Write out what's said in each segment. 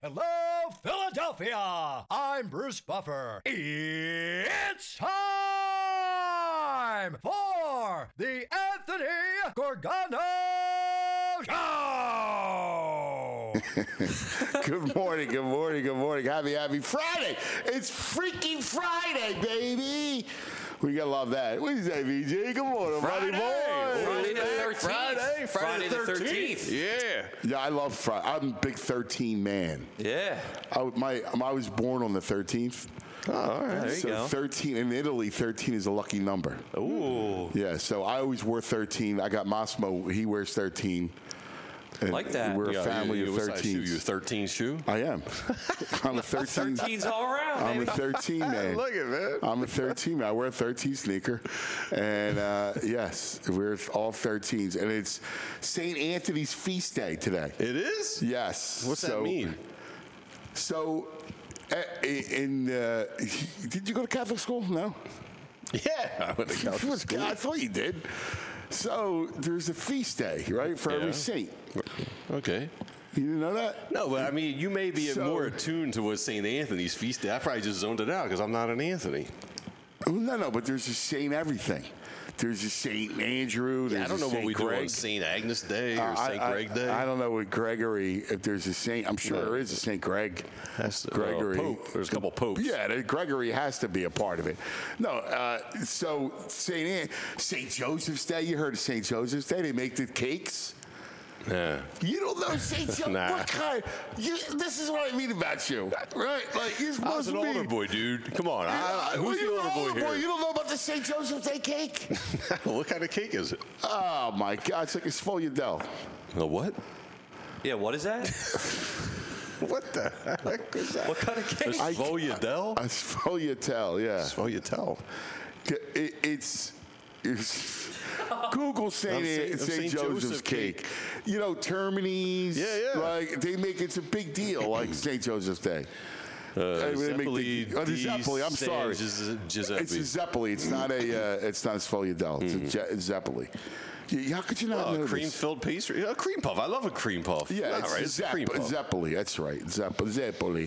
Hello, Philadelphia! I'm Bruce Buffer. It's time for the Anthony Gorgano Show! Good morning. Happy Friday. It's freaking Friday, baby. We gotta love that. What do you say, VJ? Good morning, buddy boy. Friday the 13th. Friday the 13th. Yeah, I love Friday. I'm a big 13 man. Yeah. I was born on the 13th. Oh, all right. There you So go. 13 in Italy, 13 is a lucky number. Ooh. Yeah, so I always wore 13. I got Massimo. He wears 13. And Like that. We're a family of What size shoe? 13s. You a 13 shoe? I am. I'm a 13. 13's all around, I'm a baby. 13 man. Look at man. I'm a 13 man. I wear a 13 sneaker. And yes, we're all 13s. And it's St. Anthony's feast day today. It is? Yes. What's that mean? So, did you go to Catholic school? No? Yeah. I went to Catholic school. I thought you did. So, there's a feast day, right, for every saint. Okay. You didn't know that? No, but I mean, you may be So- more attuned to what St. Anthony's feast day. I probably just zoned it out because I'm not an Anthony. No, but there's a Saint everything. There's a Saint Andrew. There's I don't know a what Saint we do Greg. on St. Agnes Day or St. Greg Day. I don't know what Gregory, if there's a Saint. I'm sure there is a Saint Greg. Gregory. Pope. There's a couple popes. Yeah, Gregory has to be a part of it. No, so Saint Joseph's Day. You heard of Saint Joseph's Day? They make the cakes. Yeah. You don't know Saint Joseph? Nah. What kind? This is what I mean about you, right? Like you're I supposed was an to be. older boy, dude. Come on. Who's the You're older an boy here? You don't know about the St. Joseph's Day cake? What kind of cake is it? Oh my God! It's like a sfogliatelle. A what? Yeah, what is that? What the heck is that? What kind of cake? I- Sfogliatelle? A sfogliatelle, yeah. Sfogliatelle. It's Google St. St. Joseph's Joseph cake. You know, Termini's. Yeah. Like they make it's a big deal, like St. Joseph's Day. They make the Zeppeli. I'm sorry. Giuseppe. It's a Zeppeli. It's not a. It's not a sfogliatelle. It's a Zeppeli. Yeah, how could you not know this? Cream-filled pastry. A cream puff. I love a cream puff. Yeah, it's right. It's a cream puff. Zeppeli. That's right. Zeppeli.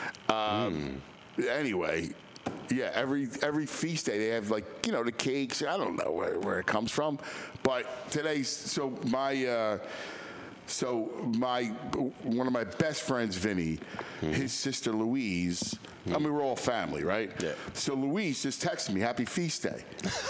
Anyway, yeah. Every feast day they have like the cakes. I don't know where it comes from, but today's one of my best friends, Vinny, his sister Louise. I mean, we're all family, right? Yeah. So Louise just texted me, "Happy Feast Day."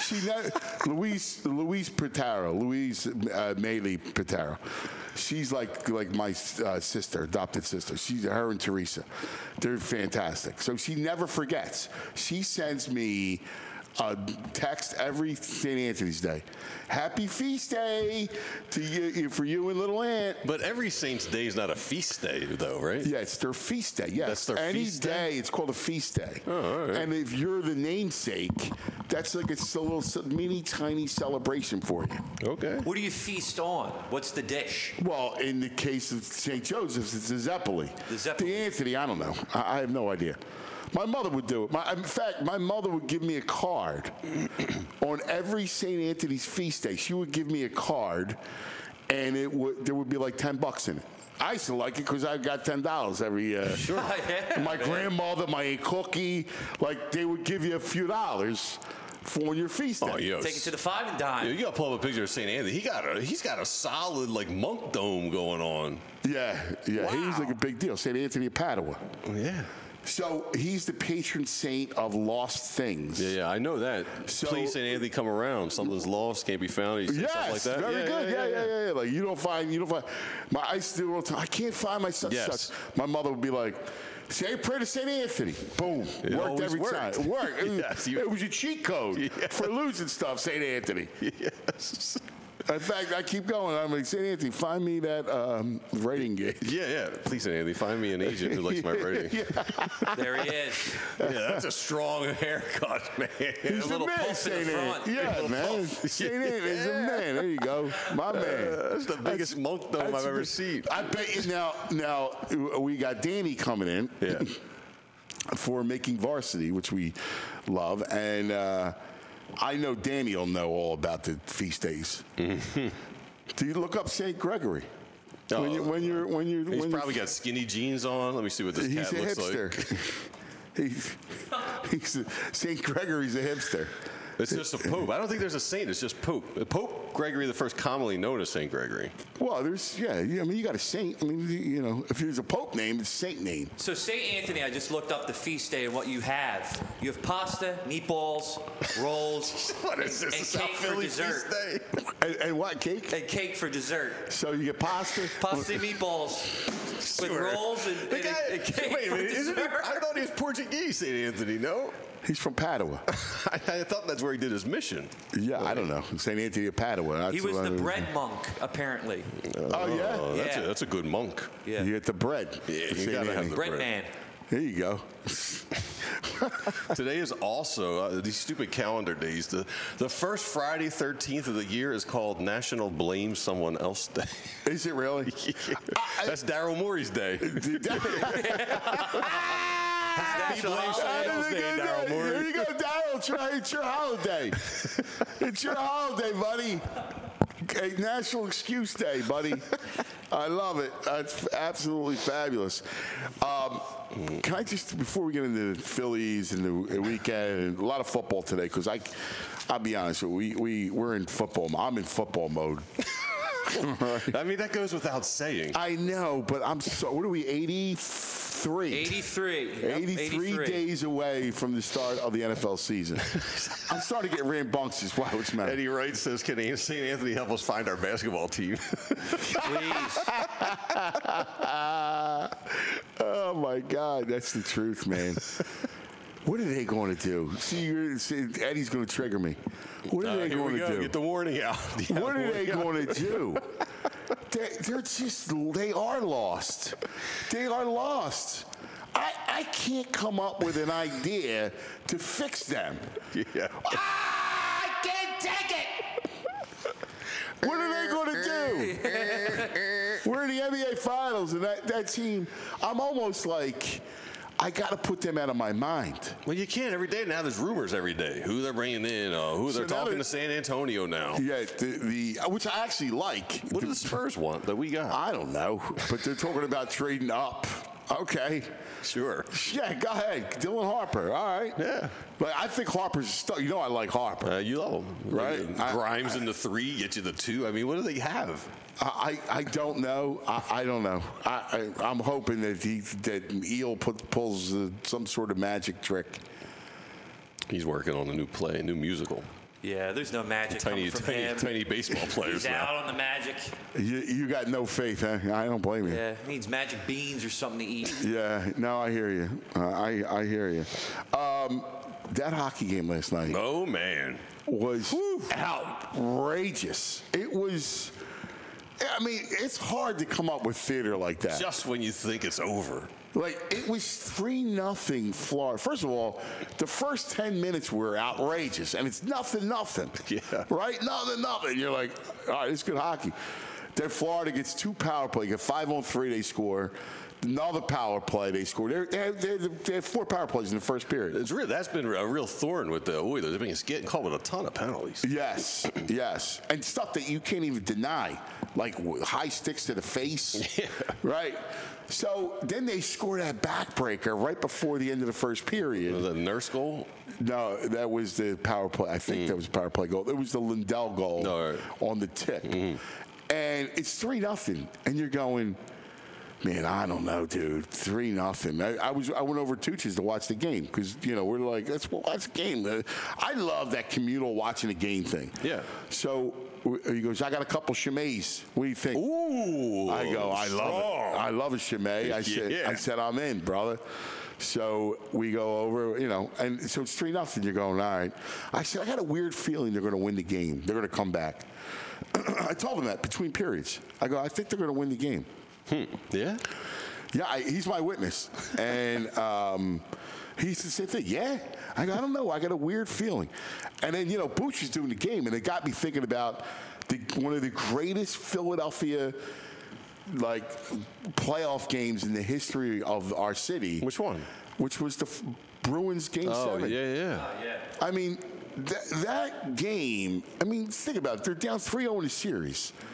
Louise Pitaro, Louise Maley Pitaro. She's like my sister, adopted sister. Her and Teresa. They're fantastic. So she never forgets. She sends me a text every St. Anthony's Day. Happy Feast Day to you, for you and little Aunt. But every Saint's Day is not a feast day, though, right? Yeah, it's their feast day. Yes, That's their any feast day, day? it's called a feast day. Oh, all right. And if you're the namesake, that's like it's a little mini tiny celebration for you. Okay. What do you feast on? What's the dish? Well, in the case of St. Joseph's, it's a Zeppeli. The Zeppeli. The Anthony, I don't know. I have no idea. My mother would do it. In fact, my mother would give me a card on every St. Anthony's feast day. She would give me a card, and there would be like $10 in it. I used to like it because I got $10 every year. Sure. Yeah, my grandmother, my Aunt Cookie, like they would give you a few dollars for your feast day. Oh, yo. Take it to the five and dime. You gotta pull up a picture of St. Anthony. He's got a solid like monk dome going on. Yeah. He's like a big deal. St. Anthony of Padua. Yeah. So he's the patron saint of lost things. Yeah, I know that. So- Please, St. Anthony, come around. Something's lost, can't be found. He said Yes, stuff like that. very good. Yeah. Like you don't find. I used to do it all the time. I can't find my such. Yes. My mother would be like, "Say a prayer to St. Anthony." Boom, It worked always every worked. time. It worked. Yes, It was your cheat code for losing stuff, St. Anthony. Yes. In fact, I keep going. I'm like, St. Anthony, find me that rating gauge. Yeah. Please, St. Anthony, find me an agent who likes my writing. There he is. Yeah, that's a strong haircut, man. He's the little man, puff in St. the front. Anthony. Yeah, Little man. puff. St. Anthony's a man. There you go. My man. That's the biggest monk dome That's I've ever big- seen. I bet you now we got Danny coming in. Yeah. For making varsity, which we love, and I know Danny will know all about the feast days. Do you look up St. Gregory? He's probably got skinny jeans on. Let me see what this He's cat a looks hipster. like. he's St. Gregory's a hipster. It's just a pope. I don't think there's a saint. It's just pope. Pope Gregory the First, commonly known as Saint Gregory. Well, I mean, you got a saint. I mean, if there's a pope name, it's a saint name. So St. Anthony, I just looked up the feast day and what you have. You have pasta, meatballs, rolls, What is this? and The South cake for Philly dessert. feast day? And what, cake? And cake for dessert. So you get pasta? Pasta and meatballs with Sure. rolls and The guy, and cake wait a for minute, isn't he? dessert. I thought he was Portuguese, St. Anthony, no? He's from Padua. I thought that's where he did his mission. Yeah, I don't know. St. Anthony of Padua. That's He was what the I- bread monk, apparently. Oh, yeah? Oh, Yeah. that's a good monk. Yeah. You get the bread. Yeah, you St. gotta have Anthony. the Bread bread. man. There you go. Today is also these stupid calendar days. The first Friday 13th of the year is called National Blame Someone Else Day. Is it really? That's Daryl Morey's day. Happy Blame Someone Else Day, Daryl Here Morey. you go, Daryl. It's your holiday. It's your holiday, buddy. Okay, National Excuse Day, buddy. I love it. That's absolutely fabulous. Can I just, before we get into the Phillies and the weekend, and a lot of football today, because I'll be honest, we're in football. I'm in football mode. I mean, that goes without saying. I know, but what are we, 83? 83. Yep, 83 days away from the start of the NFL season. I'm starting to get rambunctious. Wow, what's the matter? Eddie Wright says, can St. Anthony help us find our basketball team? Please. Oh, my God. That's the truth, man. What are they going to do? See, Eddie's going to trigger me. What are they Here going we to go. do? Get the warning out. Yeah, What are they warning out. going to do? They are lost. They are lost. I can't come up with an idea to fix them. Yeah. I can't take it. What are they going to do? We're in the NBA Finals, and that team, I'm almost like, I got to put them out of my mind. Well, you can't every day. Now there's rumors every day. Who they're bringing in, who So they're now talking they- to San Antonio now. Yeah, which I actually like. What do the Spurs want that we got? I don't know, but they're talking about trading up. Okay. Sure. Yeah, go ahead. Dylan Harper. All right. Yeah. But I think Harper's stuck. You know I like Harper. You love them. Right. Grimes in the 3, get you the 2. I mean, what do they have? I don't know. I don't know. I'm hoping that Eel pulls some sort of magic trick. He's working on a new play, a new musical. Yeah, there's no magic Tiny, coming from tiny, him. tiny baseball players He's out now. on the magic. You got no faith, huh? I don't blame you. Yeah, needs magic beans or something to eat. Yeah. No, I hear you. I hear you. That hockey game last night Oh man. was outrageous. It was. I mean, it's hard to come up with theater like that. Just when you think it's over. Like, it was 3-0 Florida. First of all, the first 10 minutes were outrageous, and it's 0-0. Yeah. Right? 0-0. You're like, all right, it's good hockey. Then Florida gets 2 power play. Get 5-on-3, they score. Another power play, they score. They had 4 power plays in the first period. It's real. That's been a real thorn with the Oilers. They've been getting caught with a ton of penalties. Yes, yes. And stuff that you can't even deny, like high sticks to the face. Yeah. Right? So then they score that backbreaker right before the end of the first period. The nurse goal? No, that was the power play. I think that was a power play goal. It was the Lindell goal All right. on the tip. And it's 3-0. And you're going, man, I don't know, dude. 3-0. I went over to Tucci's to watch the game because, we're like, let's watch the game. I love that communal watching the game thing. Yeah. So he goes, I got a couple Chimets. What do you think? Ooh. I go, I love it. I love a Chimay. I Yeah. said, I'm in, brother. So we go over, and so it's 3-0. You're going, all right. I said, I got a weird feeling they're going to win the game. They're going to come back. I told him that between periods. I go, I think they're going to win the game. Yeah? Yeah, he's my witness. And he said the same thing. Yeah? I go, I don't know. I got a weird feeling. And then, Booch was doing the game, and it got me thinking about one of the greatest Philadelphia playoff games in the history of our city. Which one? Which was the Bruins Game 7. Oh, yeah. I mean, that game, think about it. They're down 3-0 in the series.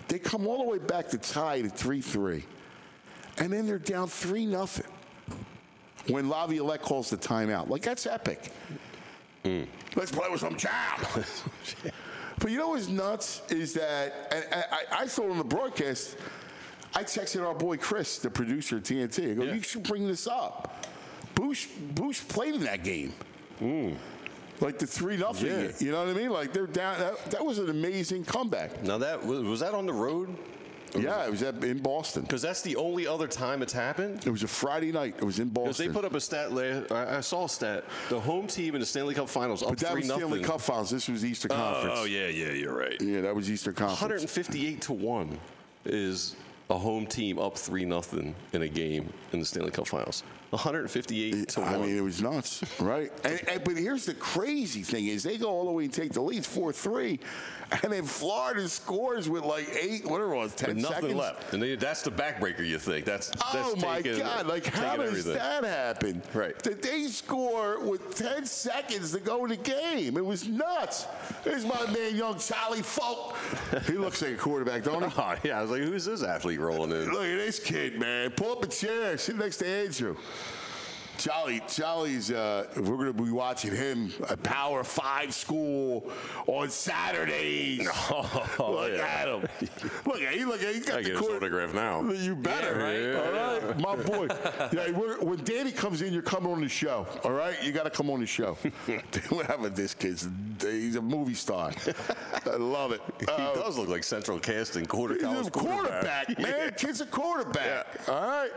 They come all the way back to tie at 3-3. And then they're down 3-0 when Laviolette calls the timeout. Like, that's epic. Let's play with some jam. But you know what's nuts is that, and I thought on the broadcast, I texted our boy Chris, the producer at TNT. I go, you should bring this up. Bush played in that game. Like the 3-0. You know what I mean? Like they're down. That was an amazing comeback. Now was that on the road? Yeah, it was in Boston. Because that's the only other time it's happened? It was a Friday night. It was in Boston. Because they put up a stat I saw a stat. The home team in the Stanley Cup Finals up 3-0. But that was Stanley Cup Finals. This was Eastern Conference. Oh, yeah, you're right. Yeah, that was Eastern Conference. 158-1 is a home team up 3-0 in a game in the Stanley Cup Finals. 158-1. I mean, it was nuts, right? But here's the crazy thing is they go all the way and take the lead 4-3, and then Florida scores with like 10 nothing seconds left. And that's the backbreaker, you think. That's my taking, God. Like, how does everything. that happen? Right. That they score with 10 seconds to go in the game. It was nuts. There's my man, young Charlie Folk. He looks like a quarterback, don't he? Oh, yeah, I was like, who's this athlete rolling in? Look at this kid, man. Pull up a chair. Sit next to Andrew. Charlie's, we're going to be watching him at Power 5 school on Saturdays. Look at him. Look at him. He's got I the get his autograph now. You better, right? All right, my boy. Yeah, when Danny comes in, you're coming on the show. All right, you got to come on the show. Whatever this kid's, he's a movie star. I love it. He does look like Central Casting college He's a quarterback, man. Kid's a quarterback. Yeah. All right.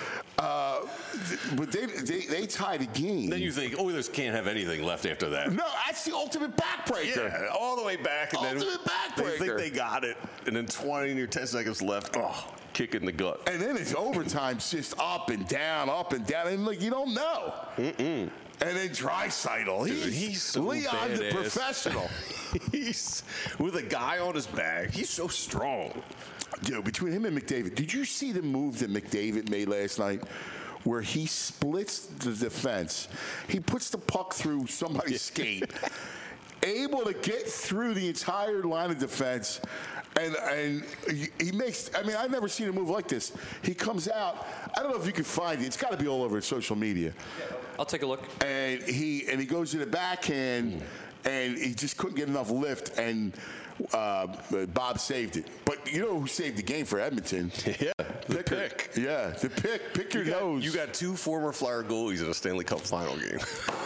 But they tied a game. Then you think, Oilers can't have anything left after that. No, that's the ultimate backbreaker. Yeah, all the way back. And Ultimate then backbreaker. they think they got it. And then 20 or 10 seconds left. Oh, kick in the gut. And then it's overtime, just up and down. And like you don't know. And then Draisaitl, He's so Leon badass. the professional. He's with a guy on his back. He's so strong. Dude, between him and McDavid, did you see the move that McDavid made last night? Where he splits the defense. He puts the puck through somebody's skate. Able to get through the entire line of defense. And he makes, I mean, I've never seen a move like this. He comes out, I don't know if you can find it. It's got to be all over social media. I'll take a look. And he goes to the backhand, and he just couldn't get enough lift, and Bob saved it. But you know who saved the game for Edmonton? Yeah, the pick. Yeah, the pick. Pick your nose. You got two former Flyer goalies in a Stanley Cup final game.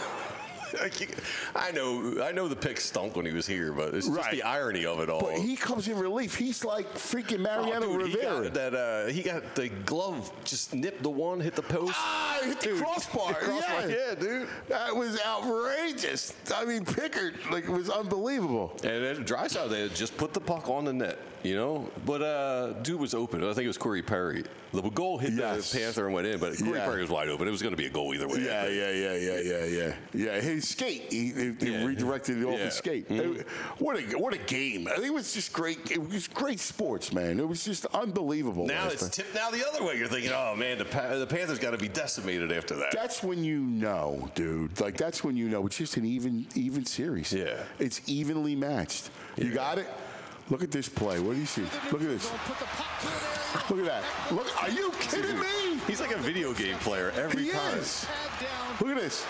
I know the pick stunk when he was here, but it's just the irony of it all. But he comes in relief. He's like freaking Mariano Rivera. He got the glove, just nipped the one, hit the post. Hit the crossbar. Yeah, dude. That was outrageous. I mean, Pickard, it was unbelievable. And then Draisaitl, they had just put the puck on the net, you know? But dude was open. I think it was Corey Perry. The goal hit the Panther and went in, but Corey Perry was wide open. It was going to be a goal either way. Yeah, his skate. He redirected it off his skate. What a game. I think it was just great. It was great sports, man. It was just unbelievable. Now it's tipped now the other way. You're thinking, oh, man, the Panthers got to be decimated after that. That's when you know, dude. Like, that's when you know. It's just an even series. Yeah. It's evenly matched. You got it? Look at this play. What do you see? Look at this. Look at that. Look, are you kidding me? He's like a video game player every time. Is. Look at this.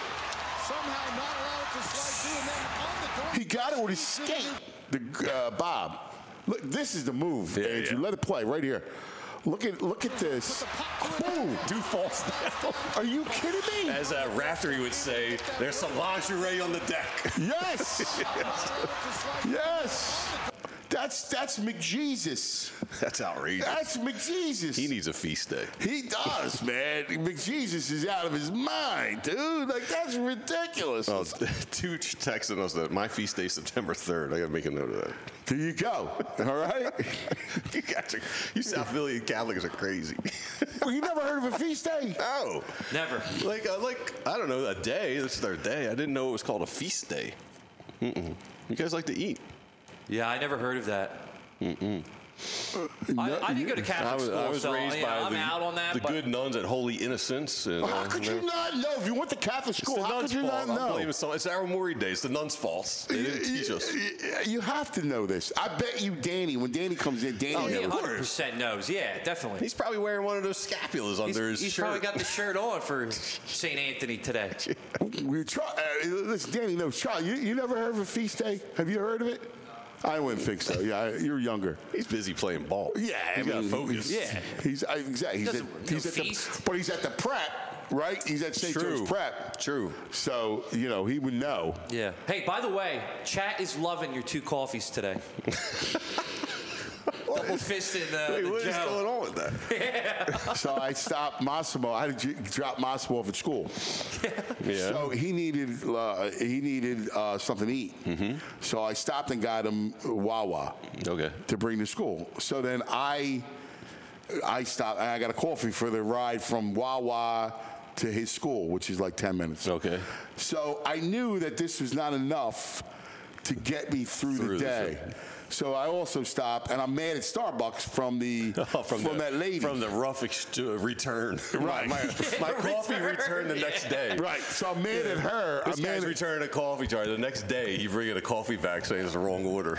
He got it with his skate. Bob. Look, this is the move, Andrew. Let it play right here. Look at this. Boom. Do false down. Are you kidding me? As Raftery would say, there's some lingerie on the deck. Yes. Yes. That's McJesus. That's outrageous. That's McJesus. He needs a feast day. He does, man. McJesus is out of his mind, dude. Like, that's ridiculous. Oh, Tooch texting us that my feast day is September 3rd. I got to make a note of that. There you go. All right? You South Philly Catholics are crazy. Well, you never heard of a feast day? No. Never. Like I don't know, a day. This is our day. I didn't know it was called a feast day. You guys like to eat. Yeah, I never heard of that. I didn't go to Catholic school, I was so raised by I'm out on that. the but good nuns at Holy Innocents. And, How could you not know? If you went to Catholic It's school, the how nuns' could you fault. not I'm know? blaming it's our Maury days. The nuns' fault. They didn't teach us. You have to know this. I bet you Danny, when Danny comes in, Danny Oh, he knows. 100% knows. Yeah, definitely. He's probably wearing one of those scapulas under his He's shirt. probably got the shirt on for St. Anthony today. Listen, Danny knows. Charlie, you never heard of a feast day? Have you heard of it? I wouldn't think so. Yeah, you're younger. He's busy playing ball. Yeah, he's got focus. Yeah. Exactly. He's at the prep, right? He's at St. Joe's Prep. True. So he would know. Yeah. Hey, by the way, chat is loving your 2 coffees today. Double fisted Wait, what the is Joe. going on with that? Yeah. So I stopped Massimo. I had to drop Massimo off at school. Yeah. So he needed something to eat. Mm-hmm. So I stopped and got him Wawa. Okay. To bring to school. So then I stopped and I got a coffee for the ride from Wawa to his school, which is like 10 minutes. Okay. So I knew that this was not enough to get me through the day. So I also stopped, and I'm mad at Starbucks from that lady. From the rough return. Right. My coffee returned the next day. Right. So I'm mad at her. This guy's returning a coffee jar. The next day, you bring in a coffee back saying it's the wrong order.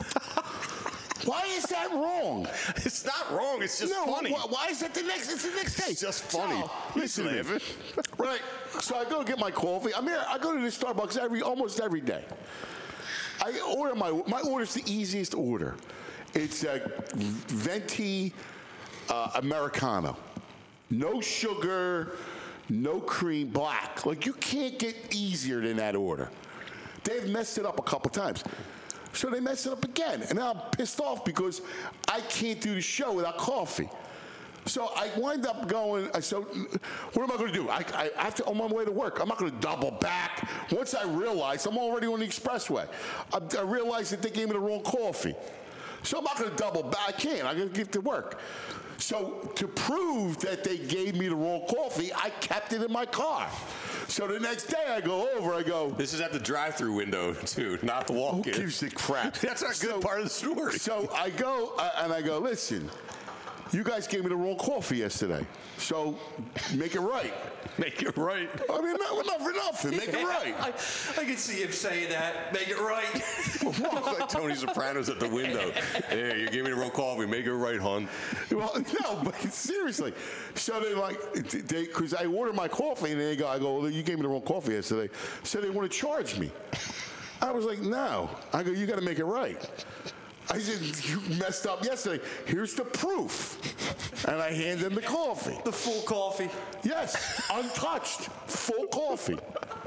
Why is that wrong? It's not wrong. It's just funny. Why is that the next? It's the next day. It's just funny. Listen to me. Right. So I go get my coffee. I go to this Starbucks almost every day. I order my order's the easiest order. It's a venti Americano. No sugar, no cream, black. Like, you can't get easier than that order. They've messed it up a couple times. So they messed it up again. And now I'm pissed off because I can't do the show without coffee. So I wind up going, so what am I going to do? I have to, on my way to work, I'm not going to double back. Once I realized, I'm already on the expressway. I realized that they gave me the wrong coffee. So I'm not going to double back. I can't. I'm going to get to work. So to prove that they gave me the wrong coffee, I kept it in my car. So the next day I go over, This is at the drive-through window, too, not the walk-in. Who gives a crap? That's not a good part of the story. So I go, and I go, listen, you guys gave me the wrong coffee yesterday, so make it right. Make it right. I mean, enough for nothing. Make it right. I can see him saying that. Make it right. Like Tony Soprano's at the window. Hey, you gave me the wrong coffee. Make it right, hon. Well, no, but seriously. So because I ordered my coffee, and I go, well, you gave me the wrong coffee yesterday. So they want to charge me. I was like, no. I go, you got to make it right. I said, you messed up yesterday. Here's the proof. And I hand them the coffee. The full coffee. Yes, untouched, full coffee.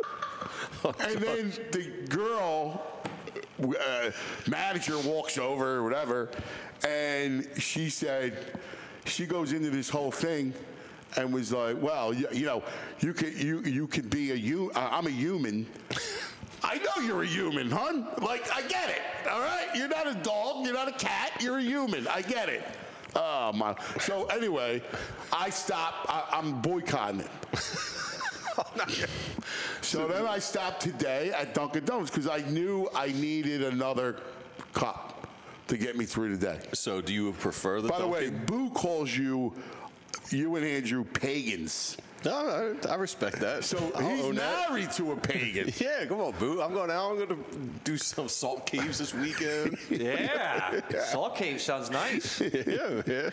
And then the girl, manager walks over or whatever, and she said, she goes into this whole thing and was like, well, you could be I'm a human. I know you're a human, hon. Like, I get it, all right? You're not a dog. You're not a cat. You're a human. I get it. Oh, my. So, anyway, I stopped. I'm boycotting it. So then I stopped today at Dunkin' Donuts because I knew I needed another cup to get me through the day. So do you prefer the By the way, Dunkin'? Boo calls you and Andrew pagans. No, I respect that. So I'll he's own that. married to a pagan. Yeah, come on, Boo. I'm going out. I'm going to do some salt caves this weekend. Yeah. Salt cave sounds nice. yeah.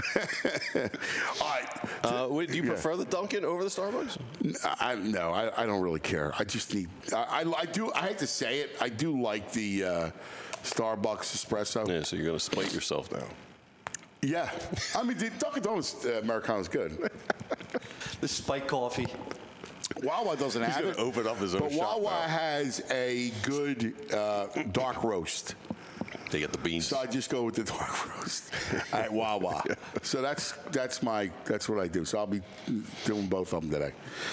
All right. Do you prefer the Dunkin' over the Starbucks? No, I don't really care. I just need. I do. I hate to say it. I do like the Starbucks espresso. Yeah, so you're going to spite yourself now. Yeah, I mean, the Dunkin' Donuts Americano is good. The spike coffee. Wawa doesn't He's have going it. to open up his own But shop Wawa now. has a good dark roast. They get the beans. So I just go with the dark roast at Wawa. So that's what I do. So I'll be doing both of them today.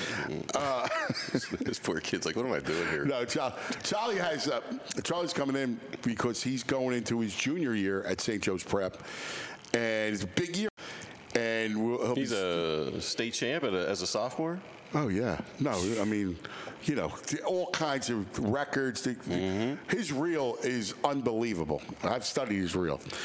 This poor kid's like, what am I doing here? No, Charlie's coming in because he's going into his junior year at St. Joe's Prep, and it's a big year. And He's a state champ as a sophomore? Oh, yeah. No, I mean, all kinds of records. His reel is unbelievable. I've studied his reel.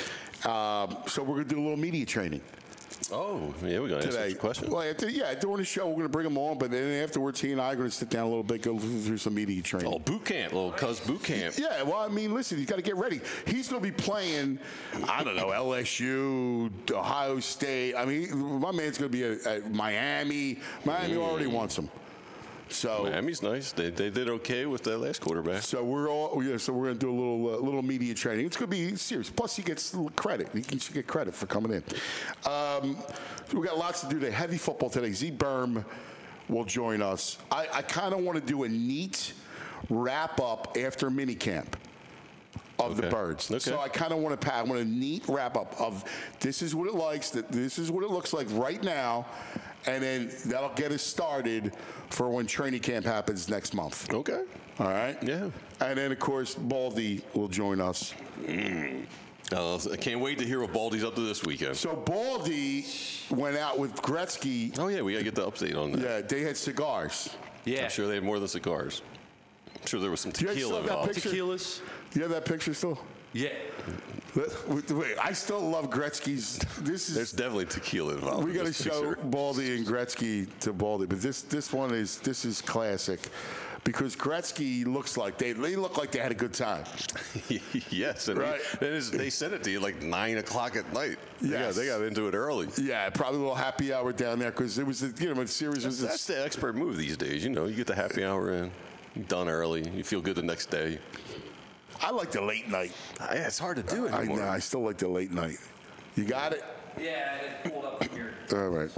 So we're going to do a little media training. Oh, yeah, we're going to answer the question. Well, during the show, we're going to bring them on, but then afterwards, he and I are going to sit down a little bit, go through some media training. Oh, boot camp, little cuz boot camp. Yeah, well, I mean, listen, he's got to get ready. He's going to be playing, I don't know, LSU, Ohio State. I mean, my man's going to be at Miami. Miami already wants him. So Miami's nice. They did okay with that last quarterback. So we're going to do a little media training. It's going to be serious. Plus, he gets credit. He should get credit for coming in. We got lots to do today. Heavy football today. Z Berm will join us. I kind of want to do a neat wrap up after minicamp of the Birds. Okay. So I kind of want a neat wrap up of this is what this is what it looks like right now. And then that'll get us started for when training camp happens next month. Okay. All right? Yeah. And then, of course, Baldy will join us. I can't wait to hear what Baldy's up to this weekend. So Baldy went out with Gretzky. Oh, yeah, we got to get the update on that. Yeah, they had cigars. Yeah. I'm sure they had more than cigars. I'm sure there was some Do you tequila still have that involved. picture? Tequilas. You have that picture still? Yeah. Wait, I still love Gretzky's. There's definitely tequila involved. We in got to this show picture. Baldy and Gretzky to Baldy, but this one is classic because Gretzky looks like they look like they had a good time. Yes, and Right. they sent it to you like 9 o'clock at night. Yes. They got into it early. Yeah, probably a little happy hour down there because it was the series was That's the expert move these days. You get the happy hour in, done early, you feel good the next day. I like the late night. Yeah, it's hard to do I anymore. know. I still like the late night. You got it? Yeah, I pulled up here. All right.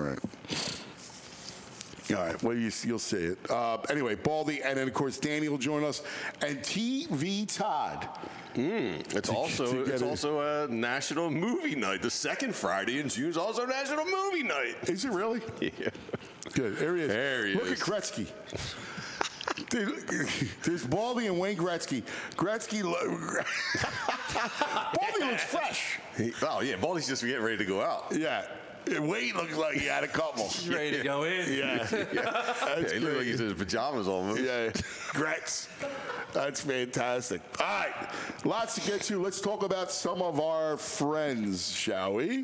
Well, you'll see it. Anyway, Baldy, and then, of course, Danny will join us. And TV Todd. It's also a National Movie Night. The second Friday in June is also National Movie Night. Is it really? Yeah. Good. There he is. There he Look is. at Gretzky. Dude, there's Baldy and Wayne Gretzky. Baldy looks fresh. Baldy's just getting ready to go out. Yeah. Wayne looks like he had a couple. He's ready to go in. Yeah. That's He looked like great. he's in his pajamas almost. Yeah. Gretz. That's fantastic. All right. Lots to get to. Let's talk about some of our friends, shall we?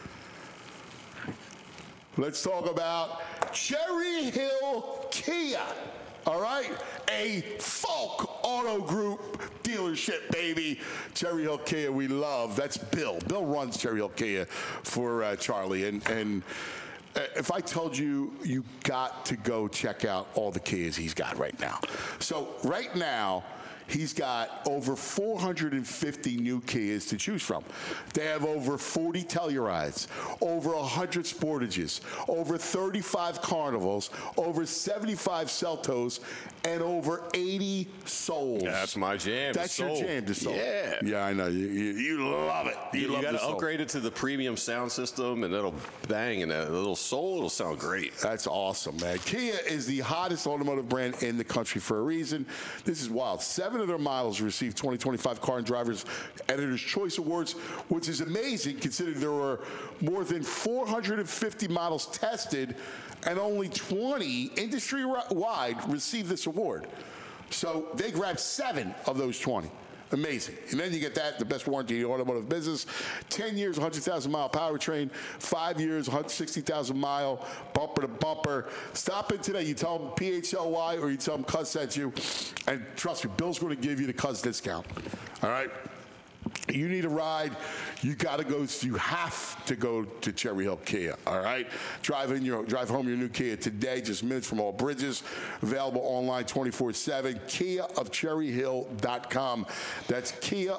Let's talk about Cherry Hill Kia. All right? A Folk Auto Group dealership, baby. Cherry Hill Kia, we love. That's Bill. Bill runs Cherry Hill Kia for Charlie. And if I told you, you got to go check out all the Kias he's got right now. So right now, he's got over 450 new Kias to choose from. They have over 40 Tellurides, over 100 Sportages, over 35 Carnivals, over 75 Celtos, and over 80 Souls. That's my jam. That's your jam, the Soul. Yeah. Yeah, I know. You love it. You love got the to Soul. upgrade it to the premium sound system, and it'll bang, and that little Soul, it'll sound great. That's awesome, man. Kia is the hottest automotive brand in the country for a reason. This is wild. 7 of their models received 2025 Car and Drivers Editor's Choice Awards, which is amazing considering there were more than 450 models tested and only 20 industry-wide received this award. So they grabbed 7 of those 20. Amazing. And then you get that, the best warranty in the automotive business. 10 years, 100,000-mile powertrain. 5 years, 160,000-mile bumper to bumper. Stop in today. You tell them PHLY or you tell them Cuz sent you. And trust me, Bill's going to give you the Cuz discount. All right? You need a ride, you have to go to Cherry Hill Kia, all right? Drive home your new Kia today, just minutes from all bridges. Available online 24/7, KiaofCherryHill.com. That's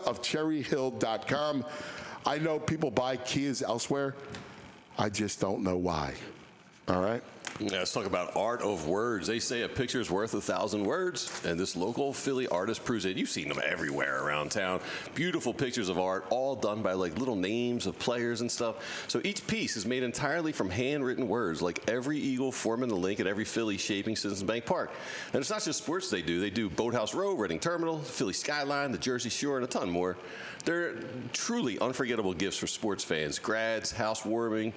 KiaofCherryHill.com. I know people buy Kias elsewhere. I just don't know why. All right? Yeah, let's talk about art of words. They say a picture is worth 1,000 words, and this local Philly artist proves it. You've seen them everywhere around town. Beautiful pictures of art, all done by like little names of players and stuff. So each piece is made entirely from handwritten words, like every eagle forming the link at every Philly shaping Citizens Bank Park. And it's not just sports they do. They do Boathouse Row, Reading Terminal, Philly Skyline, the Jersey Shore, and a ton more. They're truly unforgettable gifts for sports fans, grads, housewarming,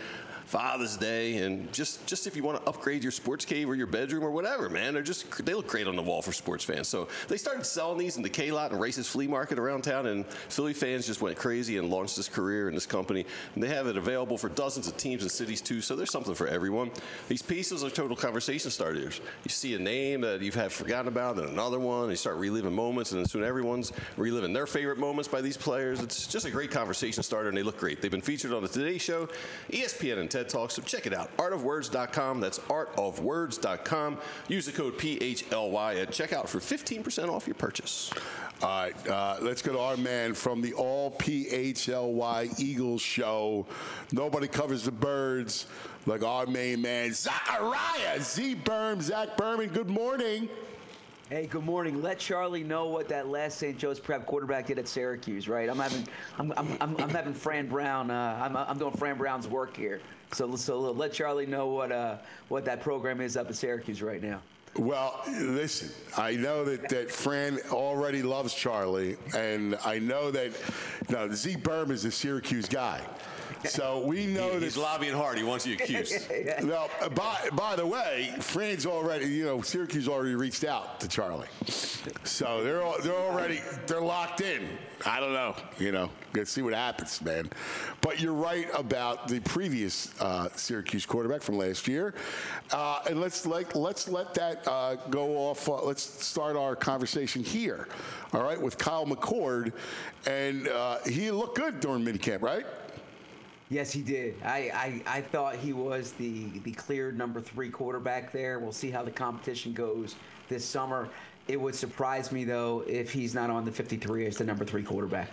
Father's Day, and just if you want to upgrade your sports cave or your bedroom or whatever, man, they look great on the wall for sports fans. So they started selling these in the K-Lot and Race's Flea Market around town, and Philly fans just went crazy and launched this career in this company. And they have it available for dozens of teams and cities too, so there's something for everyone. These pieces are total conversation starters. You see a name that you've had forgotten about, and another one, and you start reliving moments, and then soon everyone's reliving their favorite moments by these players. It's just a great conversation starter, and they look great. They've been featured on the Today Show, ESPN, and TED Talk, so check it out. Artofwords.com. That's artofwords.com. Use the code PHLY at checkout for 15% off your purchase. All right, let's go to our man from the All PHLY Eagles show. Nobody covers the birds like our main man, Zachariah Zach Berman. Good morning. Hey, good morning. Let Charlie know what that last St. Joe's Prep quarterback did at Syracuse, right? I'm having Fran Brown. I'm doing Fran Brown's work here. So let Charlie know what that program is up at Syracuse right now. Well, listen, I know that Fran already loves Charlie, and I know that Z Berman is a Syracuse guy. So we know he's lobbying hard. He wants you accused. Well, by the way, Fran's already, Syracuse already reached out to Charlie. So they're locked in. I don't know, let's see what happens, man. But you're right about the previous Syracuse quarterback from last year. And let's let that go off. Let's start our conversation here. All right, with Kyle McCord. And he looked good during minicamp, right? Yes, he did. I thought he was the clear number 3 quarterback there. We'll see how the competition goes this summer. It would surprise me, though, if he's not on the 53 as the number 3 quarterback.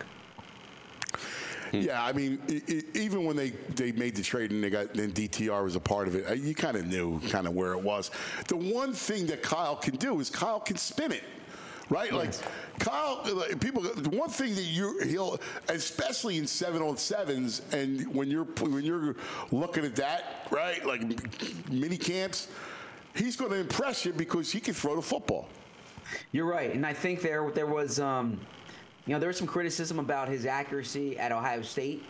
Yeah, I mean, even when they made the trade and DTR was a part of it, you kind of knew where it was. The one thing that Kyle can do is Kyle can spin it. Right, like Kyle. The one thing that he'll, especially in 7-on-7s, and when you're looking at that, right, like mini camps, he's going to impress you because he can throw the football. You're right, and I think there was there was some criticism about his accuracy at Ohio State.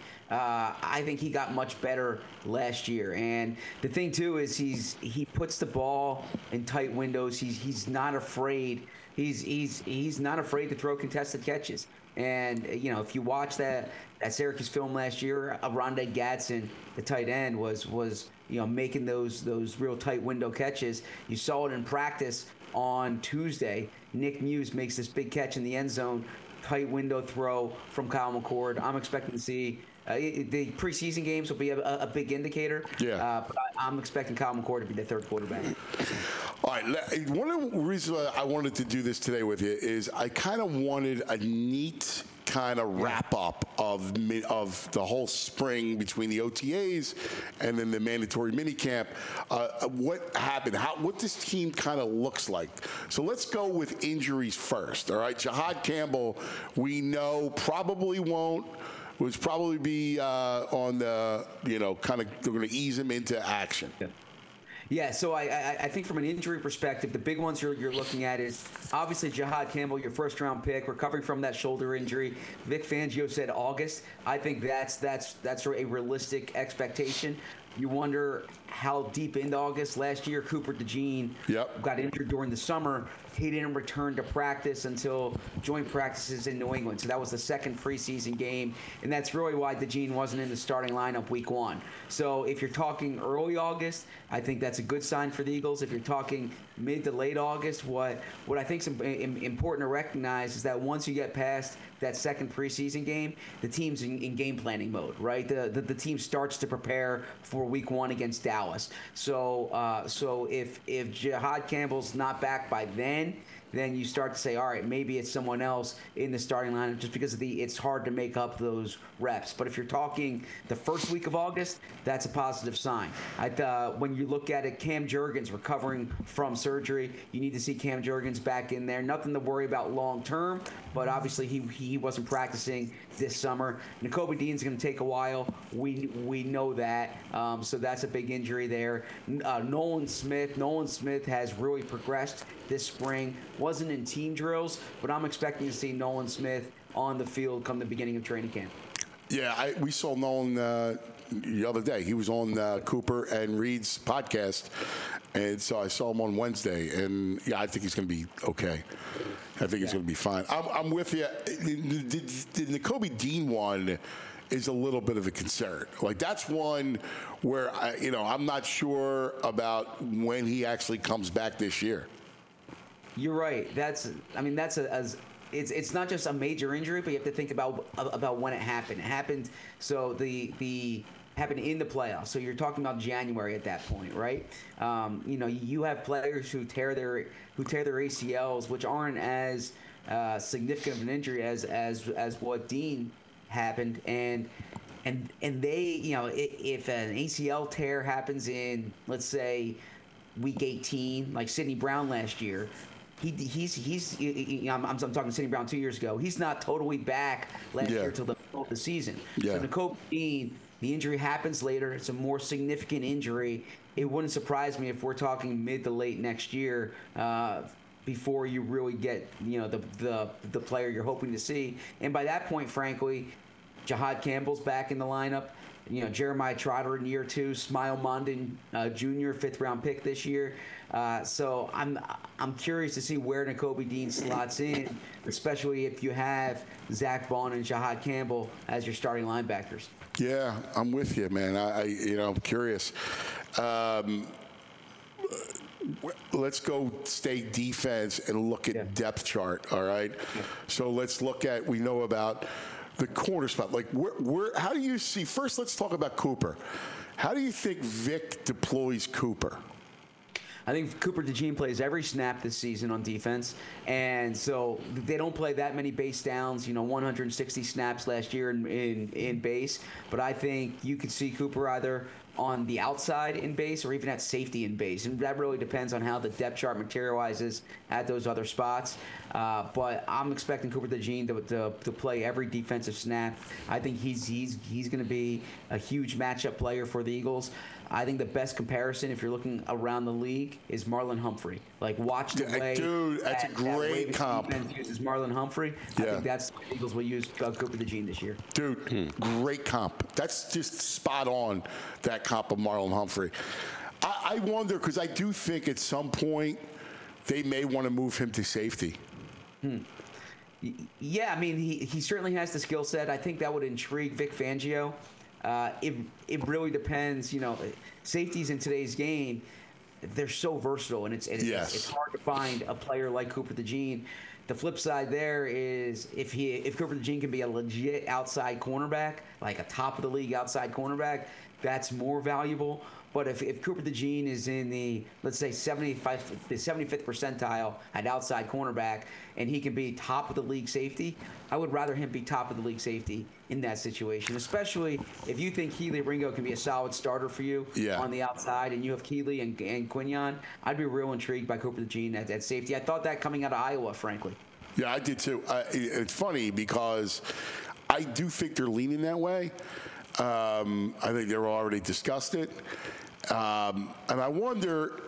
I think he got much better last year, and the thing too is he puts the ball in tight windows. He's not afraid. He's not afraid to throw contested catches. And if you watch that Syracuse film last year, Rondé Gadsden, the tight end, was making those real tight window catches. You saw it in practice on Tuesday. Nick Muse makes this big catch in the end zone, tight window throw from Kyle McCord. I'm expecting to see. The preseason games will be a big indicator. Yeah. But I'm expecting Kyle McCord to be the 3rd quarterback. All right. One of the reasons why I wanted to do this today with you is I kind of wanted a neat kind of wrap up of the whole spring between the OTAs and then the mandatory minicamp. What happened? What this team kind of looks like. So let's go with injuries first. All right. Jahad Campbell, we know probably won't. Would probably be on the, kind of they're going to ease him into action. Yeah, so I think from an injury perspective, the big ones you're looking at is obviously Jahad Campbell, your first-round pick, recovering from that shoulder injury. Vic Fangio said August. I think that's a realistic expectation. You wonder how deep into August. Last year, Cooper DeJean got injured during the summer. He didn't return to practice until joint practices in New England. So that was the 2nd preseason game. And that's really why DeJean wasn't in the starting lineup week 1. So if you're talking early August, I think that's a good sign for the Eagles. If you're talking mid to late August, what I think is important to recognize is that once you get past that 2nd preseason game, the team's in game planning mode, right? The team starts to prepare for week 1 against Dallas. So if Jahad Campbell's not back by then you start to say, all right, maybe it's someone else in the starting lineup just because it's hard to make up those reps. But if you're talking the first week of August, that's a positive sign. When you look at it, Cam Jurgens recovering from surgery, you need to see Cam Jurgens back in there. Nothing to worry about long term, but obviously he wasn't practicing this summer. Nakobe Dean's going to take a while. We know that. So that's a big injury there. Nolan Smith has really progressed this spring. Wasn't in team drills, but I'm expecting to see Nolan Smith on the field come the beginning of training camp. Yeah, we saw Nolan the other day. He was on Cooper and Reed's podcast, and so I saw him on Wednesday. And yeah, I think he's going to be okay. I think he's going to be fine. I'm with you. The Nakobe Dean one is a little bit of a concern. Like, that's one where I'm not sure about when he actually comes back this year. You're right. It's not just a major injury, but you have to think about when it happened. It happened happened in the playoffs. So you're talking about January at that point, right? You have players who tear their ACLs, which aren't as significant of an injury as what Dean happened, and they, if an ACL tear happens in, let's say, week 18, like Sidney Brown last year. I'm talking Sidney Brown 2 years ago. He's not totally back last year till the middle of the season. Yeah. So Nakobe Dean, the injury happens later. It's a more significant injury. It wouldn't surprise me if we're talking mid to late next year before you really get the player you're hoping to see. And by that point, frankly, Jahad Campbell's back in the lineup. Jeremiah Trotter in year 2, Smile Mondon Jr., 5th-round pick this year. So I'm curious to see where Nakobe Dean slots in, especially if you have Zach Bond and Jahad Campbell as your starting linebackers. Yeah, I'm with you, man. I'm curious. Let's go stay defense and look at depth chart. All right. Yeah. So let's look at. We know about the corner spot. Like, how do you see? First, let's talk about Cooper. How do you think Vic deploys Cooper? I think Cooper DeJean plays every snap this season on defense, and so they don't play that many base downs. 160 snaps last year in base, but I think you could see Cooper either on the outside in base or even at safety in base, and that really depends on how the depth chart materializes at those other spots. But I'm expecting Cooper DeJean to play every defensive snap. I think he's going to be a huge matchup player for the Eagles. I think the best comparison, if you're looking around the league, is Marlon Humphrey. Like, watch the way that's a great comp. Uses Marlon Humphrey. I think that's what the Eagles will use Cooper DeJean this year. Dude, great comp. That's just spot on, that comp of Marlon Humphrey. I wonder, because I do think at some point they may want to move him to safety. Yeah, I mean, he certainly has the skill set. I think that would intrigue Vic Fangio. It really depends. Safeties in today's game, they're so versatile, and it's hard to find a player like Cooper DeJean. The flip side there is if Cooper DeJean can be a legit outside cornerback, like a top of the league outside cornerback, that's more valuable. But if Cooper DeJean is in the, let's say, 75th percentile at outside cornerback, and he can be top of the league safety, I would rather him be top of the league safety in that situation, especially if you think Kelee Ringo can be a solid starter for you on the outside, and you have Kelee and Quinyon. I'd be real intrigued by Cooper DeJean at safety. I thought that coming out of Iowa, frankly. Yeah, I did too. It's funny because I do think they're leaning that way. I think they've already discussed it. And I wonder,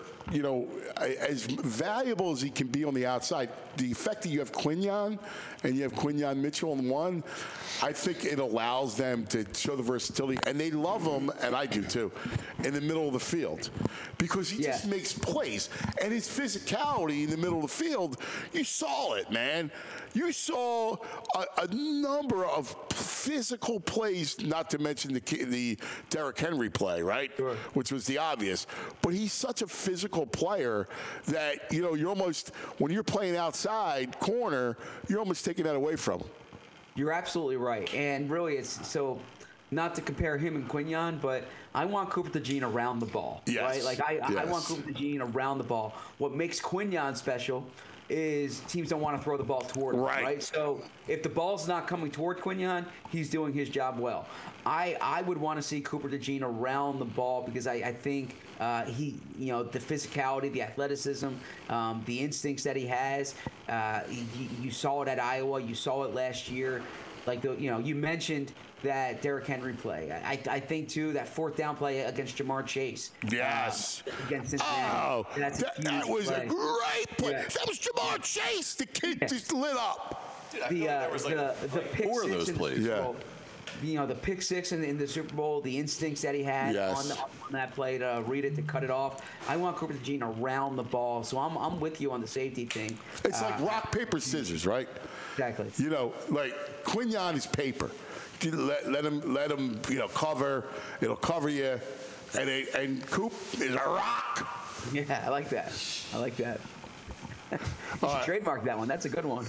as valuable as he can be on the outside, the fact that you have Quinyon and you have Quinyon Mitchell in one, I think it allows them to show the versatility. And they love him, and I do too, in the middle of the field. Because he just makes plays. And his physicality in the middle of the field, you saw it, man. You saw a number of physical plays, not to mention the Derrick Henry play, right? Sure. Which was the obvious. But he's such a physical player that, you're almost, when you're playing outside corner, you're almost taking that away from him. You're absolutely right. And really, it's so, not to compare him and Quinyon, but I want Cooper DeJean around the ball. Yes. Right? Like, I want Cooper DeJean around the ball. What makes Quinyon special is teams don't want to throw the ball toward him, right? So if the ball's not coming toward Quinyon, he's doing his job well. I would want to see Cooper DeJean around the ball because I think the physicality, the athleticism, the instincts that he has, you saw it at Iowa, you saw it last year. Like, you mentioned that Derrick Henry play. I think, too, that fourth down play against Jamar Chase. Yes. Against Cincinnati. Oh, that was play. a great play. Yeah. That was Jamar Chase. The kid just lit up. Dude, there was the pick four of those plays. Yeah. the pick six in the Super Bowl, the instincts that he had Yes. on that play to read it, to cut it off. I want Cooper DeJean around the ball, so I'm with you on the safety thing. It's like rock, paper, scissors, right? Exactly. Like Quinyon is paper. Let him cover. It'll cover you. And Coop is a rock. Yeah, I like that. You should trademark that one. That's a good one.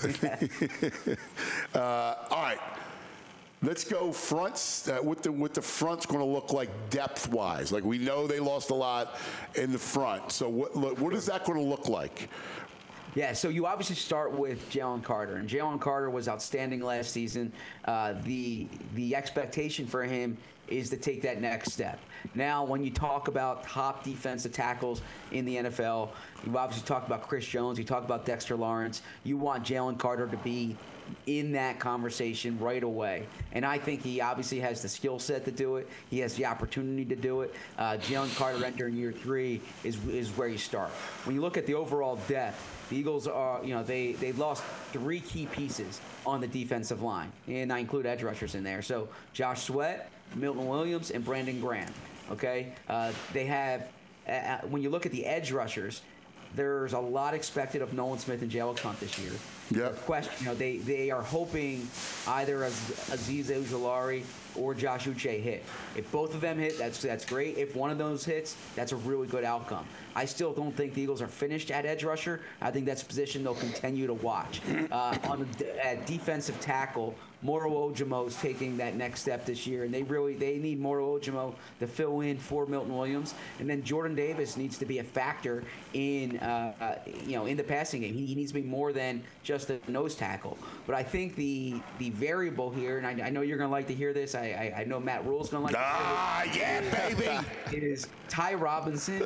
All right. Let's go fronts. What the front's going to look like depth-wise? Like, we know they lost a lot in the front. So what is that going to look like? Yeah, so you obviously start with Jalen Carter, and Jalen Carter was outstanding last season. The expectation for him is to take that next step. Now, when you talk about top defensive tackles in the NFL, you obviously talked about Chris Jones, you talk about Dexter Lawrence. You want Jalen Carter to be in that conversation right away. And I think he obviously has the skill set to do it. He has the opportunity to do it. Jalen Carter entering year 3 is where you start. When you look at the overall depth, the Eagles are, they lost 3 key pieces on the defensive line. And I include edge rushers in there. So Josh Sweat, Milton Williams, and Brandon Graham. Okay? They have, when you look at the edge rushers, there's a lot expected of Nolan Smith and Jalen Hunt this year. Yeah. Question, they are hoping either Azeez Ojulari or Josh Uche hit. If both of them hit, that's great. If one of those hits, that's a really good outcome. I still don't think the Eagles are finished at edge rusher. I think that's a position they'll continue to watch. At defensive tackle, Moro Ojimo is taking that next step this year, and they need Moro Ojimo to fill in for Milton Williams, and then Jordan Davis needs to be a factor in the passing game. He needs to be more than just a nose tackle. But I think the variable here, and I know you're going to like to hear this. I know Matt Rule's going to like to hear this. Yeah, baby. Is Ty Robinson.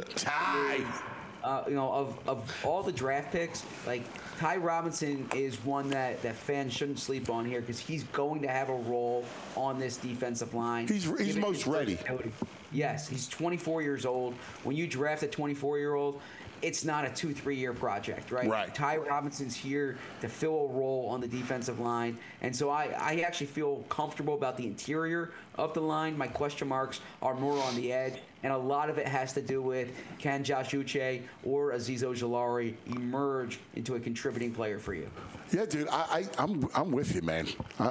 Of all the draft picks, like Ty Robinson is one that fans shouldn't sleep on here because he's going to have a role on this defensive line. He's most ready. Yes, he's 24 years old. When you draft a 24-year-old, it's not a 2-3 year project, right? Right. Ty Robinson's here to fill a role on the defensive line, and so I actually feel comfortable about the interior of the line. My question marks are more on the edge, and a lot of it has to do with can Josh Uche or Azeez Ojulari emerge into a contributing player for you? Yeah, dude, I'm with you, man.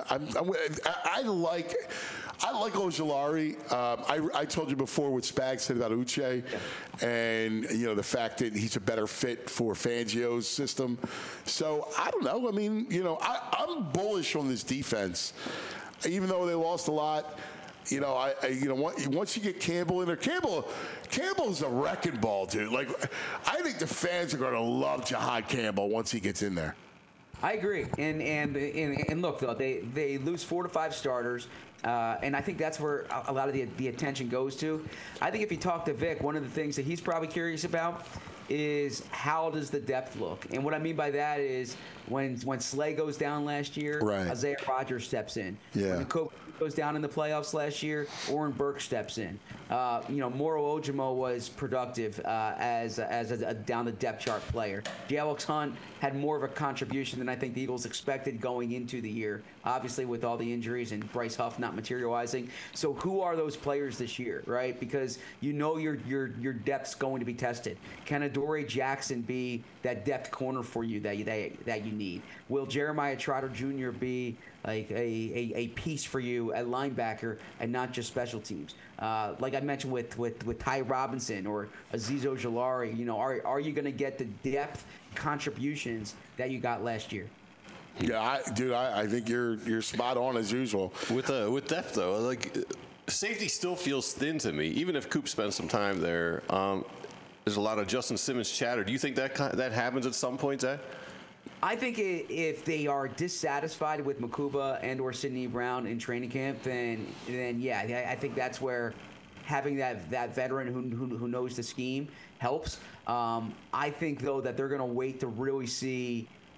I like Ojulari. I told you before what Spags said about Uche, and the fact that he's a better fit for Fangio's system. So I don't know. I mean, I'm bullish on this defense, even though they lost a lot. Once you get Campbell in there, Campbell's a wrecking ball, dude. Like, I think the fans are going to love Jihad Campbell once he gets in there. I agree, and look though, they lose 4 to 5 starters, and I think that's where a lot of the attention goes to. I think if you talk to Vic, one of the things that he's probably curious about is how does the depth look, and what I mean by that is when Slay goes down last year, right. Isaiah Rodgers steps in. Yeah. When the coach goes down in the playoffs last year, Oren Burke steps in. Moro Ojimo was productive as a down the depth chart player. Jalen Hunt had more of a contribution than I think the Eagles expected going into the year, obviously with all the injuries and Bryce Huff not materializing. So who are those players this year, right? Because your depth's going to be tested. Can Adoree Jackson be that depth corner for you that you need? Will Jeremiah Trotter Jr. be like a piece for you at linebacker and not just special teams? Like I mentioned with Ty Robinson or Azeez Ojulari, are you going to get the depth contributions that you got last year? Yeah, I think you're spot on as usual. With depth though, like safety still feels thin to me, even if Coop spends some time there. There's a lot of Justin Simmons chatter. Do you think that happens at some point, Zach? I think if they are dissatisfied with Makuba and or Sidney Brown in training camp, then yeah, I think that's where having that veteran who knows the scheme helps. I think though that they're going to wait to really see.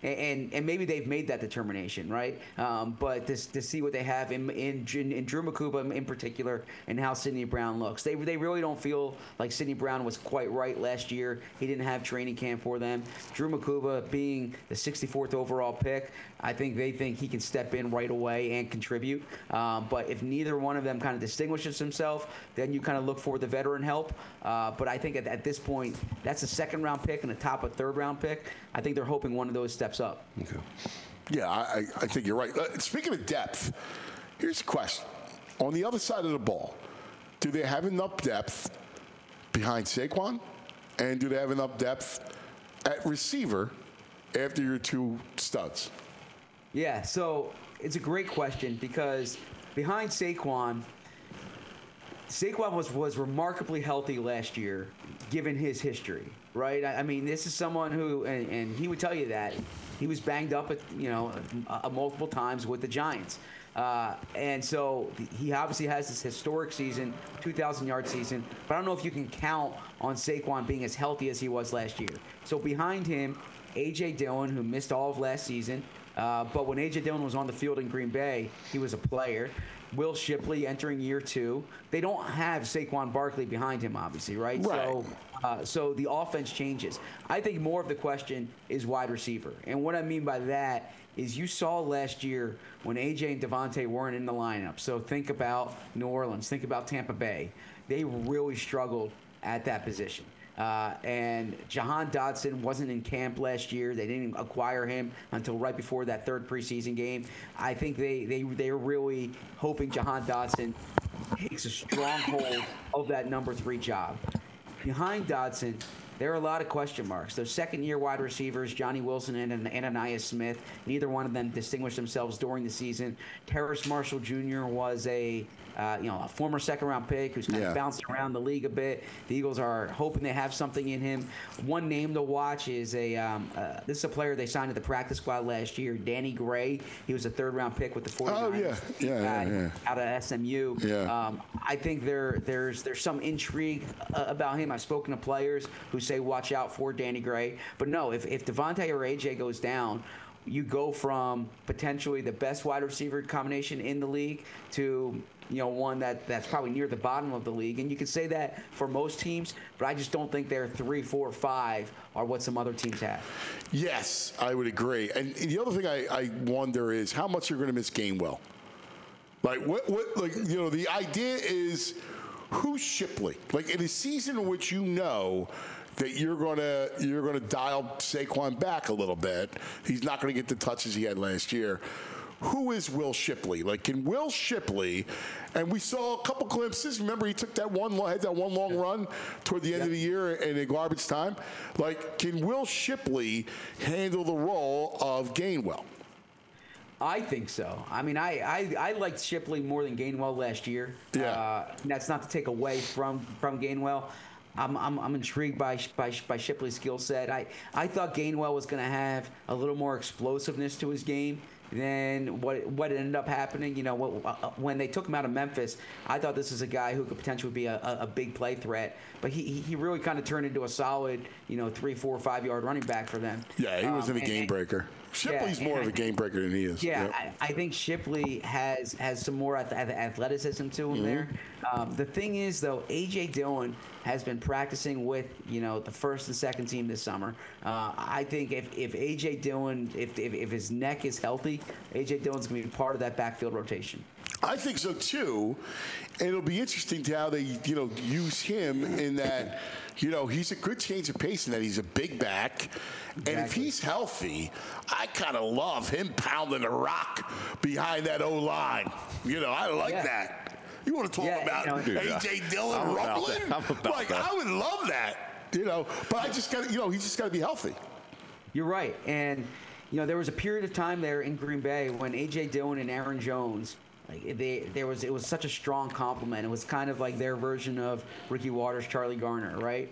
and maybe they've made that determination, right? But to see what they have in Drew Makuba in particular, and how Sidney Brown looks, they really don't feel like Sidney Brown was quite right last year. He didn't have training camp for them. Drew Makuba being the 64th overall pick, I think they think he can step in right away and contribute. But if neither one of them kind of distinguishes himself, then you kind of look for the veteran help. But I think at this point, that's a second-round pick and a top of third-round pick. I think they're hoping one of those steps up. Okay. Yeah, I think you're right. Speaking of depth, here's a question. On the other side of the ball, do they have enough depth behind Saquon? And do they have enough depth at receiver after your two studs? Yeah, so it's a great question because behind Saquon was remarkably healthy last year, given his history, right? I mean, this is someone who, and he would tell you that he was banged up multiple times with the Giants. And so he obviously has this historic season, 2,000-yard season, but I don't know if you can count on Saquon being as healthy as he was last year. So behind him, A.J. Dillon, who missed all of last season, but when A.J. Dillon was on the field in Green Bay, he was a player. Will Shipley entering year 2. They don't have Saquon Barkley behind him, obviously, right? So the offense changes. I think more of the question is wide receiver. And what I mean by that is you saw last year when A.J. and Devontae weren't in the lineup. So think about New Orleans. Think about Tampa Bay. They really struggled at that position. And Jahan Dotson wasn't in camp last year. They didn't acquire him until right before that third preseason game. I think they're really hoping Jahan Dotson takes a strong hold of that number 3 job. Behind Dotson, there are a lot of question marks. Those second-year wide receivers, Johnny Wilson and Ananias Smith, neither one of them distinguished themselves during the season. Terrace Marshall Jr. was a former second-round pick who's kind of bouncing around the league a bit. The Eagles are hoping they have something in him. One name to watch is this is a player they signed to the practice squad last year, Danny Gray. He was a third-round pick with the 49ers. Out of SMU. I think there's some intrigue about him. I've spoken to players who say watch out for Danny Gray. But no, if Devontae or AJ goes down, you go from potentially the best wide receiver combination in the league to one that's probably near the bottom of the league. And you could say that for most teams, but I just don't think they're 3, 4, 5 are what some other teams have. Yes, I would agree. And the other thing I wonder is how much you're going to miss Gainwell. Like the idea is who's Shipley? Like in a season in which that you're gonna dial Saquon back a little bit. He's not gonna get the touches he had last year. Who is Will Shipley? Like, can Will Shipley, and we saw a couple glimpses. Remember, he took that one long run toward the end of the year in a garbage time. Like, can Will Shipley handle the role of Gainwell? I think so. I mean, I liked Shipley more than Gainwell last year. That's not to take away from Gainwell. I'm intrigued by Shipley's skill set. I thought Gainwell was going to have a little more explosiveness to his game than what ended up happening. When they took him out of Memphis, I thought this is a guy who could potentially be a big play threat. But he really kind of turned into a solid, 3, 4, 5 yard running back for them. Yeah, he wasn't a game breaker. Shipley's more of a game breaker than he is. Yeah, I think Shipley has some more athleticism to him there. The thing is, though, A.J. Dillon has been practicing with, the first and second team this summer. I think if A.J. Dillon, if his neck is healthy, A.J. Dillon's going to be part of that backfield rotation. I think so, too. And it'll be interesting to how they, use him in that, he's a good change of pace in that he's a big back. Exactly. And if he's healthy, I kind of love him pounding the rock behind that O-line. I like that. You want to talk about A.J. Dillon rumbling? I would love that, But I just got he's just got to be healthy. You're right. And, there was a period of time there in Green Bay when A.J. Dillon and Aaron Jones, it was such a strong compliment. It was kind of like their version of Ricky Waters, Charlie Garner, right?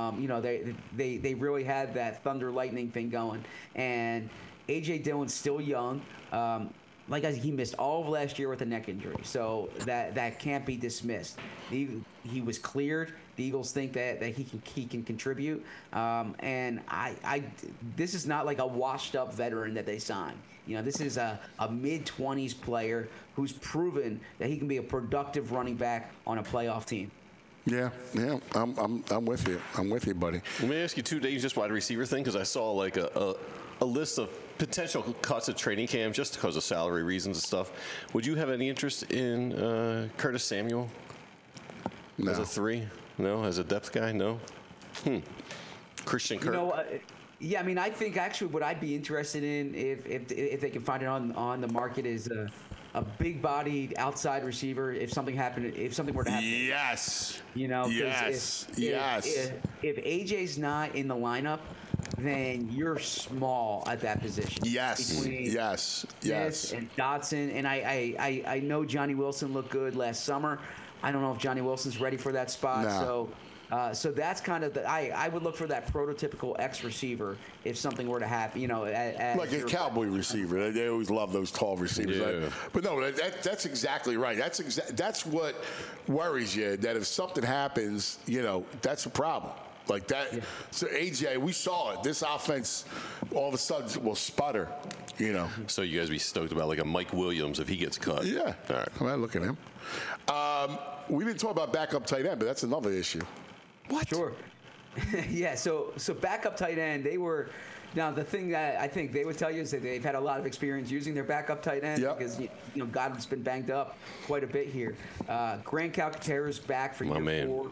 They really had that thunder lightning thing going. And A.J. Dillon's still young. like he missed all of last year with a neck injury, so that can't be dismissed. He was cleared. The Eagles think that he can contribute, and this is not like a washed up veteran that they signed. This is a mid-20s player who's proven that he can be a productive running back on a playoff team. Yeah, I'm with you. I'm with you, buddy. Let me ask you two names, just wide receiver thing, because I saw like a list of potential cuts at training camp just because of salary reasons and stuff. Would you have any interest in Curtis Samuel? No. As a 3? No? As a depth guy? No? Christian Kirk? Yeah, I mean, I think actually what I'd be interested in if they can find it on the market is a big-bodied outside receiver. If something were to happen, yes, yes. If AJ's not in the lineup, then you're small at that position. Yes, yes. And Dotson, and I know Johnny Wilson looked good last summer. I don't know if Johnny Wilson's ready for that spot. No. So that's kind of I would look for that prototypical X receiver if something were to happen. Like a cowboy receiver. They always love those tall receivers. Yeah. Right? But no, that's exactly right. That's what worries you. That if something happens, that's a problem. Like that. Yeah. So AJ, we saw it. This offense all of a sudden will sputter. So you guys be stoked about like a Mike Williams if he gets cut. Yeah. All right. Come on, look at him. We didn't talk about backup tight end, but that's another issue. What? Sure. Yeah. So backup tight end, they were. Now the thing that I think they would tell you is that they've had a lot of experience using their backup tight end because Godwin's been banged up quite a bit here. Grant Calcaterra's back for year 4.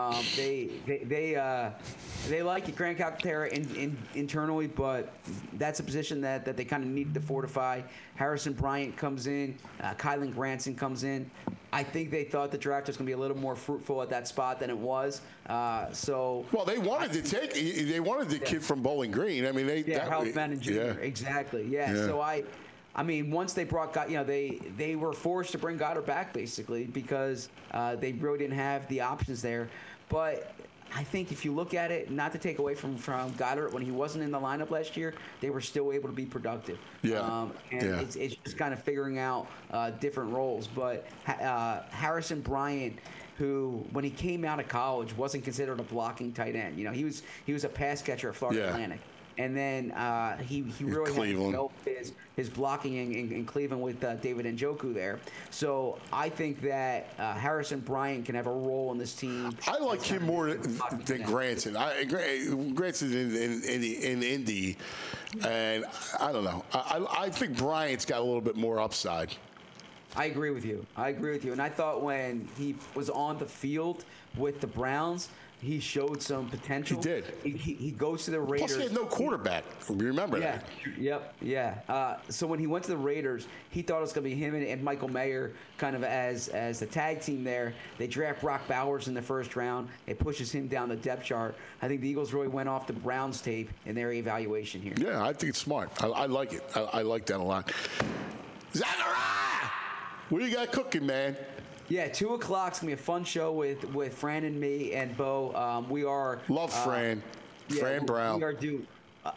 They like it, Grant Calcaterra internally, but that's a position that they kind of needed to fortify. Harrison Bryant comes in, Kylan Granson comes in. I think they thought the draft was going to be a little more fruitful at that spot than it was. Well, they wanted the kid from Bowling Green. I mean, Harold Bannon Jr. Yeah. Exactly. Yeah. So I mean, once they brought they were forced to bring Goddard back basically because they really didn't have the options there. But I think if you look at it, not to take away from Goddard, when he wasn't in the lineup last year, they were still able to be productive. Yeah. It's just kind of figuring out different roles. But Harrison Bryant, who when he came out of college wasn't considered a blocking tight end. He was a pass catcher at Florida Atlantic. And then he really had to develop his blocking in Cleveland with David Njoku there. So I think that Harrison Bryant can have a role in this team. I like him more than Granson. Granson's in Indy, and I don't know. I think Bryant's got a little bit more upside. I agree with you. And I thought when he was on the field with the Browns, he showed some potential. He did. He goes to the Raiders. Plus, he had no quarterback. Remember that? Yeah. So when he went to the Raiders, he thought it was going to be him and Michael Mayer kind of as the tag team there. They draft Brock Bowers in the first round. It pushes him down the depth chart. I think the Eagles really went off the Browns tape in their evaluation here. Yeah, I think it's smart. I like it. I like that a lot. Zachariah! What do you got cooking, man? Yeah, 2 o'clock's gonna be a fun show with Fran and me and Bo. We are love Fran. Fran Brown. We are due.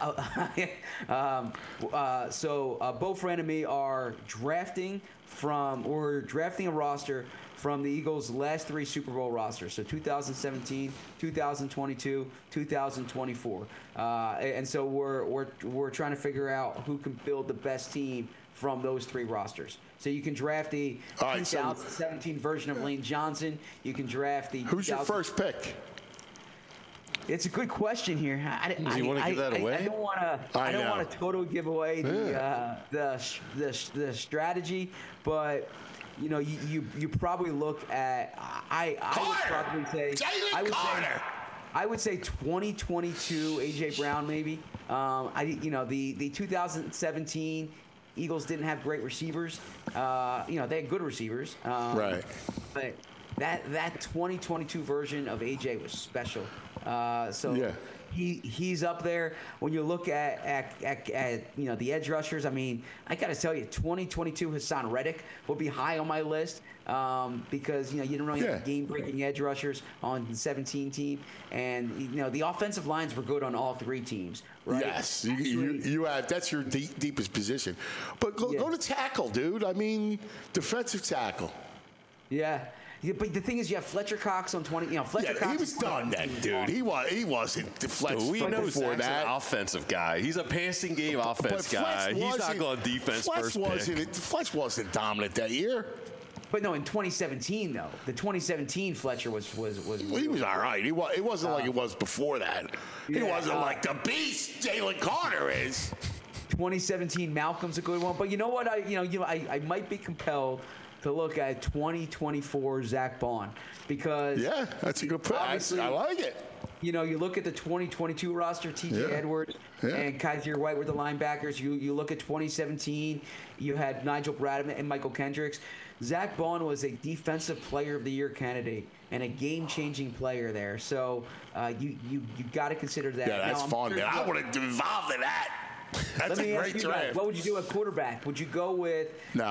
Bo, Fran, and me are drafting a roster from the Eagles' last 3 Super Bowl rosters. So 2017, 2022, 2024, and so we're trying to figure out who can build the best team from those 3 rosters. So you can draft the 2017 version of Lane Johnson. You can draft the. Who's your first pick? It's a good question here. Do you want to give that away? I don't want to. I don't want to totally give away the strategy, but you probably look at. I would probably say. I would say 2022 AJ Brown maybe. The 2017. Eagles didn't have great receivers. They had good receivers. Right. But that 2022 version of AJ was special. he's up there. When you look at the edge rushers, I mean, I got to tell you, 2022 Hassan Reddick will be high on my list because you don't really have game-breaking edge rushers on the 17 team, and the offensive lines were good on all three teams. Right? Yes, you have. That's your deepest position. But go to tackle, dude. I mean, defensive tackle. Yeah. But the thing is, you have Fletcher Cox on 20. Fletcher Cox. He was done then, dude. He wasn't Fletcher before that. An offensive guy. He's a passing game offense guy. He's not going defense first pick. Fletch wasn't dominant that year. But no, in 2017 though, the 2017 Fletcher was. He was all right. It wasn't like it was before that. He wasn't like the beast Jalen Carter is. 2017 Malcolm's a good one, but you know what? I might be compelled to look at 2024 Zach Bond because that's a good pick. I like it. You look at the 2022 roster, T.J. Edwards and Kaiser White were the linebackers. You look at 2017, you had Nigel Bradman and Michael Kendricks. Zach Bond was a Defensive Player of the Year candidate and a game-changing player there. So you got to consider that. Yeah, that's fun. Man. I would have involved in that. That's a great draft. What would you do at quarterback? Would you go with?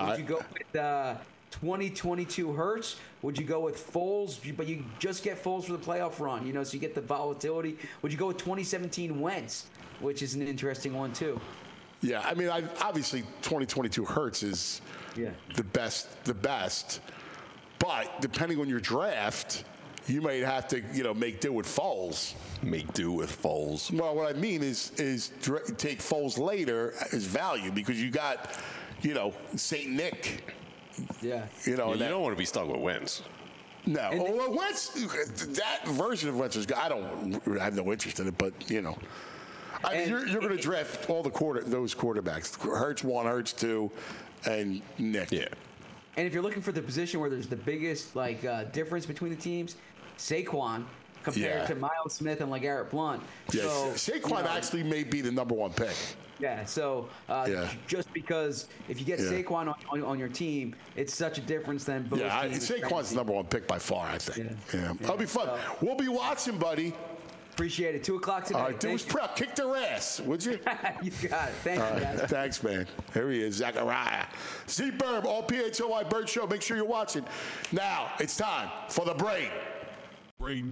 2022 Hurts? Would you go with Foles? But you just get Foles for the playoff run, so you get the volatility. Would you go with 2017 Wentz, which is an interesting one too? Yeah, I mean, obviously 2022 Hurts is the best. But depending on your draft, you might have to, make do with Foles. Make do with Foles. Well, what I mean is take Foles later as value because you got, St. Nick. Yeah. You don't want to be stuck with Wentz. No. Wentz, that version of Wentz is good. I have no interest in it, but, I mean, you're going to draft all those quarterbacks. Hurts 1, Hurts 2, and Nick. Yeah. And if you're looking for the position where there's the biggest difference between the teams, Saquon compared to Miles Smith and LeGarrette Blount. Yes. So, Saquon actually may be the number 1 pick. Yeah, so just because if you get Saquon on your team, it's such a difference than both teams. Saquon's the number 1 pick by far, I think. Yeah. That'll be fun. We'll be watching, buddy. Appreciate it. 2 o'clock tonight. All right, do his prep. Kick their ass, would you? You got it. Thank you, guys. Thanks, man. Here he is, Zachariah. Z-Burb, all PHOI Bird Show. Make sure you're watching. Now, it's time for the brain. Brain.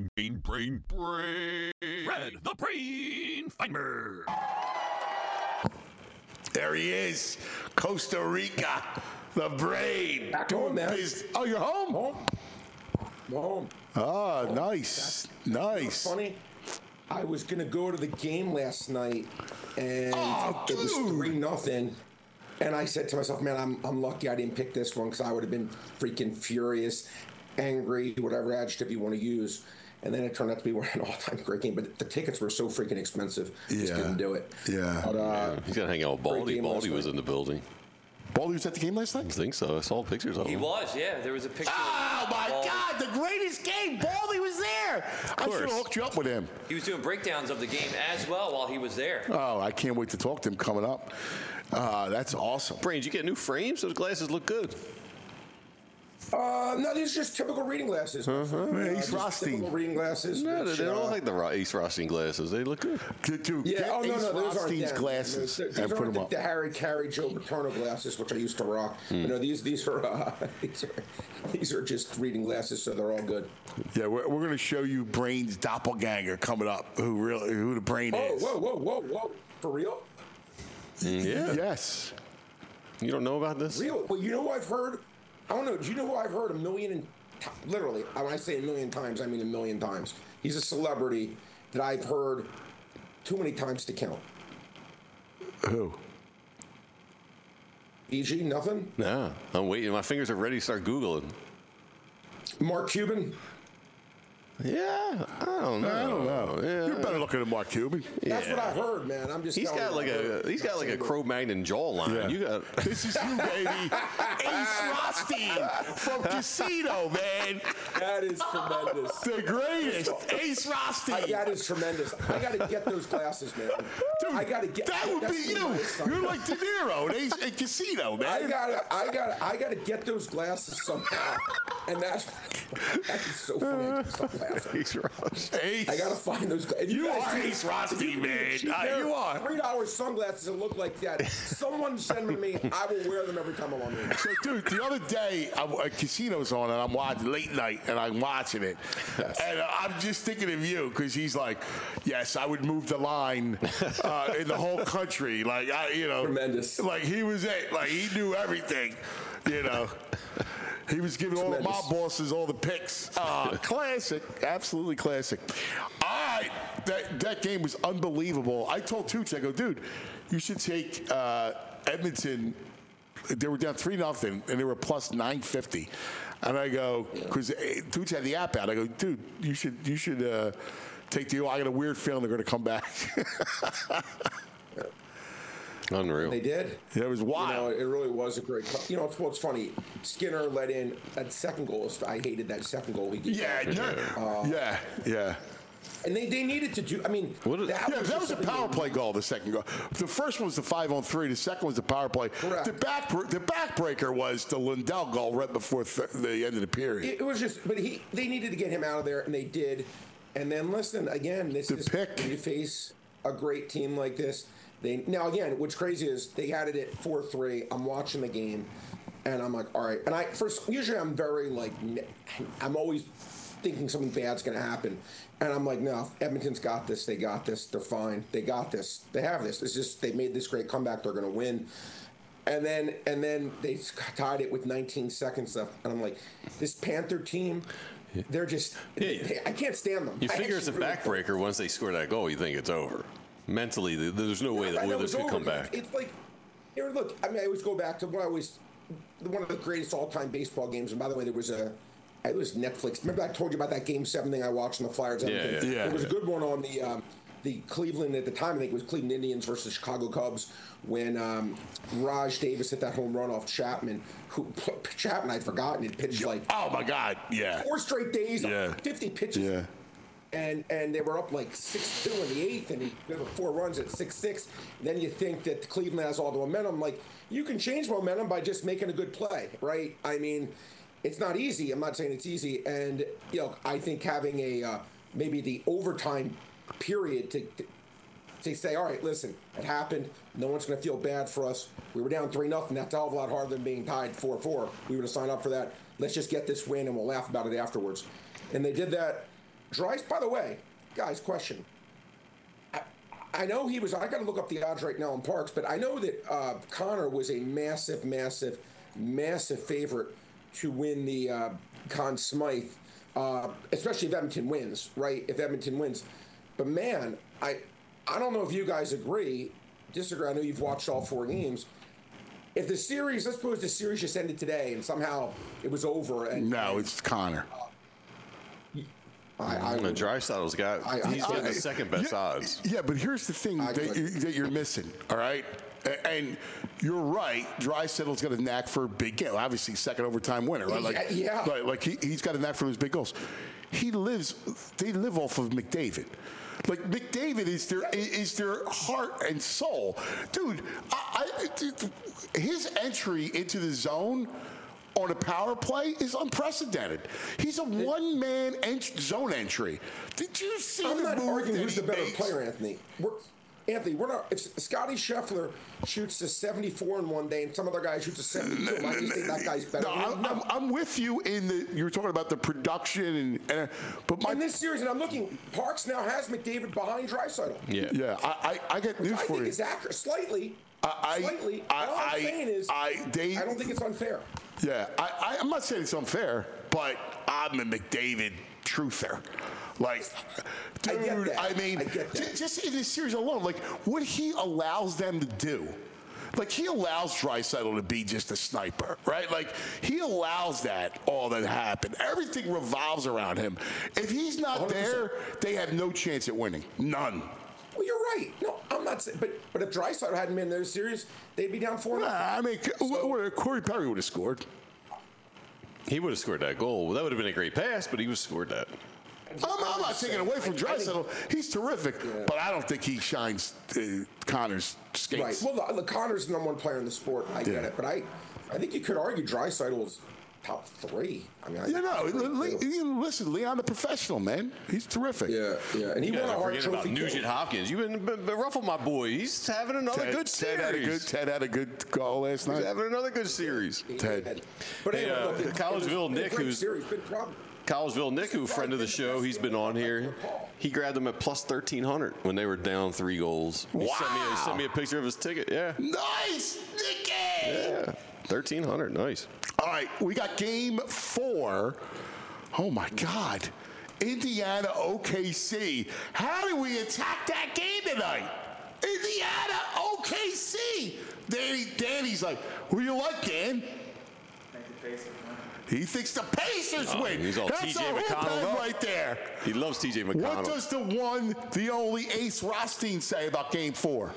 Red, the brain finder. There he is, Costa Rica, the brain. Back home, man. Oh, you're home? Home. Oh, nice. Funny. I was gonna go to the game last night, and it was 3-0. And I said to myself, man, I'm lucky I didn't pick this one because I would have been freaking furious, angry, whatever adjective you want to use. And then it turned out to be an all-time great game. But the tickets were so freaking expensive. Just didn't do it. Yeah. But, he's got to hang out with Baldy. Baldy was in the building. Baldy was at the game last night? I think so. I saw pictures of him. He was, yeah. There was a picture. Oh, my God. The greatest game. Baldy was there. I should have hooked you up with him. He was doing breakdowns of the game as well while he was there. Oh, I can't wait to talk to him coming up. That's awesome. Brain, did you get new frames? Those glasses look good. No, these are just typical reading glasses. Ace Rothstein. Typical reading glasses. No, they don't like the Ace Rothstein glasses. They look good. Dude, Yeah, get Ace those aren't Rothstein's them. glasses These and put aren't them up. the Harry Carey, Joe Paterno glasses, which I used to rock. These are just reading glasses, so they're all good. Yeah, we're going to show you Brain's doppelganger coming up. Who the Brain is? Whoa! For real? Yeah. Yes. You don't know about this? Real? Well, you know who I've heard? I don't know. Do you know who I've heard literally, when I say 1,000,000 times, I mean 1,000,000 times. He's a celebrity that I've heard too many times to count. Who? EG, nothing? No. I'm waiting. My fingers are ready to start Googling. Mark Cuban? Yeah. I don't know. Yeah. You're better looking than Mark Cuban. That's what I heard, man. I'm just He's got like a Cro-Magnon jawline. Yeah. You got This is you, baby. Ace Rothstein from Casino, man. That is tremendous. The greatest. Ace Rothstein. That is tremendous. I got to get those glasses, man. Dude, I gotta get. that would that's be the you. way it's You're like De Niro in Casino, man. I gotta get those glasses somehow, and that is so funny. Ace Ross. Ace. I gotta find those. If You guys are see- Ace Rothstein, if you man. cheap pair You are. of $3 sunglasses that look like that. Someone send them to me. I will wear them every time I'm on the. So, dude, the other day, a Casino's on, and I'm watching late night, and I'm watching it. Yes. And I'm just thinking of you, because he's like, yes, I would move the line in the whole country. Like, Tremendous. Like, he was it. Like, he knew everything, He was giving all the mob bosses all the picks. Classic. Absolutely classic. All right. That game was unbelievable. I told Tooch, I go, dude, you should take Edmonton. They were down 3-0, and they were plus 950. And I go, because Tooch had the app out. I go, dude, you should take the. I got a weird feeling they're going to come back. Unreal. They did. It was wild. It really was a great. It's what's funny. Skinner let in that second goal. I hated that second goal he did. Yeah. And they needed to do. I mean, that was a power play goal. The second goal. The first one was the 5-on-3. The second was the power play. Correct. The backbreaker was the Lindell goal right before the end of the period. It was just, but they needed to get him out of there, and they did. And then listen again. This is pick. when you face a great team like this. Now again, what's crazy is they had it at 4-3. I'm watching the game, and I'm like, all right. And usually I'm very like, I'm always thinking something bad's going to happen. And I'm like, no, Edmonton's got this. They got this. They're fine. They got this. They have this. It's just they made this great comeback. They're going to win. And then they tied it with 19 seconds left. And I'm like, this Panther team, they're just, I can't stand them. You figure it's a backbreaker once they score that goal, you think it's over. Mentally, there's no way that Oilers could come back. It's like, look, I mean, I always go back to one of the greatest all-time baseball games. And by the way, it was Netflix. Remember I told you about that Game 7 thing I watched on the Flyers? Yeah. There was a good one on the Cleveland, at the time, I think it was Cleveland Indians versus Chicago Cubs, when Raj Davis hit that home run off Chapman. Chapman, I'd forgotten, had pitched like... Oh, my God, yeah. 4 straight days, 50 pitches. Yeah. And they were up like 6-2 in the 8th, and there were 4 runs at 6-6. Then you think that Cleveland has all the momentum. Like, you can change momentum by just making a good play, right? I mean, it's not easy. I'm not saying it's easy. And, I think having maybe the overtime period to say, all right, listen, it happened. No one's going to feel bad for us. We were down 3-0. That's a hell of a lot harder than being tied 4-4. We would have signed up for that. Let's just get this win, and we'll laugh about it afterwards. And they did that. Dreisaitl, by the way, guys, question. I know he was, I got to look up the odds right now in Parks, but I know that Connor was a massive, massive, massive favorite to win the Conn Smythe, especially if Edmonton wins, right? If Edmonton wins. But man, I don't know if you guys disagree. I know you've watched all 4 games. If the series, let's suppose the series just ended today and somehow it was over. It's Connor. Dreisaitl's he's got the second best odds. Yeah, but here's the thing that you're missing, all right? And you're right. Dreisaitl's got a knack for a big game. Obviously, second overtime winner, right? Like he's got a knack for those big goals. They live off of McDavid. Like McDavid is their heart and soul, dude. His entry into the zone on a power play is unprecited. He's a one-man zone entry. Did you see I'm the not move arguing that who's he the better makes? player, Anthony. We're not. If Scotty Scheffler shoots a 74 in one day, and some other guy shoots a 72, I just think that guy's better. No, I'm with you you were talking about the production but in this series, and I'm looking. Parks now has McDavid behind Draisaitl. Yeah. I got news I for think you. it's accurate, slightly. All I'm saying is, I don't think it's unfair. Yeah, I'm not saying it's unfair, but I'm a McDavid truther. Like, dude, I get that. Just in this series alone, like what he allows them to do. Like, he allows Draisaitl to be just a sniper, right? Like, he allows all that happen. Everything revolves around him. If he's not 100%. There, they have no chance at winning. None. Well, you're right. No, I'm not saying. But if Draisaitl hadn't been in their series, they'd be down 4-0. I mean, Corey Perry would have scored. He would have scored that goal. Well, that would have been a great pass, but he would have scored that. I'm not taking away from Draisaitl. He's terrific, but I don't think he shines Connor's skates. Right. Well, the Connor's the number one player in the sport. I get it, but I think you could argue Draisaitl's top 3. I mean, listen, Leon, the professional, man. He's terrific. Yeah, and he won a Hart forget about Trophy. Nugent Hopkins. You've been ruffle my boy. He's having another good series. Ted had a good call last night. He's having another good series. Ted. But anyway, Collegeville Nick, who's Collegeville Nick, who friend of the show, he's been on here. He grabbed them at plus 1,300 when they were down 3 goals. He sent me a picture of his ticket. Yeah. Nice, Nicky. Yeah. 1,300. Nice. All right, we got game 4. Oh my God, Indiana OKC. How do we attack that game tonight? Indiana OKC. Danny's like, who do you like, Dan? He thinks the Pacers win. He's all That's TJ a McConnell right there. He loves TJ McConnell. What does the only Ace Rothstein say about game 4?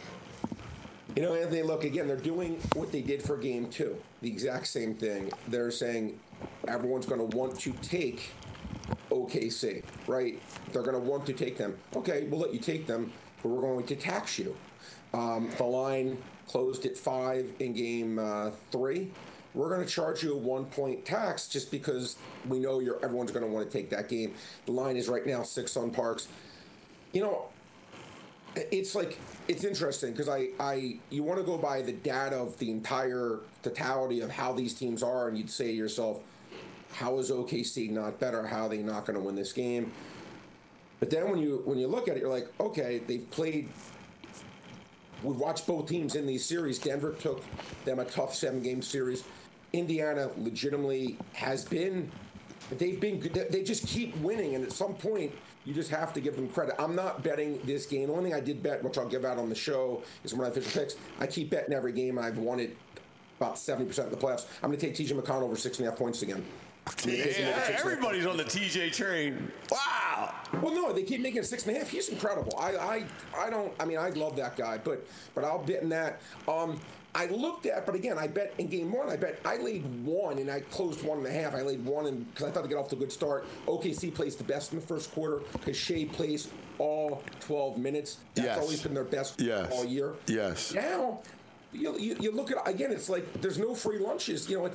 You know, Anthony, look, again, they're doing what they did for game 2. The exact same thing. They're saying everyone's going to want to take OKC, right? They're going to want to take them. Okay, we'll let you take them, but we're going to tax you. The line closed at 5 in game 3. We're going to charge you a 1-point tax just because we know everyone's going to want to take that game. The line is right now 6 on Parks. You know, it's interesting because you want to go by the data of the entire totality of how these teams are, and you'd say to yourself, how is OKC not better? How are they not going to win this game? But then when you look at it, you're like, okay, they've played. We've watched both teams in these series. Denver took them a tough 7-game series. Indiana legitimately has been. They've been. They just keep winning, and at some point, you just have to give them credit. I'm not betting this game. The only thing I did bet, which I'll give out on the show, is when I official picks. I keep betting every game, and I've won it about 70% of the playoffs. I'm going to take TJ McConnell over 6.5 points again. Yeah, everybody's on the TJ train. Wow. Well, no, they keep making it 6.5. He's incredible. I love that guy, but I'll bet in that. I looked at, but again, I bet in game 1, I laid 1 and I closed 1.5. I laid 1 because I thought to get off to a good start. OKC plays the best in the first quarter because Shea plays all 12 minutes. That's always been their best all year. Yes. Now, you look at, again, it's like there's no free lunches. You know,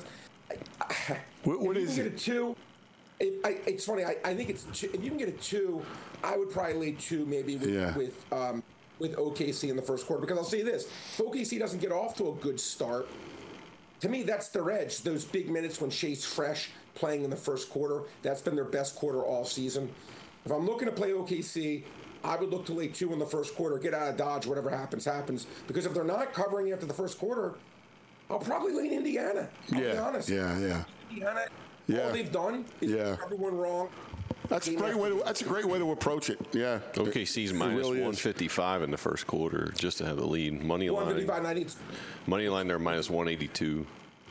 What is it? Get a 2. It's funny. I think it's 2. If you can get a 2, I would probably lay 2 maybe with OKC in the first quarter, because I'll say this: if OKC doesn't get off to a good start, to me that's their edge. Those big minutes when Shea's fresh playing in the first quarter, that's been their best quarter all season. If I'm looking to play OKC, I would look to lay 2 in the first quarter, get out of Dodge, whatever happens, because if they're not covering after the first quarter, I'll probably lay Indiana. I'll be honest. Yeah. Indiana, all they've done is everyone wrong. That's a great way to approach it. Yeah. OKC's minus really 155 in the first quarter just to have the lead. Money line, they're minus 182.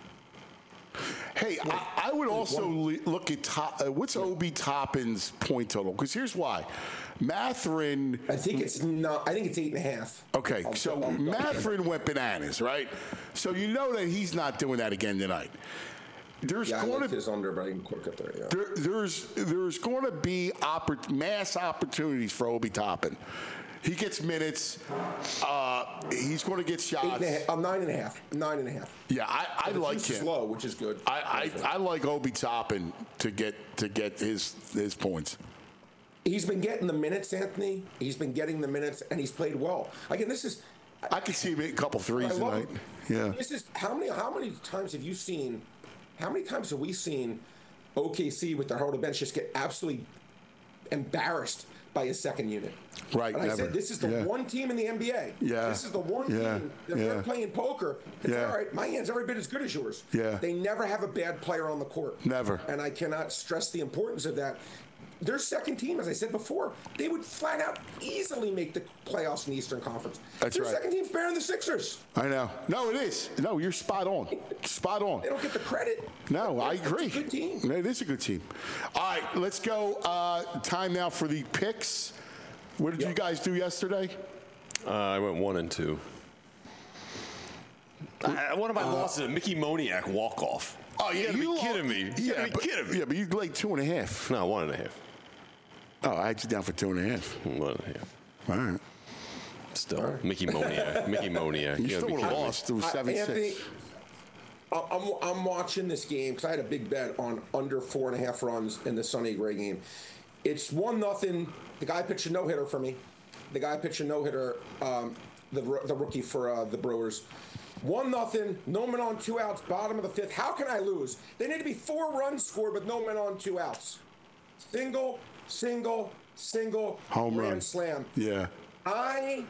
Hey, I would also look at what's Obi Toppin's point total? Because here's why. Matherin. I think it's 8.5. Okay, so Matherin went bananas, right? So you know that he's not doing that again tonight. There's going to his under, but I can quick up there. Yeah. There's going to be mass opportunities for Obi Toppin. He gets minutes. He's going to get shots. 9.5. 9.5. Yeah, I like him. Slow, which is good. I like Obi Toppin to get his points. He's been getting the minutes, Anthony. He's been getting the minutes, and he's played well. Again, this is. I could see him hit a couple threes tonight. Yeah. This is how many times have you seen? How many times have we seen OKC with their whole bench just get absolutely embarrassed by a second unit? Right. And I said, this is the one team in the NBA. Yeah. This is the one team that they're playing poker. It's all right, my hand's every bit as good as yours. Yeah. They never have a bad player on the court. Never. And I cannot stress the importance of that. Their second team, as I said before, they would flat out easily make the playoffs in the Eastern Conference. That's Their right. second team's better than the Sixers. I know. No, it is. No, you're spot on. Spot on. They don't get the credit. No, I agree. It's a good team. It is a good team. All right, let's go. Time now for the picks. What did you guys do yesterday? I went 1 and 2. One of my losses, a Mickey Moniak walk-off. Oh, yeah. You gotta be kidding me. You gotta be kidding me. Yeah, but you laid 2.5. No, 1.5. Oh, I had you down for 2.5. Well, yeah. All right. Still, Mickey Moniak. You still would have lost. It was 7-6. Anthony, I'm watching this game because I had a big bet on under 4.5 runs in the Sonny Gray game. It's 1-0. The guy pitched a no-hitter for me. The guy pitched a no-hitter, the rookie for the Brewers. 1-0, no men on 2 outs, bottom of the 5th. How can I lose? They need to be 4 runs scored with no men on 2 outs. Single, Home run. grand slam. Yeah. I'm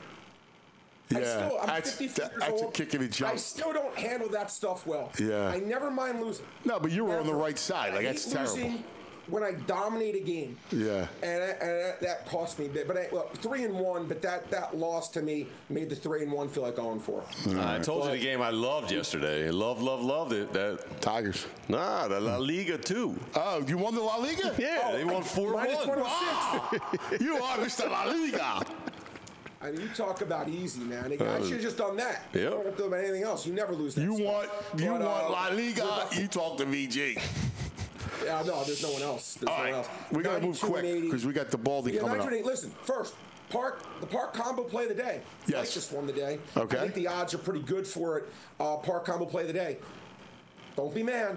That's 54 years a old. kick in the jump. I still don't handle that stuff well. Yeah. I never mind losing. No, but you were on the right side. I Like, that's hate terrible. losing when I dominate a game. Yeah. And that cost me. But 3-1. But that loss to me made the 3-1 feel like 0-4. I told you the game I loved yesterday. Loved it. That Tigers. the La Liga too. Oh, you won the La Liga? Yeah, they won 4-1. Minus 106. You are Mr. La Liga. I mean, you talk about easy, man. I should have just done that. Yep. You don't have to do about anything else. You never lose that You stuff. want But, La Liga, you talk to VG. Yeah, no, there's no one else. There's All no right. one else. We got to move 92 and quick 80. because we got the Baldy Yeah, coming up. 92 and 80. Listen, first, the Park combo play of the day. Yes. Mike just won the day. Okay. I think the odds are pretty good for it. Park combo play of the day. Don't be mad.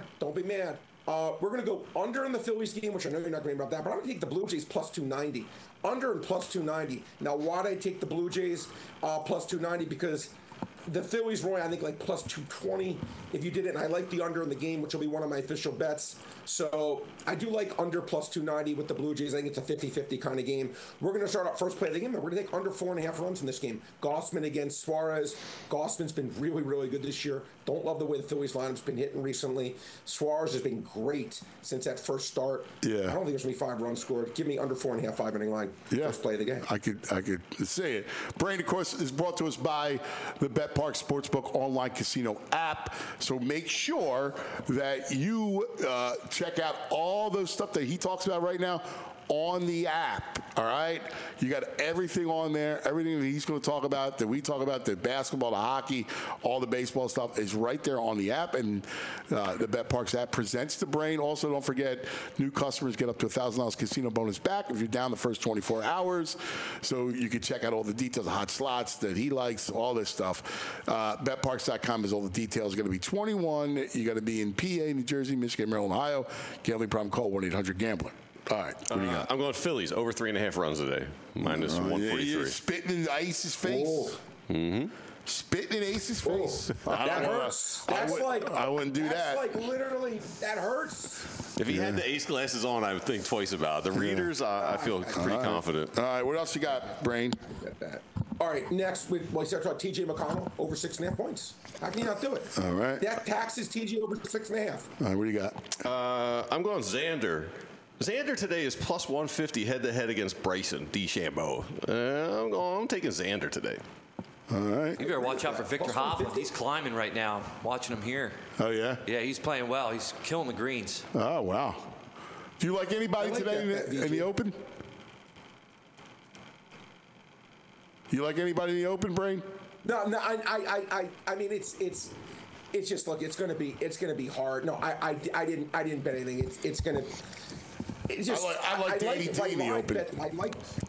We're going to go under in the Phillies game, which I know you're not going to be about that, but I'm going to take the Blue Jays plus 290. Under and plus 290. Now, why did I take the Blue Jays plus 290? Because the Phillies were, I think, like plus 220 if you did it, and I like the under in the game, which will be one of my official bets. So I do like under plus 290 with the Blue Jays. I think it's a 50-50 kind of game. We're going to start out first play of the game. We're going to take under 4.5 runs in this game. Gossman against Suarez. Gossman's been really, really good this year. Don't love the way the Phillies lineup's been hitting recently. Suarez has been great since that first start. Yeah. I don't think there's going to be 5 runs scored. Give me under 4.5, 5-inning line. Yeah. First play of the game. I could say it. Brain, of course, is brought to us by the Bet Park Sportsbook online casino app. So make sure that you check out all those stuff that he talks about right now on the app. All right, you got everything on there. Everything that he's going to talk about, that we talk about, the basketball, the hockey, all the baseball stuff is right there on the app. And the Bet Parks app presents the Brain. Also, don't forget, new customers get up to $1,000 casino bonus back if you're down the first 24 hours. So you can check out all the details, the hot slots that he likes, all this stuff. BetParks.com is all the details. It's going to be 21. You got to be in PA, New Jersey, Michigan, Maryland, Ohio. Gambling problem, call 1-800-GAMBLER. All right, what do you got? I'm going Phillies over 3.5 runs today. Minus 143. You're spitting in Ace's face. Spitting in Ace's face. That hurts. I wouldn't do that. That's like literally, that hurts. If he had the ace glasses on, I would think twice about it. The readers, I feel pretty confident. All right, what else you got, Brain? All right, next, we start talking T.J. McConnell over 6.5 points. How can you not do it? All right. That taxes T.J. over 6.5. All right, what do you got? I'm going Xander. Xander today is plus 150 head-to-head against Bryson DeChambeau. I'm taking Xander today. All right. You better watch out for Victor Hovland. He's climbing right now. Watching him here. Oh, yeah? Yeah, he's playing well. He's killing the greens. Oh, wow. Do you like anybody I like today that in the Open? You like anybody in the Open, Brain? No, I mean, it's just, look, it's gonna be hard. No, I didn't bet anything. It's gonna. It's just, I like Danny D in the Open. I like.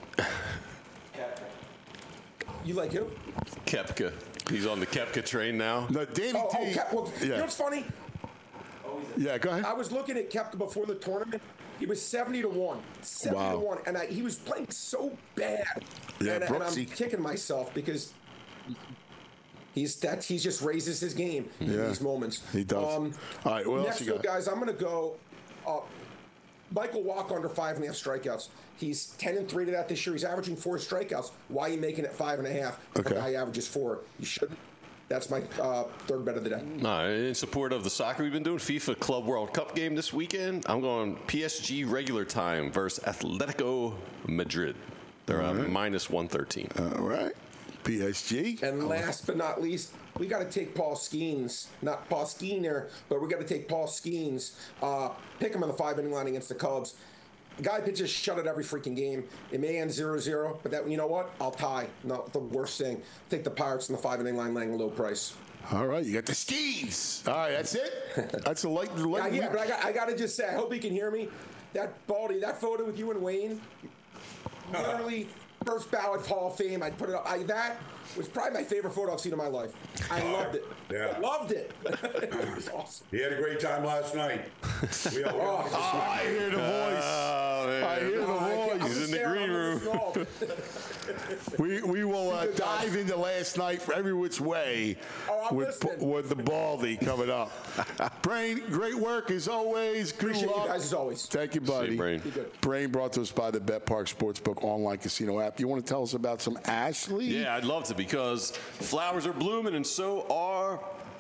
You like who? Koepka. He's on the Koepka train now. No, Danny Oh, T. well, you know what's funny? Yeah, go ahead. I was looking at Koepka before the tournament. He was 70-1. 70-1. And he was playing so bad. Yeah, and I'm Brooksy. kicking myself because he just raises his game in these moments. He does. All right, what else next you got? guys, I'm going to go Michael Walker under 5.5 strikeouts. He's 10-3 to that this year. He's averaging 4 strikeouts. Why are you making it 5.5? Okay. The guy averages 4. You shouldn't. That's my third bet of the day. In support of the soccer we've been doing, FIFA Club World Cup game this weekend, I'm going PSG regular time versus Atletico Madrid. They're minus 113. All right. PSG. And last but not least, we got to take Paul Skeens. Not Paul Skeener, but we got to take Paul Skeens. Pick him on the 5-inning line against the Cubs. The guy pitches shut it every freaking game. It may end 0-0, but that, you know what? I'll tie. Not the worst thing. Take the Pirates on the 5-inning line laying a low price. All right, you got the skis. All right, that's it. That's a light. Yeah, but I got to just say, I hope he can hear me. That Baldy, that photo with you and Wayne, literally first ballot Hall of Fame. I'd put it up. That was probably my favorite photo I've seen in my life. I loved it. Yeah. Loved it. It was awesome. He had a great time last night. I hear the voice. I hear the voice. He's in the green room. We will dive into last night for every which way with the Baldy coming up. Brain, great work as always. Good Appreciate luck. you guys as always. Thank you, buddy. Same, Brain. Be good. Brain brought to us by the Bet Park Sportsbook online casino app. You want to tell us about some Ashley? Yeah, I'd love to, because flowers are blooming and so are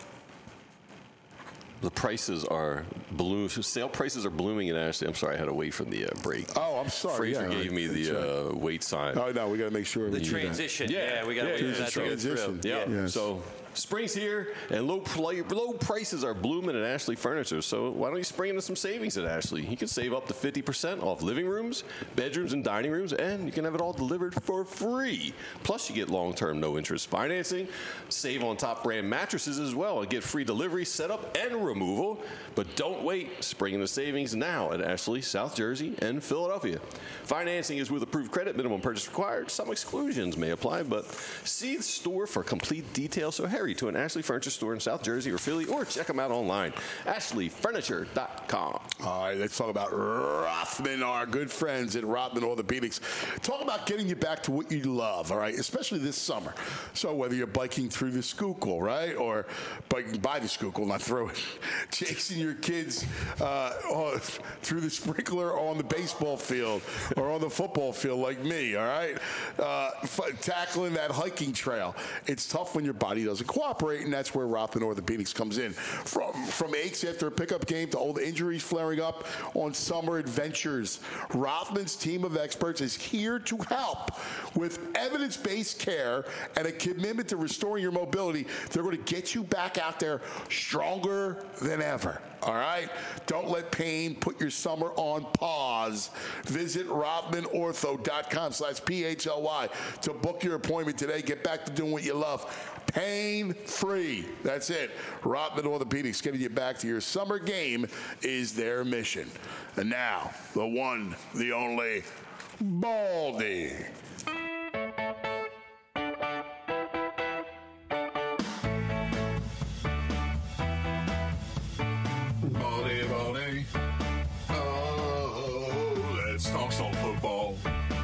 the prices are blooming. Sale prices are blooming in Ashley. I'm sorry, I had to wait for the break. Oh, I'm sorry. Fraser gave me the wait sign. Oh, no, we got to make sure The we do that. transition. Yeah, we got to wait for that to go transition. through. Yeah. Yes. So spring's here, and low prices are blooming at Ashley Furniture. So why don't you spring into some savings at Ashley? You can save up to 50% off living rooms, bedrooms, and dining rooms, and you can have it all delivered for free. Plus, you get long-term, no-interest financing. Save on top brand mattresses as well, and get free delivery, setup, and removal. But don't wait. Spring into savings now at Ashley, South Jersey, and Philadelphia. Financing is with approved credit. Minimum purchase required. Some exclusions may apply, but see the store for complete details. So hurry to an Ashley Furniture store in South Jersey or Philly, or check them out online, ashleyfurniture.com. All right, let's talk about Rothman, our good friends at Rothman Orthopedics. Talk about getting you back to what you love, all right, especially this summer. So whether you're biking through the Schuylkill, right, or biking by the Schuylkill, not through it, chasing your kids through the sprinkler on the baseball field or on the football field like me, all right, tackling that hiking trail. It's tough when your body doesn't cooperate, and that's where Rothman Orthopedics comes in. From aches after a pickup game to old injuries flaring up on summer adventures, Rothman's team of experts is here to help with evidence-based care and a commitment to restoring your mobility. They're going to get you back out there stronger than ever. All right? Don't let pain put your summer on pause. Visit RothmanOrtho.com/PHLY to book your appointment today. Get back to doing what you love. Pain-free. That's it. Rothman Orthopedics, getting you back to your summer game is their mission. And now, the one, the only, Baldy. Baldy. Oh, let's talk some football.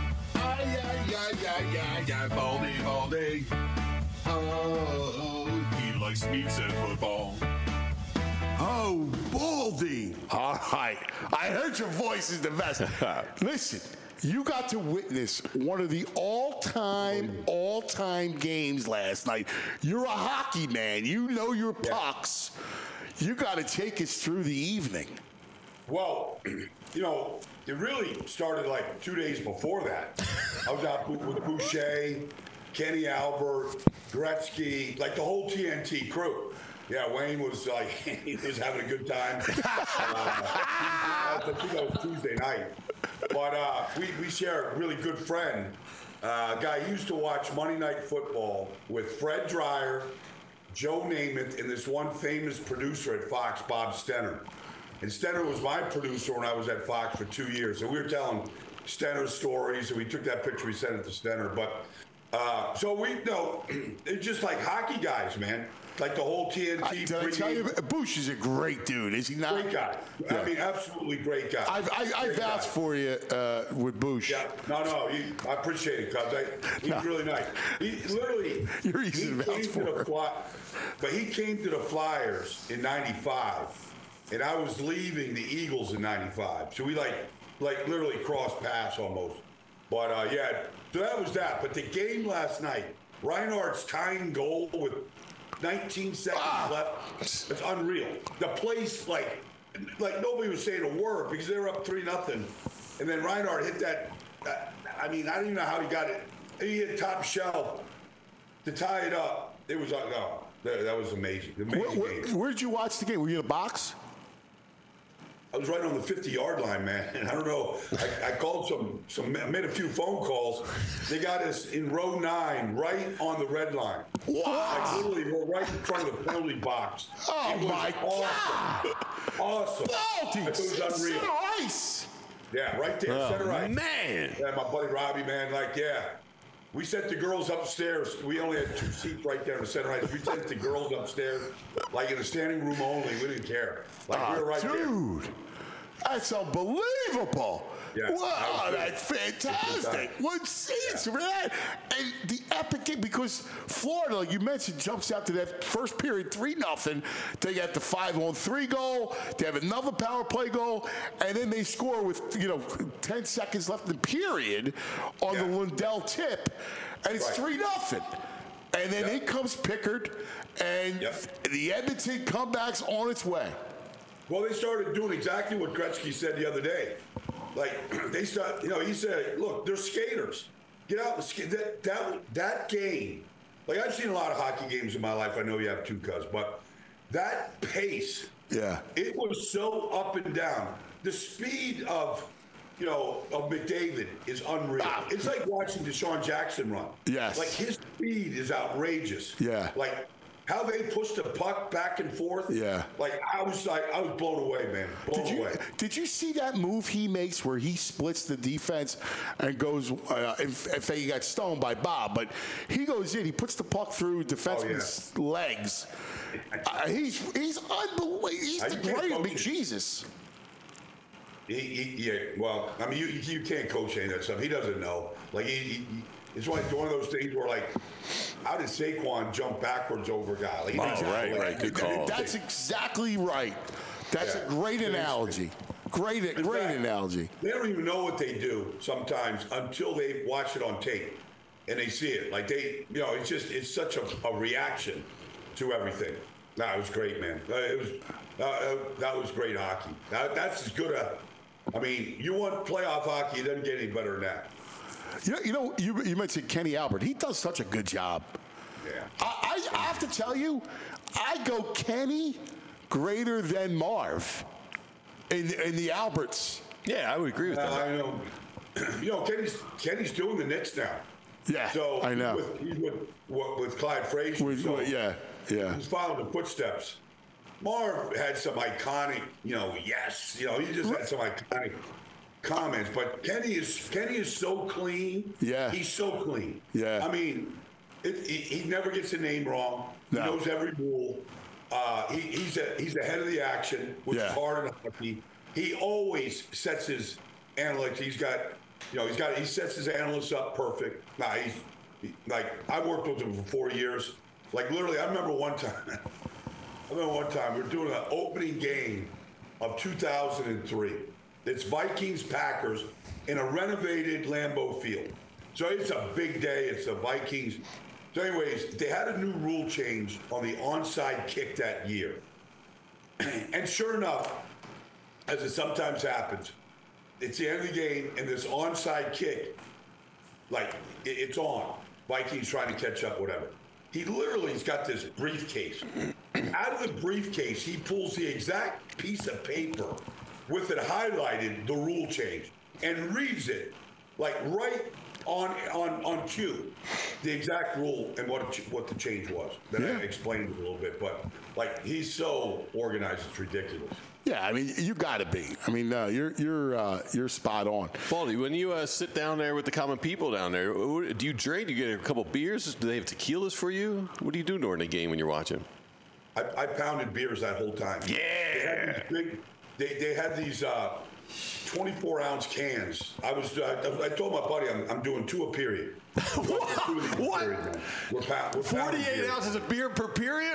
Baldy. Oh, he likes meats and football. Oh, Baldy. All right. I heard your voice is the best. Listen, you got to witness one of the all-time games last night. You're a hockey man. You know your pucks. You got to take us through the evening. Well, you know, it really started like 2 days before that. I was out with Boucher, Kenny Albert, Gretzky, like the whole TNT crew. Yeah, Wayne was like, he was having a good time. I think that was Tuesday night. But we share a really good friend, a guy who used to watch Monday Night Football with Fred Dreyer, Joe Namath, and this one famous producer at Fox, Bob Stenner. And Stenner was my producer when I was at Fox for 2 years. And we were telling Stenner stories, and we took that picture, we sent it to Stenner. But so we know it's just like hockey guys, man. Like the whole TNT. Did I tell you, Bush is a great dude, is he not? Great guy. Yeah. I mean, absolutely great guy. I vouch for you with Bush. Yeah, no, I appreciate it, cuz he's really nice. He literally, You're easy to vouch for. But he came to the Flyers in '95. And I was leaving the Eagles in '95, so we like literally crossed paths almost. But yeah, so that was that. But the game last night, Reinhardt's tying goal with 19 seconds left. It's unreal. The place like nobody was saying a word because they were up 3-0, and then Reinhardt hit that. I mean, I don't even know how he got it. He hit top shelf to tie it up. It was no, that was amazing. Game. Where did you watch the game? Were you in a box? I was right on the 50-yard line, man. And I don't know. I called made a few phone calls. They got us in row 9, right on the red line. Wow. Like literally, we're right in front of the penalty box. Oh, my God. Awesome. Baldy, It was unreal. Ice. Yeah, right there, center right. Man. Yeah, my buddy Robbie, man, we sent the girls upstairs. We only had 2 seats right there in the center right. We sent the girls upstairs, like in the standing room only. We didn't care. We were right there. Dude, that's unbelievable. Yeah, wow, that that's fantastic. What seats, man. And the epic game, because Florida, like you mentioned, jumps out to that first period 3-0. They got the 5-on-3 goal. They have another power play goal. And then they score with, 10 seconds left in the period on the Lundell tip. And it's 3-0. And then in comes Pickard. And the Edmonton comeback's on its way. Well, they started doing exactly what Gretzky said the other day. Like, they start, he said, look, they're skaters. Get out and skate. That game, like, I've seen a lot of hockey games in my life. I know you have too, cuz, but that pace, it was so up and down. The speed of McDavid is unreal. It's like watching Deshaun Jackson run. Yes. Like, his speed is outrageous. Yeah. Like, how they push the puck back and forth. Yeah. I was blown away, man. Blown away. Did you see that move he makes where he splits the defense and goes, if he got stoned by Bob, but he goes in, he puts the puck through defenseman's legs. He's unbelievable. He's the great. I mean, Jesus. Well, I mean, you can't coach any of that stuff. He doesn't know. Like, it's one of those things where, like, how did Saquon jump backwards over a guy? Like, right. Good call. That's exactly right. That's a great analogy. Great analogy. They don't even know what they do sometimes until they watch it on tape and they see it. Like, it's such a reaction to everything. It was great, man. That was great hockey. That's as good I mean, you want playoff hockey, it doesn't get any better than that. You mentioned Kenny Albert. He does such a good job. Yeah. I have to tell you, I go Kenny greater than Marv in the Alberts. Yeah, I would agree with that. I know. Kenny's doing the Knicks now. Yeah, so I know. He's with Clyde Frazier. Yeah. He's following the footsteps. Marv had some iconic, he just had some iconic comments, but Kenny is so clean. Yeah, he's so clean. Yeah, I mean, he never gets a name wrong. He knows every rule. He's ahead of the action, which is hard in hockey. He always sets his analytics. He sets his analysts up perfect. I worked with him for 4 years. Like, literally, I remember one time we were doing an opening game of 2003. It's Vikings-Packers in a renovated Lambeau Field. So it's a big day. It's the Vikings. So anyways, they had a new rule change on the onside kick that year. And sure enough, as it sometimes happens, it's the end of the game, and this onside kick, it's on. Vikings trying to catch up, whatever. He's got this briefcase. Out of the briefcase, he pulls the exact piece of paper with it highlighted, the rule change, and reads it, right on cue, the exact rule and what the change was. Then I explained it a little bit, but he's so organized, it's ridiculous. Yeah, I mean, you got to be. I mean, you're spot on. Baldy, when you sit down there with the common people down there, do you drink? Do you get a couple beers? Do they have tequilas for you? What do you do during the game when you're watching? I pounded beers that whole time. Yeah. They had these 24-ounce cans. I told my buddy I'm doing 2 a period. What? We're 48 ounces of beer per period?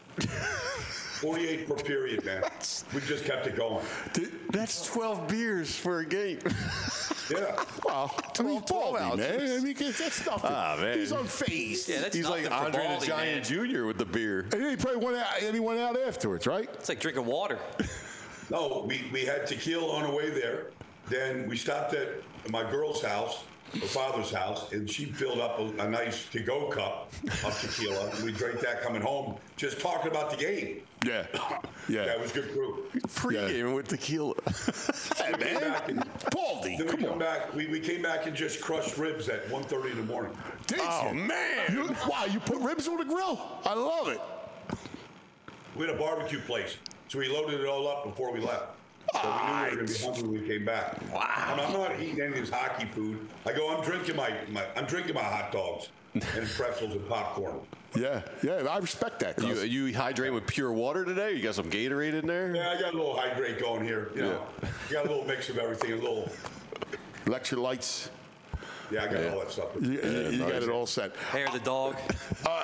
48 per period, man. We just kept it going. That's 12 beers for a game. Yeah. Well, 12 ounces. Man. I mean, that's nothing. Man. He's unfazed. Yeah, that's He's like Andre the Giant Jr. with the beer. And then he probably went out afterwards, right? It's like drinking water. No, we had tequila on the way there. Then we stopped at my girl's house, her father's house, and she filled up a nice to-go cup of tequila. And we drank that coming home, just talking about the game. Yeah. Yeah, it was good crew. Pre-game with tequila. Hey, man. Baldy, Then we came back and just crushed ribs at 1:30 in the morning. Did you? Man. You put ribs on the grill? I love it. We had a barbecue place, so we loaded it all up before we left. So we knew we were going to be hungry when we came back. Wow. I'm not eating any of this hockey food. I'm drinking my hot dogs and pretzels and popcorn. Yeah, I respect that. You hydrate with pure water today? You got some Gatorade in there? Yeah, I got a little hydrate going here. You know, you got a little mix of everything, a little electrolytes. Yeah, I got all that stuff. You got it all set. Hair of the dog. All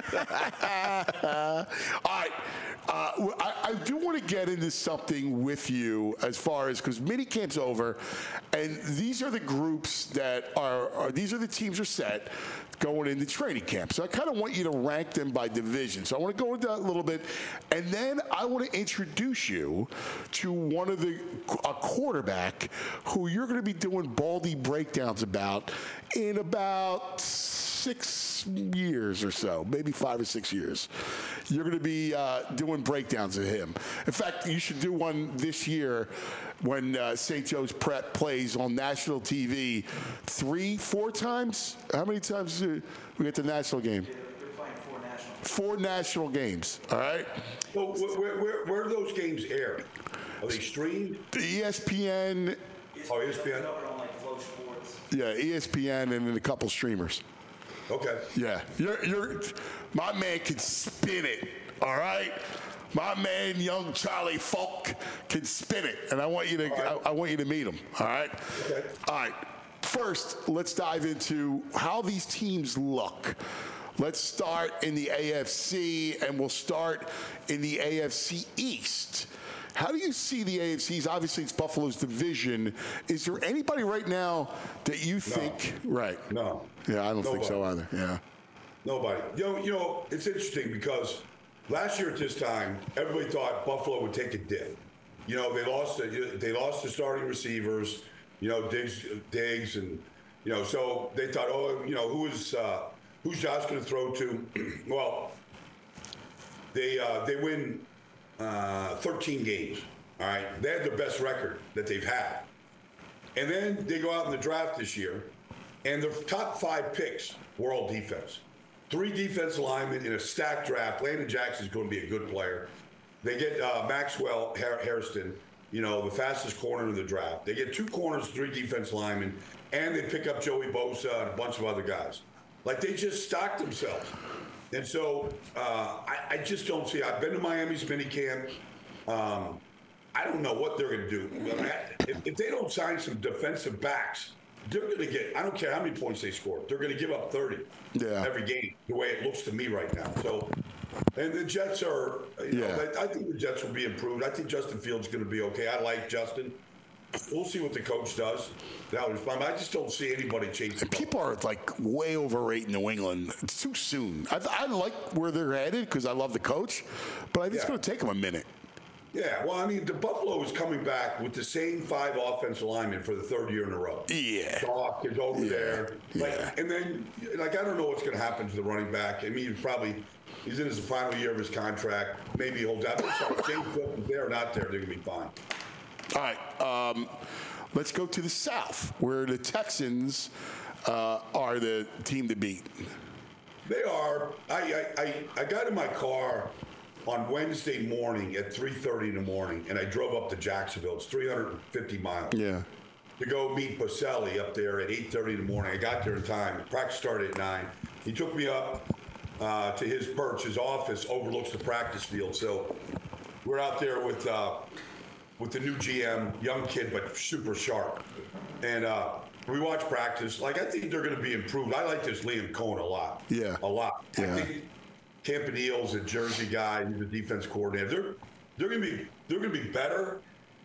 right. I do want to get into something with you as far as, because minicamp's over, and these are the groups that these are the teams are set going into training camp. So I kind of want you to rank them by division. So I want to go into that a little bit, and then I want to introduce you to a quarterback who you're going to be doing Baldy breakdowns about in about 6 years or so, maybe 5 or 6 years. You're going to be doing breakdowns of him. In fact, you should do one this year when St. Joe's Prep plays on national TV 3-4 times. How many times do we get the national game? They're playing 4 national games. 4 national games, all right? So where do those games air? Are they streamed? ESPN. Oh, ESPN? On like Flow Sports. Yeah, ESPN and then a couple streamers. Okay. Yeah, my man can spin it. All right, my man, young Charlie Falk, can spin it, and I want you to I want you to meet him. All right. Okay. All right. First, let's dive into how these teams look. Let's start in the AFC, and we'll start in the AFC East. How do you see the AFCs? Obviously, it's Buffalo's division. Is there anybody right now that you think? Right. No. Yeah, I don't think so either. Yeah. Nobody. You know, it's interesting because last year at this time, everybody thought Buffalo would take a dip. You know, they lost the starting receivers. You know, Diggs, and you know, so they thought, oh, you know, who's Josh going to throw to? Well, they win 13 games. All right, they had the best record that they've had, and then they go out in the draft this year, and their top 5 picks were all defense. 3 defensive linemen in a stacked draft. Landon Jackson's going to be a good player. They get Maxwell Hairston, you know, the fastest corner in the draft. They get 2 corners, 3 defensive linemen, and they pick up Joey Bosa and a bunch of other guys. Like, they just stocked themselves. And so I just don't see. I've been to Miami's minicamp. I don't know what they're going to do. If they don't sign some defensive backs, they're going to get, I don't care how many points they score, they're going to give up 30 every game, the way it looks to me right now. So, and the Jets are, you know, I think the Jets will be improved. I think Justin Fields is going to be okay. I like Justin. We'll see what the coach does. I just don't see anybody chasing. People are like way overrating New England. It's too soon. I like where they're headed because I love the coach, but I think it's going to take them a minute. Yeah, well, I mean, the Buffalo is coming back with the same 5 offensive linemen for the 3rd year in a row. Yeah. Doc is over there. And then, I don't know what's going to happen to the running back. I mean, he's in his final year of his contract. Maybe he holds out. James Cook, if they're not there, they're going to be fine. All right. Let's go to the South, where the Texans are the team to beat. They are. I got in my car on Wednesday morning at 3:30 in the morning, and I drove up to Jacksonville. It's 350 miles. Yeah. To go meet Boselli up there at 8:30 in the morning. I got there in time. Practice started at 9. He took me up to his perch. His office overlooks the practice field. So we're out there with the new GM, young kid but super sharp, and we watch practice. Like, I think they're going to be improved. I like this Liam Cohen a lot. Yeah. A lot. Yeah. I think Campanille's a Jersey guy. He's a defense coordinator. They're going to be better.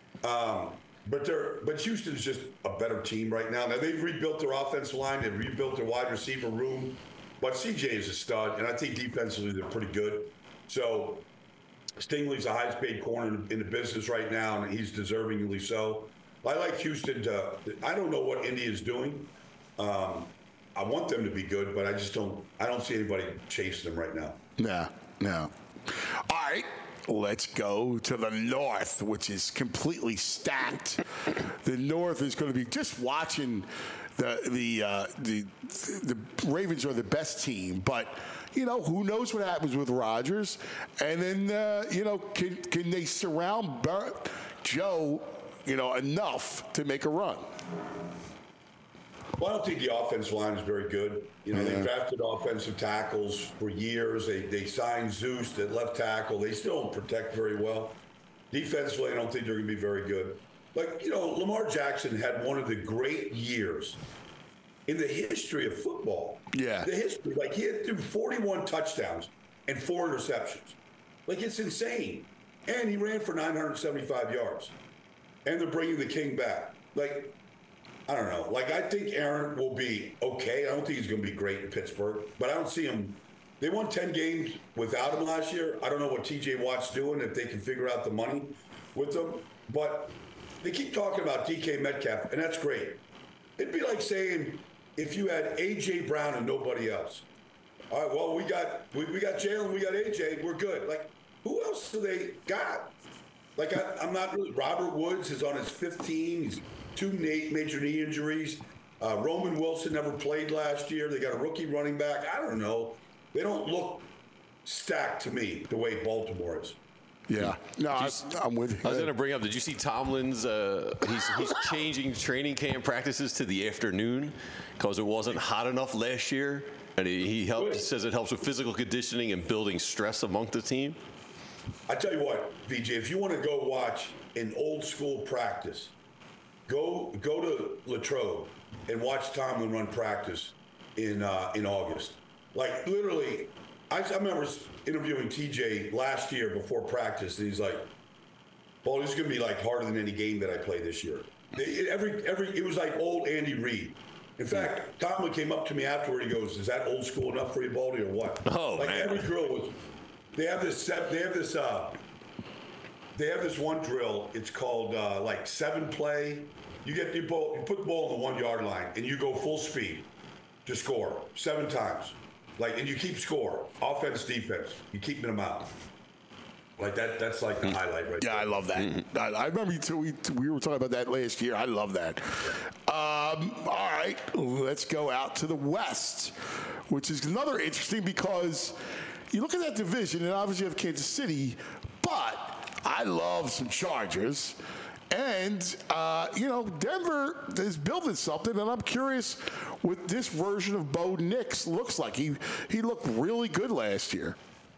But Houston's just a better team right now. Now, they've rebuilt their offensive line. They've rebuilt their wide receiver room. But CJ is a stud, and I think defensively they're pretty good. So Stingley's the highest paid corner in the business right now, and he's deservingly so. I like Houston to – I don't know what Indy is doing. I want them to be good, but I don't see anybody chasing them right now. No. All right. Let's go to the North, which is completely stacked. The North is going to be just watching the Ravens are the best team, but you know who knows what happens with Rodgers, and then you know can they surround Joe, enough to make a run. Well, I don't think the offensive line is very good. They drafted offensive tackles for years. They signed Zeus at left tackle. They still don't protect very well. Defensively, I don't think they're going to be very good. Lamar Jackson had one of the great years in the history of football. Yeah. The history. He had 41 touchdowns and 4 interceptions. It's insane. And he ran for 975 yards. And they're bringing the king back. I don't know. I think Aaron will be okay. I don't think he's going to be great in Pittsburgh, but I don't see him. They won 10 games without him last year. I don't know what TJ Watt's doing, if they can figure out the money with them. But they keep talking about DK Metcalf, and that's great. It'd be like saying if you had A.J. Brown and nobody else. All right, well, we got Jalen, we got A.J., we're good. Who else do they got? I'm not really. Robert Woods is on his 5th team. He's 2 major knee injuries. Roman Wilson never played last year. They got a rookie running back. I don't know. They don't look stacked to me the way Baltimore is. Yeah. No, I'm with you. I was going to bring up, did you see Tomlin's, he's changing training camp practices to the afternoon because it wasn't hot enough last year. And he says it helps with physical conditioning and building stress among the team. I tell you what, VJ, if you want to go watch an old school practice, go to Latrobe and watch Tomlin run practice in August. Literally, I remember interviewing TJ last year before practice, and he's like, "Well, this is going to be harder than any game that I play this year." It was like old Andy Reid. In fact, Tomlin came up to me afterward. He goes, "Is that old school enough for you, Baldy, or what?" Oh, man. Every drill was. They have this one drill. It's called 7-play. You get the ball, you put the ball on the 1 yard line, and you go full speed to score 7 times. And you keep score, offense, defense. You keeping them out. That's the highlight right there. Yeah, I love that. Mm-hmm. I remember we were talking about that last year. I love that. All right, let's go out to the West, which is another interesting because you look at that division, and obviously you have Kansas City, but I love some Chargers. And, Denver is building something, and I'm curious what this version of Bo Nix looks like. He looked really good last year.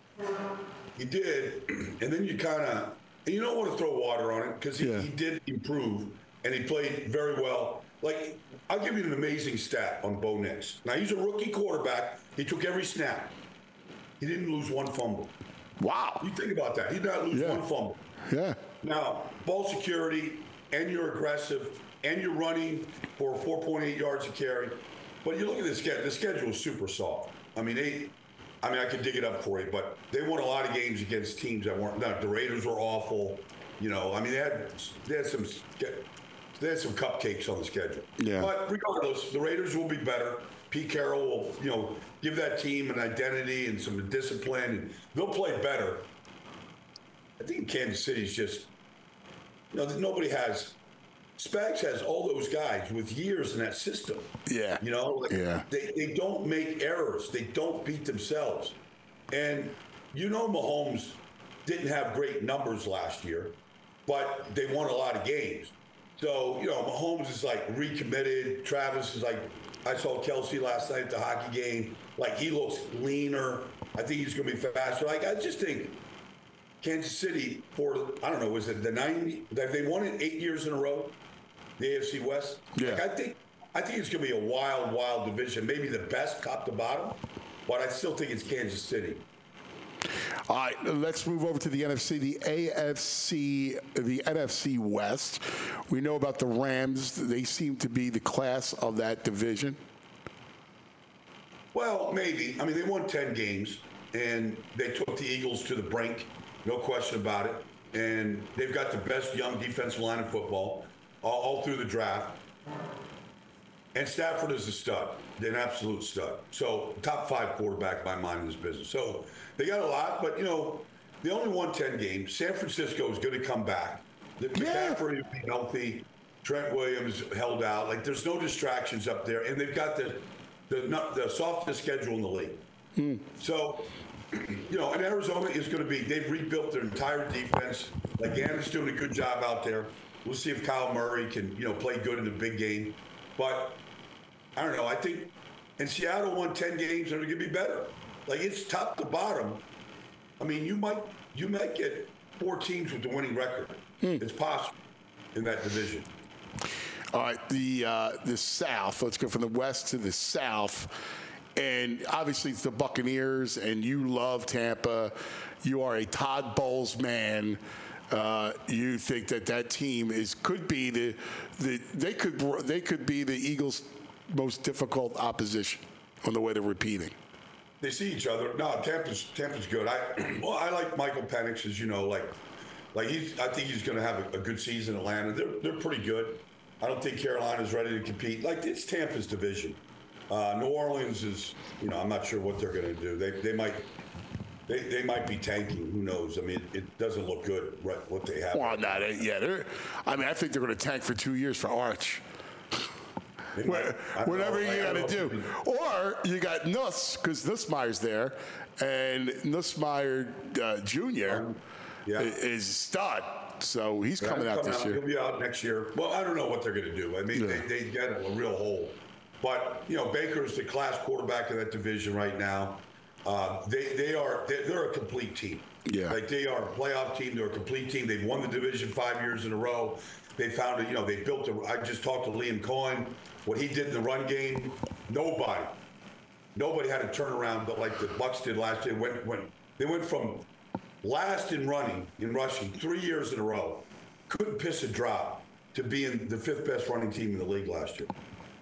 He did, and then you don't want to throw water on it because he did improve, and he played very well. I'll give you an amazing stat on Bo Nix. Now, he's a rookie quarterback. He took every snap. He didn't lose 1 fumble. Wow. You think about that. He did not lose 1 fumble. Yeah. Now, ball security, and you're aggressive, and you're running for 4.8 yards a carry. But you look at the schedule. The schedule is super soft. I I could dig it up for you, but they won a lot of games against teams that weren't. The Raiders were awful. They had some cupcakes on the schedule. Yeah. But regardless, the Raiders will be better. Pete Carroll will, give that team an identity and some discipline, and they'll play better. I think Kansas City's just, nobody has. Spags has all those guys with years in that system. Yeah. They don't make errors. They don't beat themselves. And Mahomes didn't have great numbers last year, but they won a lot of games. So, Mahomes is recommitted. Travis is I saw Kelsey last night at the hockey game. He looks leaner. I think he's going to be faster. I just think Kansas City was it the 90? They won it 8 years in a row, the AFC West. Yeah. I think it's going to be a wild, wild division. Maybe the best top to bottom, but I still think it's Kansas City. All right, let's move over to the NFC, the NFC West. We know about the Rams. They seem to be the class of that division. Well, maybe. They won 10 games, and they took the Eagles to the brink, no question about it. And they've got the best young defensive line in football all through the draft. And Stafford is a stud, an absolute stud. So top 5 quarterback by mind in this business. So they got a lot, but, they only won 10 games. San Francisco is going to come back. McCaffrey will be healthy. Trent Williams held out. There's no distractions up there. And they've got the softest schedule in the league. So and Arizona is going to be, they've rebuilt their entire defense. Like, Gannon's doing a good job out there. We'll see if Kyle Murray can, play good in the big game. But, I don't know, I think, and Seattle won 10 games, and they're going to be better. Like, it's top to bottom. I mean, you might get 4 teams with the winning record. It's possible in that division. All right, the South. Let's go from the West to the South. And obviously it's the Buccaneers, and you love Tampa. You are a Todd Bowles man. You think that team could be they could be the Eagles' most difficult opposition on the way to repeating. They see each other. No, Tampa's good. I like Michael Penix, as you know. I think he's going to have a good season in Atlanta. They're pretty good. I don't think Carolina's ready to compete. It's Tampa's division. New Orleans is, I'm not sure what they're going to do. They might be tanking. Who knows? I mean, it doesn't look good, right, what they have. Well, I think they're going to tank for 2 years for Arch. Whatever you got to do. Or you got Nuss, because Nussmeier's there, and Nussmeier Jr. Is a stud. So he's coming out this year. He'll be out next year. Well, I don't know what they're going to do. I mean, they get a real hole. But, Baker's the class quarterback of that division right now. They're a complete team. Yeah. They are a playoff team. They're a complete team. They've won the division 5 years in a row. They found it, they built I just talked to Liam Cohen. What he did in the run game, nobody had to turn around like the Bucs did last year. They went from last in rushing 3 years in a row, couldn't piss a drop, to being the 5th best running team in the league last year.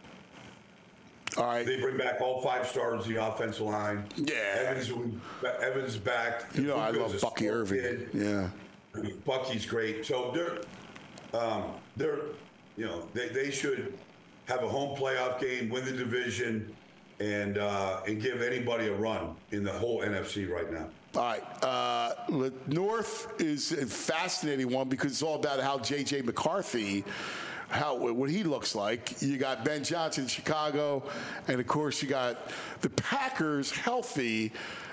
All right. They bring back all 5 stars in the offensive line. Yeah. Evans back. I love Bucky Irving. Kid. Yeah. Bucky's great. So they should have a home playoff game, win the division, and give anybody a run in the whole NFC right now. All right. North is a fascinating one because it's all about how J.J. McCarthy, what he looks like. You got Ben Johnson in Chicago, and of course you got the Packers healthy.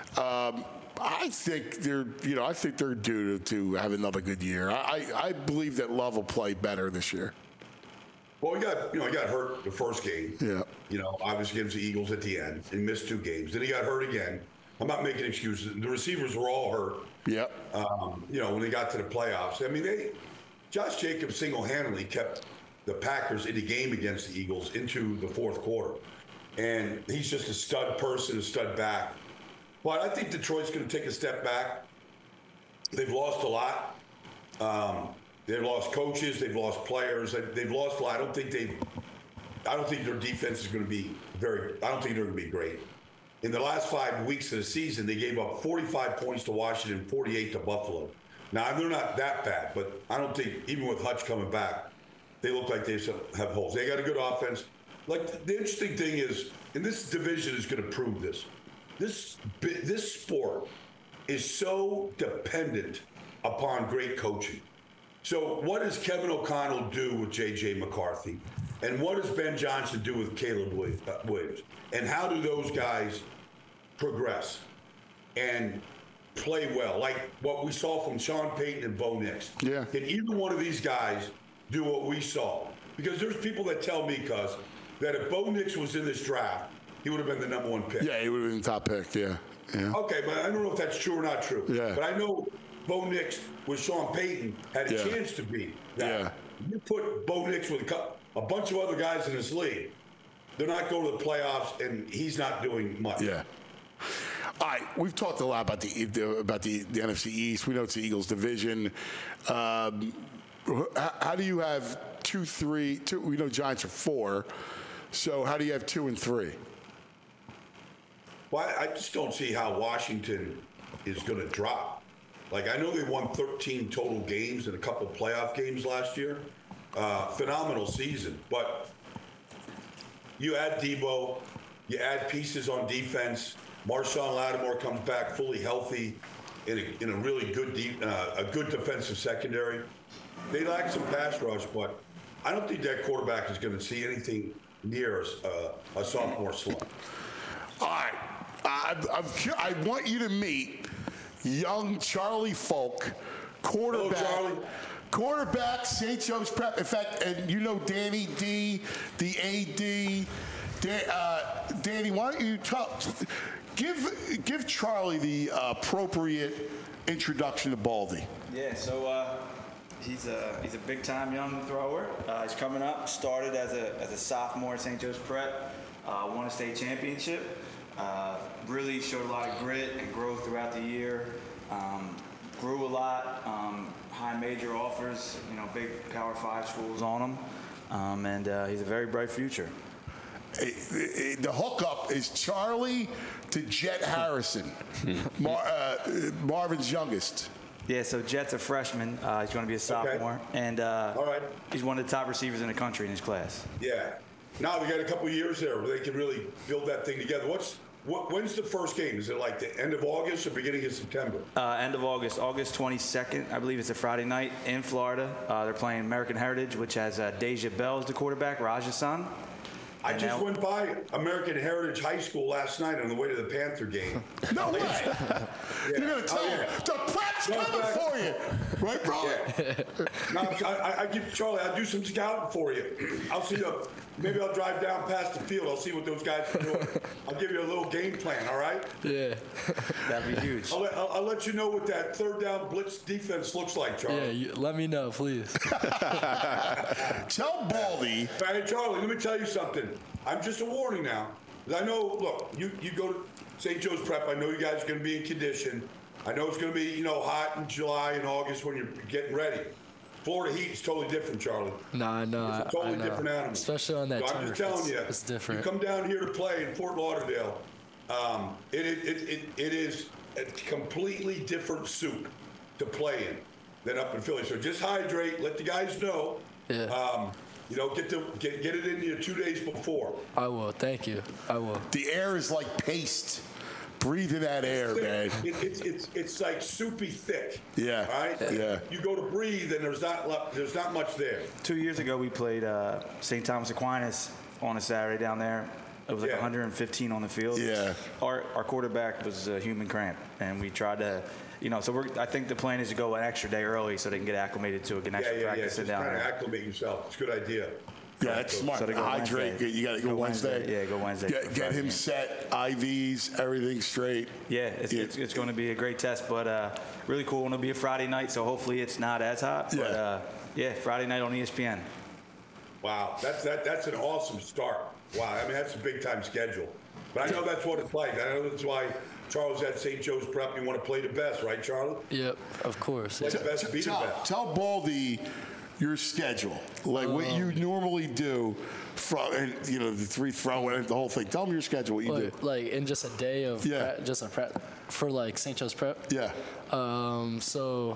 I think they're due to have another good year. I believe that Love will play better this year. Well, he got hurt the first game. Yeah. Obviously against the Eagles at the end and missed 2 games. Then he got hurt again. I'm not making excuses. The receivers were all hurt. Yep. When they got to the playoffs. I mean, Josh Jacobs single-handedly kept the Packers in the game against the Eagles into the 4th quarter. And he's just a stud person, a stud back. But I think Detroit's going to take a step back. They've lost a lot. They've lost coaches. They've lost players. They've lost a lot. I don't think their defense is going to be I don't think they're going to be great. In the last 5 weeks of the season, they gave up 45 points to Washington, 48 to Buffalo. Now, they're not that bad, but I don't think, even with Hutch coming back, they look like they have holes. They got a good offense. The interesting thing is, and this division is going to prove this, this sport is so dependent upon great coaching. So what does Kevin O'Connell do with J.J. McCarthy? And what does Ben Johnson do with Caleb Williams? And how do those guys progress and play well? Like what we saw from Sean Payton and Bo Nix. Yeah. Can either one of these guys do what we saw? Because there's people that tell me, that if Bo Nix was in this draft, he would have been the number 1 pick. Yeah, he would have been the top pick, yeah. Okay, but I don't know if that's true or not true. Yeah. But I know Bo Nix with Sean Payton had a chance to be that. Yeah. You put Bo Nix with a bunch of other guys in this league, they're not going to the playoffs, and he's not doing much. Yeah. All right, we've talked a lot about the NFC East. We know it's the Eagles division. How do you have 2, 3? We know Giants are 4. So how do you have 2 and 3? Well, I just don't see how Washington is going to drop. I know they won 13 total games and a couple playoff games last year. Phenomenal season. But you add Debo, you add pieces on defense. Marshawn Lattimore comes back fully healthy in a really good good defensive secondary. They lack some pass rush, but I don't think that quarterback is going to see anything near a sophomore slump. All right. I want you to meet young Charlie Folk, quarterback. Hello, Charlie. Quarterback, St. Joe's Prep. In fact, and you know Danny D, the AD. Danny, why don't you give Charlie the appropriate introduction to Baldy? Yeah, so he's a big time young thrower. He's coming up. Started as a sophomore at St. Joe's Prep. Won a state championship. Really showed a lot of grit and growth throughout the year. Grew a lot. High major offers. Big Power 5 schools on him. And he's a very bright future. The hookup is Charlie to Jet Harrison, Marvin's youngest. Yeah, so Jet's a freshman. He's going to be a sophomore. Okay. And All right. he's one of the top receivers in the country in his class. Yeah. Now we got a couple of years there where they can really build that thing together. When's the first game? Is it like the end of August or beginning of September? End of August, August 22nd, I believe it's a Friday night in Florida. They're playing American Heritage, which has Deja Bell as the quarterback, Raj's son. I just went by American Heritage High School last night on the way to the Panther game. No way! Yeah. You're going to tell him, the prep's coming for you! Right, bro? Yeah. No, I give Charlie, I'll do some scouting for you. I'll see maybe I'll drive down past the field. I'll see what those guys are doing. I'll give you a little game plan, all right? Yeah. That'd be huge. I'll let you know what that third down blitz defense looks like, Charlie. Yeah, let me know, please. Tell Baldy. Hey, Charlie, let me tell you something. I'm just a warning now. 'Cause I know, look, you go to St. Joe's Prep. I know you guys are going to be in condition. I know it's going to be, hot in July and August when you're getting ready. Florida heat is totally different, Charlie. No, I know. It's a totally I know. different animal. Especially on that So turf. I'm just telling you, it's different. You come down here to play in Fort Lauderdale, it is a completely different soup to play in than up in Philly. So just hydrate, let the guys know. Yeah. Get it in you 2 days before. I will. Thank you. I will. The air is like paste. Breathe in that air, man. It's like soupy thick. Yeah. All right. Yeah. You go to breathe, and there's not much there. 2 years ago, we played St. Thomas Aquinas on a Saturday down there. It was like 115 on the field. Yeah. Our quarterback was a human cramp, and we tried to, So I think the plan is to go an extra day early so they can get acclimated to an extra practice Just down trying to there. acclimate yourself. It's a good idea. Yeah, that's smart. So to go Hydrate. Wednesday. You got to go Wednesday. Yeah, go Wednesday. Get him set, IVs, everything straight. Yeah, it's going to be a great test, but really cool. It'll be a Friday night, so hopefully it's not as hot. Yeah. But Friday night on ESPN. Wow, that's an awesome start. Wow, I mean that's a big time schedule. But I know that's what it's like. I know that's why Charles at St. Joe's Prep. You want to play the best, right, Charlie? Yep, of course. Play the best, be the best. Tell Baldy your schedule, like what you normally do, from the three throw and the whole thing. Tell them your schedule, what you do. Like in just a day of just a prep for like St. Joe's Prep. Yeah. So,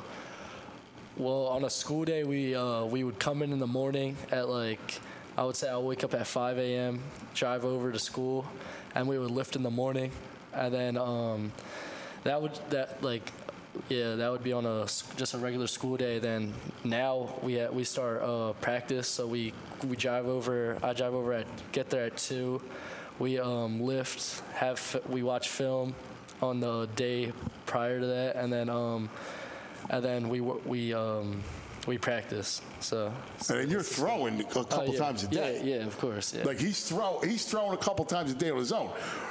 on a school day we would come in the morning at I would say I'll wake up at 5 a.m., drive over to school, and we would lift in the morning, and then that would be on just a regular school day. Then now we start practice, so we drive over. I drive over get there at 2. We lift, we watch film on the day prior to that, and then we practice. So and you're throwing a couple times a day. Yeah, of course. Yeah. Like he's throwing a couple times a day on his own.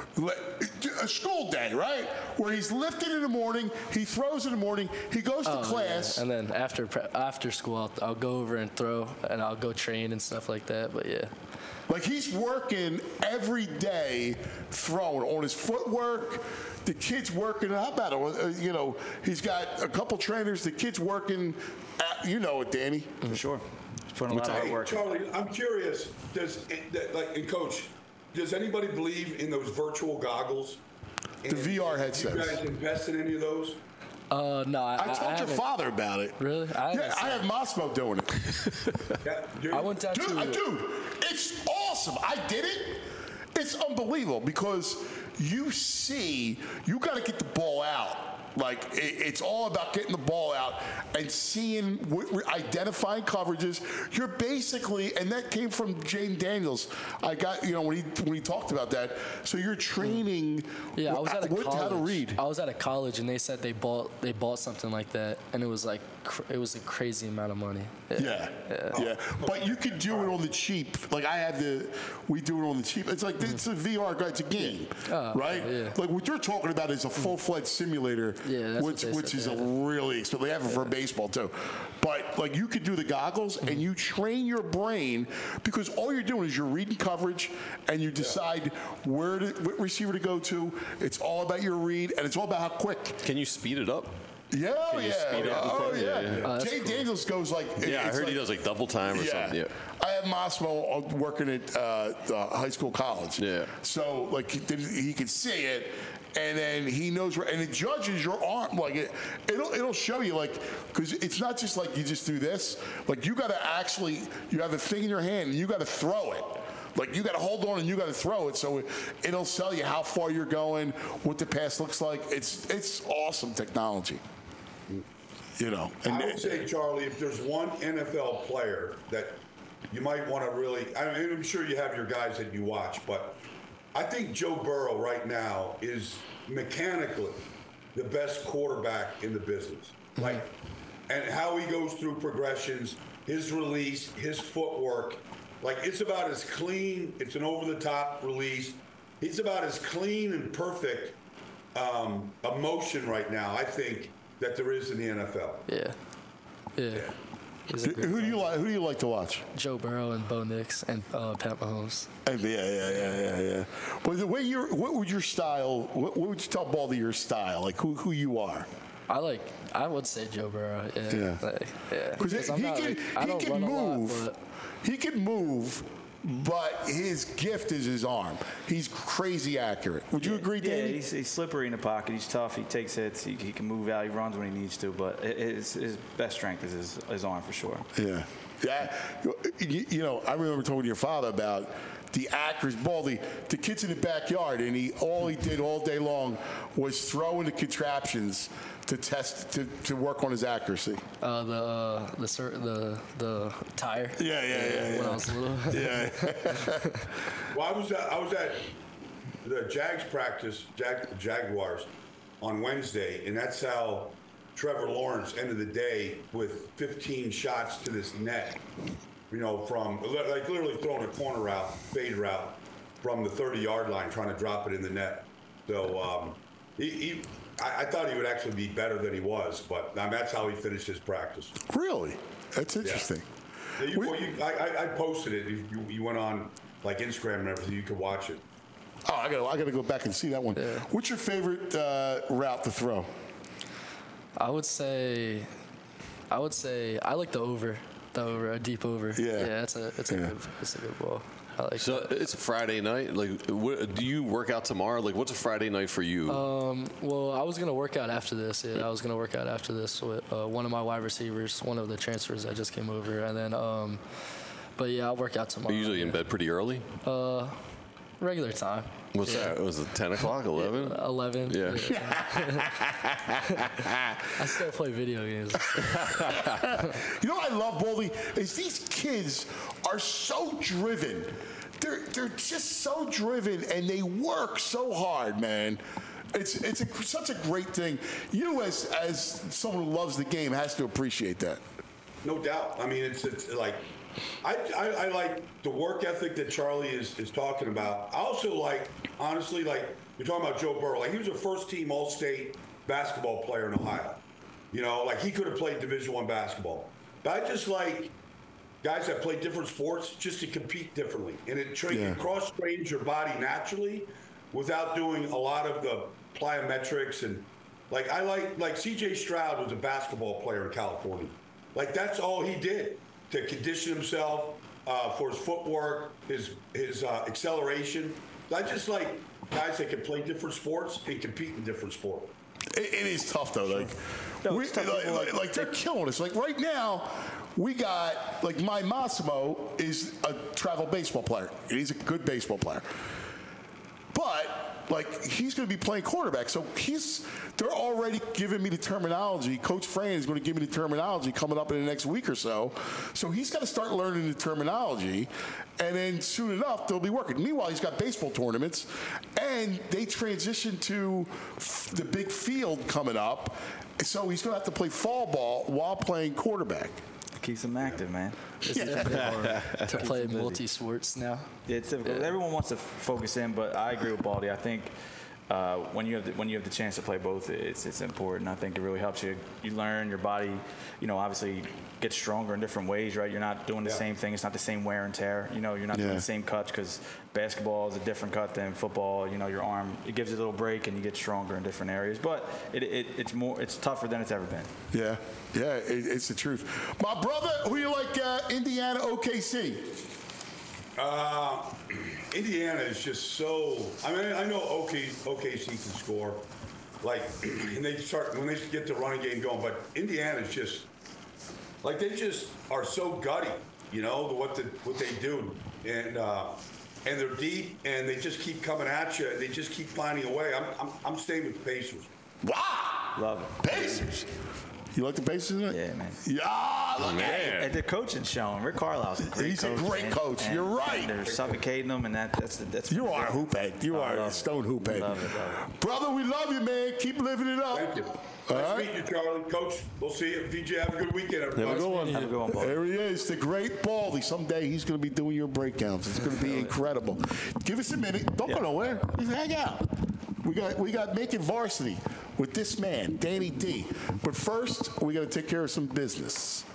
A school day, right? Where he's lifting in the morning, he throws in the morning, he goes to class. Yeah. And then after school, I'll go over and throw, and I'll go train and stuff like that. But yeah. Like he's working every day throwing on his footwork. The kid's working. How about it? He's got a couple trainers. The kid's working. It, Danny. For sure. He's putting a lot of hard work. Charlie, I'm curious. And Coach, does anybody believe in those virtual goggles? The VR headsets. Do you guys invest in any of those? No, I told your father about it. Really? I have Mosmo doing it. I went down to dude, it's awesome. I did it. It's unbelievable because you got to get the ball out Like, it's all about getting the ball out and seeing, identifying coverages. You're basically, and that came from Jaden Daniels. I got, when he talked about that. So you're training. Yeah, I was at a college. How to read. I was at a college, and they said they bought something like that, and it was like it was a crazy amount of money. Yeah. But you could do it on the cheap. Like we do it on the cheap. It's like it's a VR guide. It's a game, right? Yeah. Like what you're talking about is a full-fledged simulator, which is a really expensive. They have it for baseball too. But like you could do the goggles and you train your brain because all you're doing is you're reading coverage and you decide what receiver to go to. It's all about your read and it's all about how quick. Can you speed it up? Yeah, speed up the yeah. Jay cool. Daniels goes like. Yeah, I heard he does like double time or something. Yeah. I have Massimo working at high school, college. Yeah. So like he can see it, and then he knows where, and it judges your arm. Like it'll show you like because it's not just like you just do this. Like you got to actually you have a thing in your hand and you got to throw it. Like you got to hold on and you got to throw it, so it'll tell you how far you're going, what the pass looks like. It's awesome technology. And I would say, Charlie, if there's one NFL player that you might want to really, I'm sure you have your guys that you watch, but I think Joe Burrow right now is mechanically the best quarterback in the business. Like, and how he goes through progressions, his release, his footwork. Like, it's about as clean, it's an over-the-top release. He's about as clean and perfect a motion right now, I think, that there is in the NFL. Yeah. Who do you like to watch? Joe Burrow and Bo Nix and Pat Mahomes. Yeah. But the way what would your style? What would you tell Baldy your style? Like who you are? I would say Joe Burrow. Yeah. Because he can move. He can move. But his gift is his arm. He's crazy accurate. Would you agree, Danny? Yeah, he's slippery in the pocket. He's tough. He takes hits. He can move out. He runs when he needs to. But his best strength is his arm for sure. Yeah. I remember talking to your father about the accuracy. Baldy, the kid's in the backyard, and all he did all day long was throw in the contraptions to test to work on his accuracy. The tire. Yeah. When I was little. Yeah. Well, I was at the Jags practice, Jaguars, on Wednesday, and that's how Trevor Lawrence ended the day with 15 shots to this net. From like literally throwing a corner route, fade route from the 30-yard line, trying to drop it in the net. So I thought he would actually be better than he was, but that's how he finished his practice. Really? That's interesting. Yeah. I posted it. You went on like Instagram and everything. You could watch it. Oh, I gotta go back and see that one. Yeah. What's your favorite route to throw? I would say I like the over. A deep over. Yeah, it's a good ball. I like so that. It's a Friday night. Like, do you work out tomorrow? Like, what's a Friday night for you? Well, I was gonna work out after this. Yeah, I was gonna work out after this with one of my wide receivers, one of the transfers that just came over, and then. But yeah, I'll work out tomorrow. Are you usually in bed pretty early? Regular time. What's that? Was it 10 o'clock, 11? 11. Yeah. I still play video games. I love, Baldy, is these kids are so driven. They're just so driven, and they work so hard, man. It's such a great thing. You, as someone who loves the game, has to appreciate that. No doubt. I mean, it's like I like the work ethic that Charlie is talking about. I also like, honestly, like you're talking about Joe Burrow. Like he was a first-team All-State basketball player in Ohio. Like he could have played Division I basketball. But I just like guys that play different sports just to compete differently, and it cross-trains your body naturally without doing a lot of the plyometrics and like I like C.J. Stroud was a basketball player in California. Like that's all he did to condition himself for his footwork, his acceleration. I just like guys that can play different sports and compete in different sports. It is tough though. Like they're killing us. Like right now, we got like my Massimo is a travel baseball player. He's a good baseball player, but like he's going to be playing quarterback. So they're already giving me the terminology. Coach Fran is going to give me the terminology coming up in the next week or so. So he's got to start learning the terminology, and then soon enough they'll be working. Meanwhile, he's got baseball tournaments, and they transition to the big field coming up. So he's going to have to play fall ball while playing quarterback. Keeps them active, man. It's hard to play multi-sports now. Yeah, it's difficult. Everyone wants to focus in, but I agree with Baldy. I think when you have the chance to play both, it's important. I think it really helps you. You learn your body. Obviously gets stronger in different ways, right? You're not doing the same thing. It's not the same wear and tear. You're not doing the same cuts because basketball is a different cut than football. Your arm, it gives you a little break and you get stronger in different areas. But it's tougher than it's ever been. Yeah, it's the truth. My brother, who you like? Indiana, OKC. Indiana is just so. I mean, I know OKC can score, and when they get the running game going. But Indiana is just they just are so gutty, what they do, and they're deep, and they just keep coming at you. They just keep finding a way. I'm staying with the Pacers. Wow, love it. Pacers. You like the Pacers? Yeah, man. Yeah, man. And the coaching showing. Rick Carlisle's a great coach. He's a great coach. You're right. And they're suffocating them, and that's. You are a hoophead. You are a stone hoophead. Love it. Brother, we love you, man. Keep living it up. Thank you. All Nice right. meeting you, Charlie. Coach, we'll see you. VJ, have a good weekend, everybody. Have a good one. Have a good one, Baldy. There he is, the great Baldy. Someday he's going to be doing your breakdowns. It's going to be incredible. Give us a minute. Don't go nowhere. Just hang out. We got Making Varsity with this man, Danny D. But first, we got to take care of some business.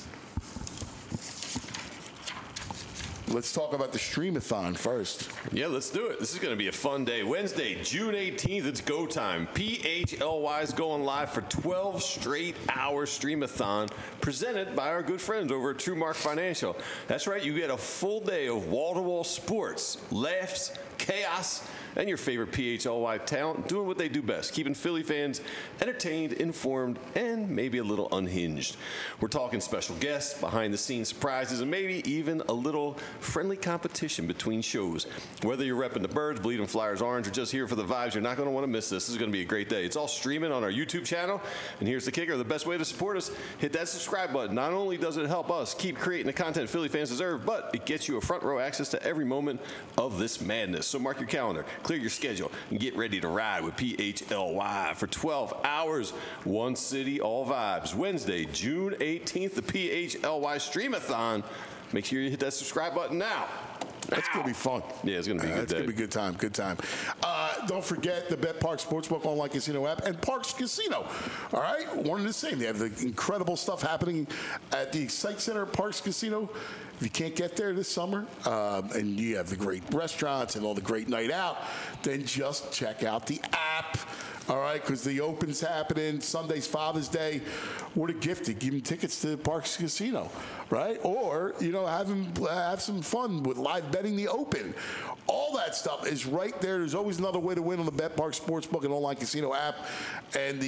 Let's talk about the Streamathon first. Yeah, let's do it. This is going to be a fun day. Wednesday, June 18th, it's go time. PHLY is going live for 12 straight hour Streamathon presented by our good friends over at TrueMark Financial. That's right, you get a full day of wall-to-wall sports, laughs, chaos, and your favorite PHLY talent doing what they do best, keeping Philly fans entertained, informed, and maybe a little unhinged. We're talking special guests, behind-the-scenes surprises, and maybe even a little friendly competition between shows. Whether you're repping the Birds, bleeding Flyers orange, or just here for the vibes, you're not going to want to miss this. This is going to be a great day. It's all streaming on our YouTube channel, and here's the kicker. The best way to support us, hit that subscribe button. Not only does it help us keep creating the content Philly fans deserve, but it gets you a front row access to every moment of this madness. So mark your calendar, clear your schedule, and get ready to ride with PHLY for 12 hours. One city, all vibes. Wednesday, June 18th, the PHLY Streamathon. Make sure you hit that subscribe button now. That's going to be fun. Yeah, it's going to be a good day. It's going to be a good time. Good time. Don't forget the BetParx Sportsbook online casino app and Parx Casino. All right? One and the same. They have the incredible stuff happening at the Excite Center at Parx Casino. If you can't get there this summer and you have the great restaurants and all the great night out, then just check out the app. All right, because the Open's happening. Sunday's Father's Day. What a gift to give them tickets to Parx Casino, right? Or, have some fun with live betting the Open. All that stuff is right there. There's always another way to win on the BetParx Sportsbook and online casino app. And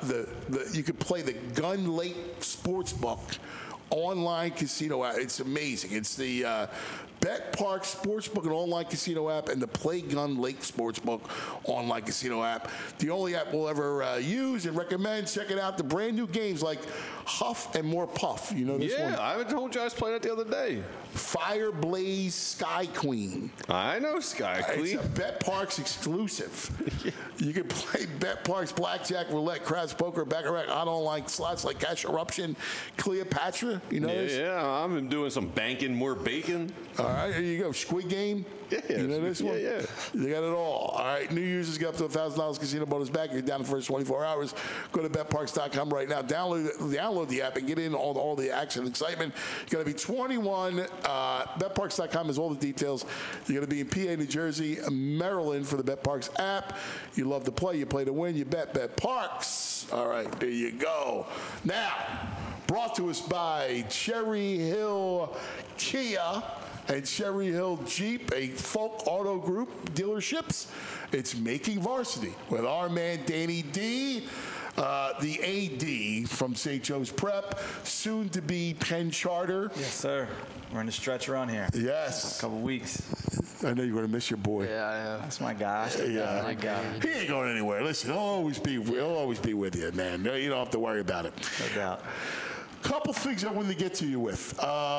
you could play the Gun Lake Sportsbook online casino app. It's amazing. It's the BetParx Sportsbook and online casino app and the Play Gun Lake Sportsbook online casino app. The only app we'll ever use and recommend. Check it out. The brand new games like Huff and More Puff. You know this one? Yeah, I told you I was playing it the other day. Fire Blaze Sky Queen. I know Sky Queen. It's a BetParx exclusive. You can play BetParx Blackjack, Roulette, Craps, Poker, Baccarat on online slots like Cash Eruption, Cleopatra. You know this? Yeah, I've been doing some banking, more bacon. All right, here you go. Squid Game. Yeah, you know this one? Yeah. They got it all. All right, new users get up to $1,000 casino bonus back. You're down the first 24 hours. Go to betparx.com right now. Download the app and get in all the action and excitement. You got to be 21. Betparx.com has all the details. You got to be in PA, New Jersey, Maryland for the BetParx app. You love to play. You play to win. You bet BetParx. All right, there you go. Now, brought to us by Cherry Hill Kia and Cherry Hill Jeep, a Folk Auto Group dealerships. It's Making Varsity with our man Danny D, the AD from St. Joe's Prep, soon to be Penn Charter. Yes, sir. We're in the stretch run here. Yes. A couple weeks. I know you're going to miss your boy. Yeah, I am. That's my guy. Yeah. My guy. He ain't going anywhere. Listen, he'll always be with you, man. No, you don't have to worry about it. No doubt. Couple things I wanted to get to you with.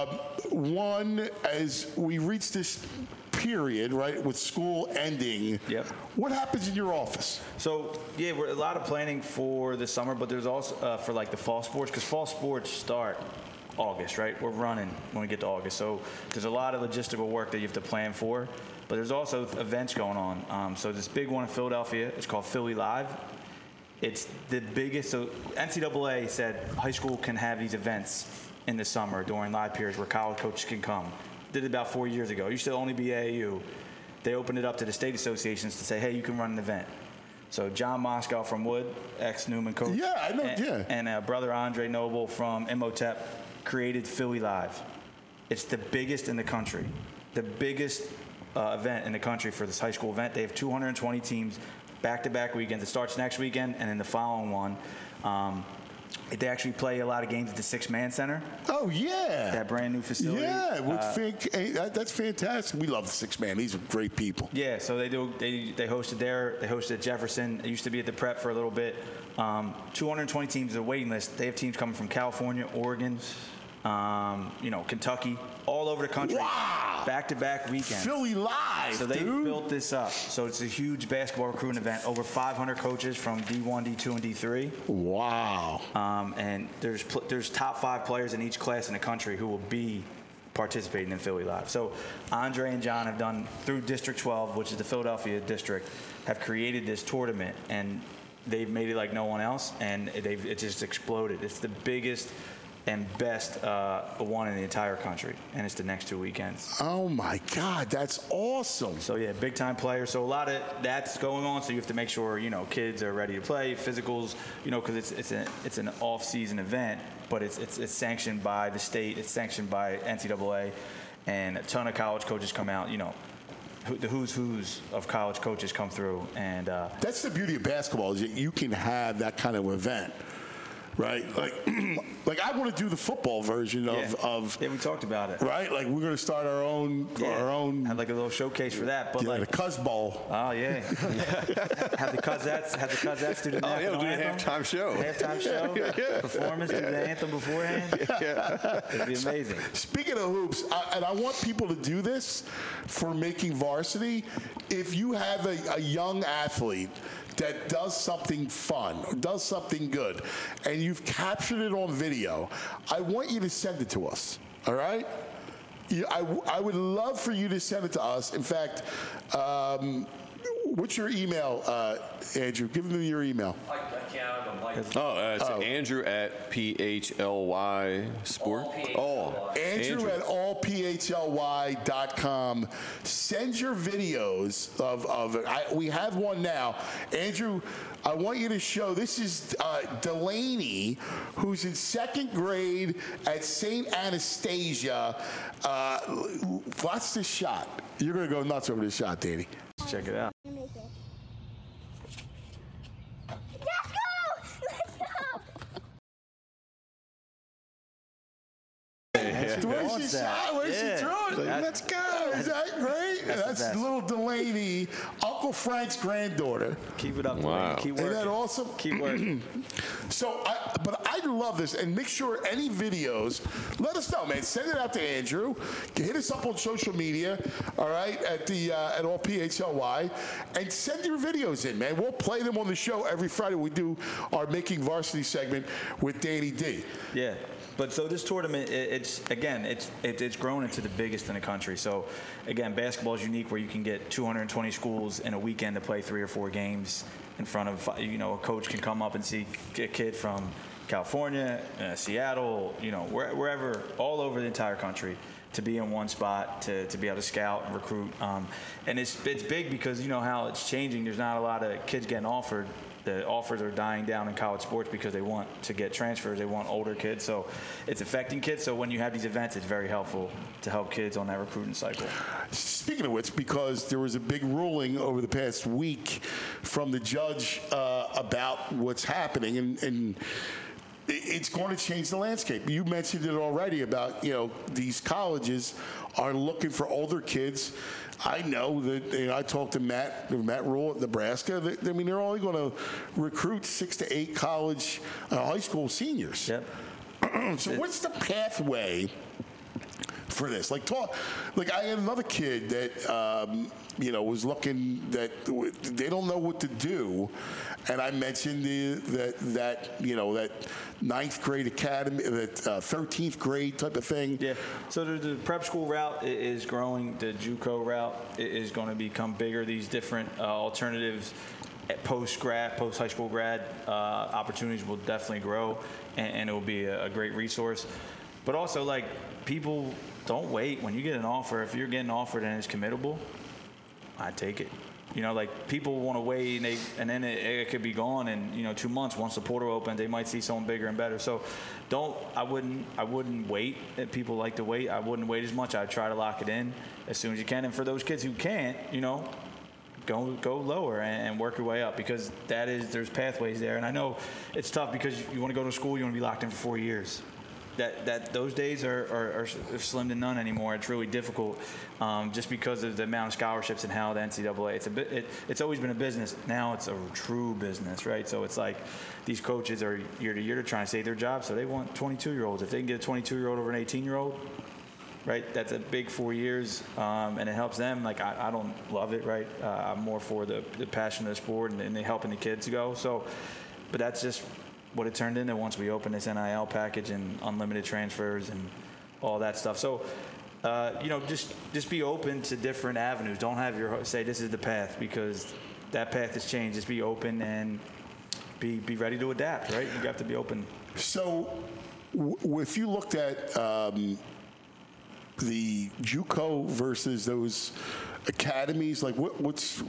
One, as we reach this period, right, with school ending, Yep. What happens in your office? So, yeah, we're a lot of planning for the summer, but there's also for like the fall sports, because fall sports start August, right? We're running when we get to August. So there's a lot of logistical work that you have to plan for, but there's also events going on. So this big one in Philadelphia, it's called Philly Live. It's the biggest. So NCAA said high school can have these events in the summer during live periods where college coaches can come. Did it about 4 years ago. It used to only be AAU. They opened it up to the state associations to say, hey, you can run an event. So John Moscow from Wood, ex-Newman coach. Yeah, I know, yeah. And brother Andre Noble from Imhotep created Philly Live. It's the biggest in the country. The biggest event in the country for this high school event. They have 220 teams, back-to-back weekends. It starts next weekend, and then the following one. They actually play a lot of games at the Six-Man Center. Oh, yeah. That brand new facility. Yeah, that's fantastic. We love the Six-Man. These are great people. Yeah, so they hosted there. They hosted at Jefferson. It used to be at the Prep for a little bit. 220 teams is a waiting list. They have teams coming from California, Oregon, Kentucky, all over the country. Wow. Back-to-back weekends. Philly Live, So they dude. built this up. So it's a huge basketball recruiting event. Over 500 coaches from D1, D2, and D3. Wow. And there's top 5 players in each class in the country who will be participating in Philly Live. So Andre and John have done, through District 12, which is the Philadelphia district, have created this tournament, and they've made it like no one else, and it just exploded. It's the biggest and best one in the entire country, and it's the next 2 weekends. Oh my God, that's awesome. So yeah, big time players. So a lot of that's going on. So you have to make sure kids are ready to play, physicals, because it's an off-season event, but it's sanctioned by the state, it's sanctioned by NCAA, and a ton of college coaches come out. The who's of college coaches come through, and that's the beauty of basketball, is that you can have that kind of event. Right, like I want to do the football version of. Yeah, we talked about it. Right, like we're going to start our own. Have like a little showcase for that, but the Cuz Bowl. Oh yeah. have the Cuzettes do the we'll do a halftime show. Halftime show, performance, do the anthem beforehand. Yeah, it'd be amazing. Speaking of hoops, and I want people to do this for Making Varsity. If you have a young athlete that does something fun, does something good, and you've captured it on video, I want you to send it to us, all right? I would love for you to send it to us. In fact, what's your email, Andrew? Give them your email. I can't. It's Andrew at PHLY Sport. Andrew at allphly.com. Send your videos of it. We have one now. Andrew, I want you to show, this is Delaney, who's in 2nd grade at St. Anastasia. Watch this shot. You're going to go nuts over this shot, Danny. Check it out. Where's she shot? Where's she thrown it? Let's go. Is that great? That's little Delaney, Uncle Frank's granddaughter. Keep it up. Wow. Keep working. Isn't that awesome? Keep working. So, but I love this, and make sure any videos, let us know, man. Send it out to Andrew. Hit us up on social media, all right, at all PHLY, and send your videos in, man. We'll play them on the show every Friday. We do our Making Varsity segment with Danny D. Yeah. But so this tournament, it's grown into the biggest in the country. So again, basketball is unique, where you can get 220 schools in a weekend to play 3 or 4 games in front of, a coach can come up and see a kid from California, Seattle, wherever, all over the entire country, to be in one spot, to be able to scout and recruit. And it's big because how it's changing. There's not a lot of kids getting offered. The offers are dying down in college sports because they want to get transfers. They want older kids. So it's affecting kids. So when you have these events, it's very helpful to help kids on that recruiting cycle. Speaking of which, because there was a big ruling over the past week from the judge about what's happening, and it's going to change the landscape. You mentioned it already about, these colleges are looking for older kids. I know that I talked to Matt Rule at Nebraska. I mean, they're only going to recruit 6 to 8 college, high school seniors. Yep. So what's the pathway for this? Like I had another kid that was looking that they don't know what to do, and I mentioned that ninth grade academy, that 13th grade type of thing. Yeah. So the prep school route is growing. The JUCO route is going to become bigger. These different alternatives. Post high school grad opportunities will definitely grow, and it will be a great resource. But also, like, people don't wait when you get an offer. If you're getting offered and it's committable, I take it. Like, people want to wait, and then it could be gone in 2 months. Once the portal opens, they might see someone bigger and better. So, I wouldn't wait. If people like to wait, I wouldn't wait as much. I'd try to lock it in as soon as you can. And for those kids who can't, go lower and work your way up, because there's pathways there. And I know it's tough because you want to go to school, you want to be locked in for 4 years. Those days are slim to none anymore. It's really difficult, just because of the amount of scholarships and how the NCAA. It's always been a business. Now it's a true business, right? So it's like these coaches are year to year to try and save their jobs, so they want 22-year-olds. If they can get a 22-year-old over an 18-year-old. Right, that's a big 4 years, and it helps them. Like, I don't love it, right? I'm more for the passion of the sport and helping the kids go. So, but that's just what it turned into once we opened this NIL package and unlimited transfers and all that stuff. So, just be open to different avenues. Don't have say this is the path, because that path has changed. Just be open and be ready to adapt. Right, you have to be open. So, if you looked at the JUCO versus those academies, like what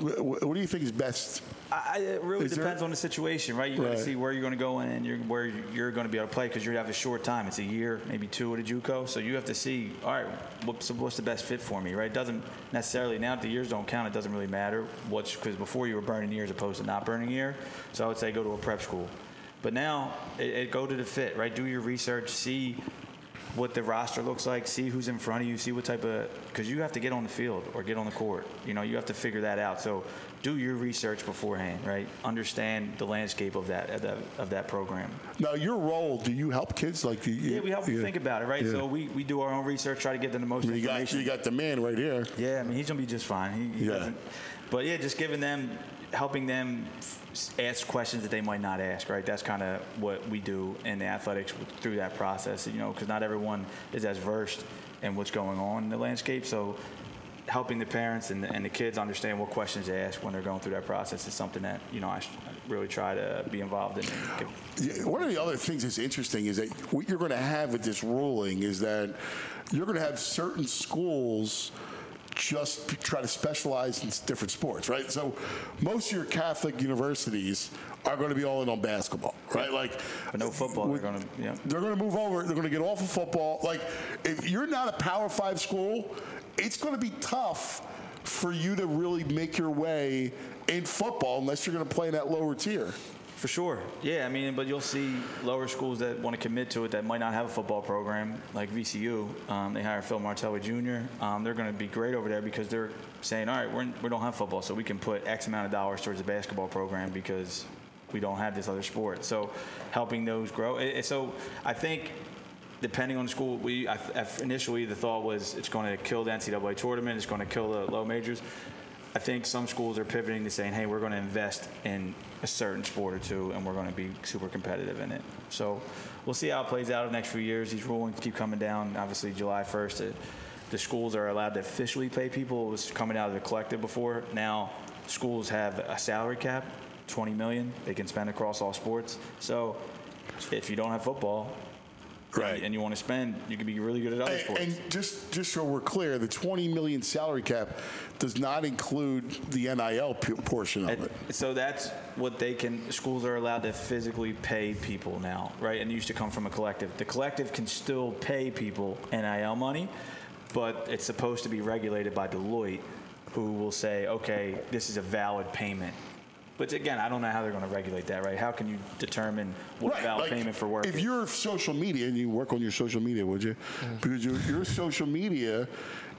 do you think is best? It really depends on the situation, right? You got to see where you're going to go in and where you're going to be able to play, because you have a short time. It's a year, maybe 2 at a JUCO. So you have to see, all right, what's the best fit for me, right? It doesn't necessarily, now that the years don't count, it doesn't really matter because before you were burning years opposed to not burning a year. So I would say go to a prep school. But now it go to the fit, right? Do your research, see what the roster looks like, see who's in front of you, see what type of, because you have to get on the field or get on the court. You have to figure that out. So do your research beforehand, right? Understand the landscape of that program. Now, your role, do you help kids? Yeah, we help them think about it, right? Yeah. So we do our own research, try to give them the most information. You got the man right here. Yeah, I mean, he's going to be just fine. He doesn't. But yeah, just helping them ask questions that they might not ask, right? That's kind of what we do in the athletics through that process, because not everyone is as versed in what's going on in the landscape. So helping the parents and the kids understand what questions to ask when they're going through that process is something that, I really try to be involved in. One of the other things that's interesting is that what you're going to have with this ruling is that you're going to have certain schools just try to specialize in different sports, right? So most of your Catholic universities are going to be all in on basketball, right? But no football. They're going to move over. They're going to get off of football. Like, if you're not a Power 5 school, it's going to be tough for you to really make your way in football unless you're going to play in that lower tier. For sure. Yeah, I mean, but you'll see lower schools that want to commit to it that might not have a football program, like VCU. They hire Phil Martelli Jr. They're going to be great over there because they're saying, all right, we don't have football, so we can put X amount of dollars towards a basketball program because we don't have this other sport. So helping those grow. So I think depending on the school, initially the thought was it's going to kill the NCAA tournament, it's going to kill the low majors. I think some schools are pivoting to saying, hey, we're going to invest in a certain sport or two, and we're going to be super competitive in it. So we'll see how it plays out in the next few years. These rulings keep coming down. Obviously, July 1st, the schools are allowed to officially pay people. It was coming out of the collective before. Now schools have a salary cap, $20 million. They can spend across all sports. So if you don't have football, right, and you want to spend, you can be really good at other sports. And just so we're clear, the $20 million salary cap does not include the NIL portion of it. So that's what schools are allowed to physically pay people now, right? And it used to come from a collective. The collective can still pay people NIL money, but it's supposed to be regulated by Deloitte, who will say, okay, this is a valid payment. But again, I don't know how they're going to regulate that, right? How can you determine what valid payment for work if is? you're social media, and you work on your social media, would you? Because your social media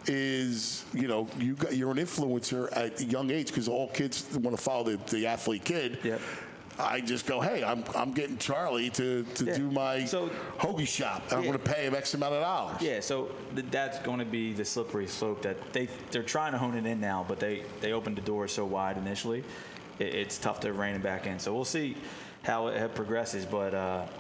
is, you're an influencer at a young age because all kids want to follow the athlete kid. Yep. I just go, hey, I'm getting Charlie to do my hoagie shop, and I'm going to pay him X amount of dollars. Yeah, so that's going to be the slippery slope that they're trying to hone it in now, but they opened the door so wide initially, it's tough to rein it back in. So we'll see how it progresses, but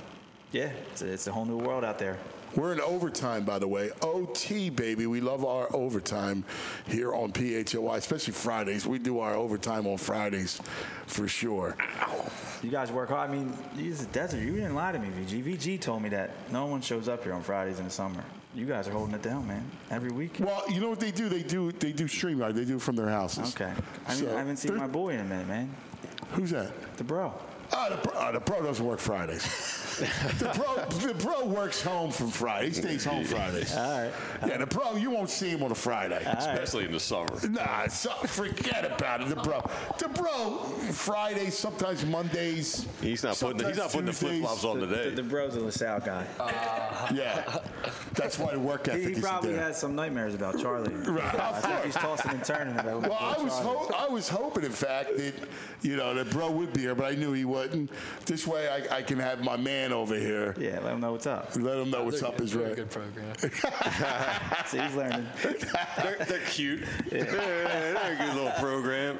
it's a whole new world out there. We're in overtime, by the way. OT, baby. We love our overtime here on PHOI, especially Fridays. We do our overtime on Fridays for sure. You guys work hard. I mean, it's a desert. You didn't lie to me, VG. VG told me that no one shows up here on Fridays in the summer. You guys are holding it down, man, every week. Well, you know what they do? They do StreamYard. They do it from their houses. Okay. I haven't seen my boy in a minute, man. Who's that? The bro. The pro doesn't work Fridays. The pro works home from Friday. He stays home Fridays. All right. Yeah, the pro, you won't see him on a Friday. Especially in the summer. Nah, forget about it. The bro, Fridays, sometimes Mondays. He's not putting the flip-flops on today. The bro's a LaSalle guy. Yeah. That's why the work ethic is He probably there. has some nightmares about Charlie. Right. I think he's tossing and turning about Well, I was hoping, in fact, that that bro would be here, but I knew he wouldn't. This way, I can have my man over here. Yeah, let him know what's up. Let him know what's up is right. Good program. See, he's learning. They're cute. Yeah. They're a good little program.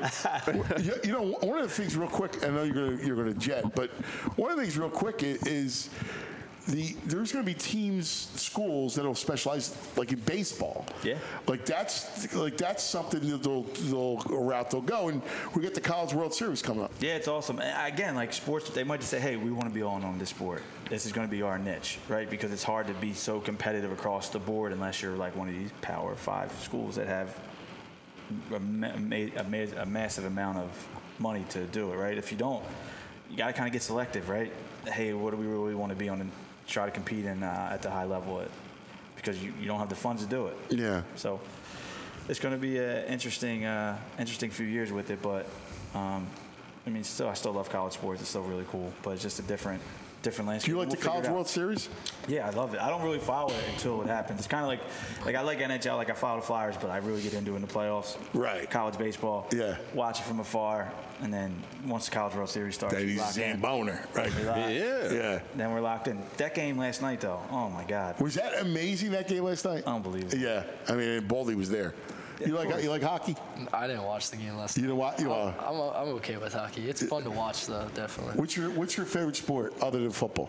One of the things real quick, I know you're gonna jet, but one of the things real quick is there's going to be schools that'll specialize like in baseball. Yeah. Like that's something that a route they'll go, and we get the College World Series coming up. Yeah, it's awesome. Again, like sports, they might just say, hey, we want to be all in on this sport. This is going to be our niche, right? Because it's hard to be so competitive across the board unless you're like one of these Power 5 schools that have a massive amount of money to do it, right? If you don't, you got to kind of get selective, right? Hey, what do we really want to be on and try to compete in at the high level because you don't have the funds to do it. Yeah. So it's going to be an interesting few years with it, but I still love college sports. It's still really cool, but it's just a different landscape. Do you like the College World Series? Yeah, I love it. I don't really follow it until it happens. It's kind of like I like NHL, like I follow the Flyers, but I really get into it in the playoffs. Right. College baseball. Yeah. Watch it from afar, and then once the College World Series starts, Then he's Boner, right? Yeah. Then we're locked in. That game last night, though, oh my God. Was that amazing? That game last night? Unbelievable. Yeah. I mean, Baldy was there. You like hockey? I didn't watch the game last night. You know what? I'm okay with hockey. It's fun to watch, though, definitely. What's your favorite sport other than football?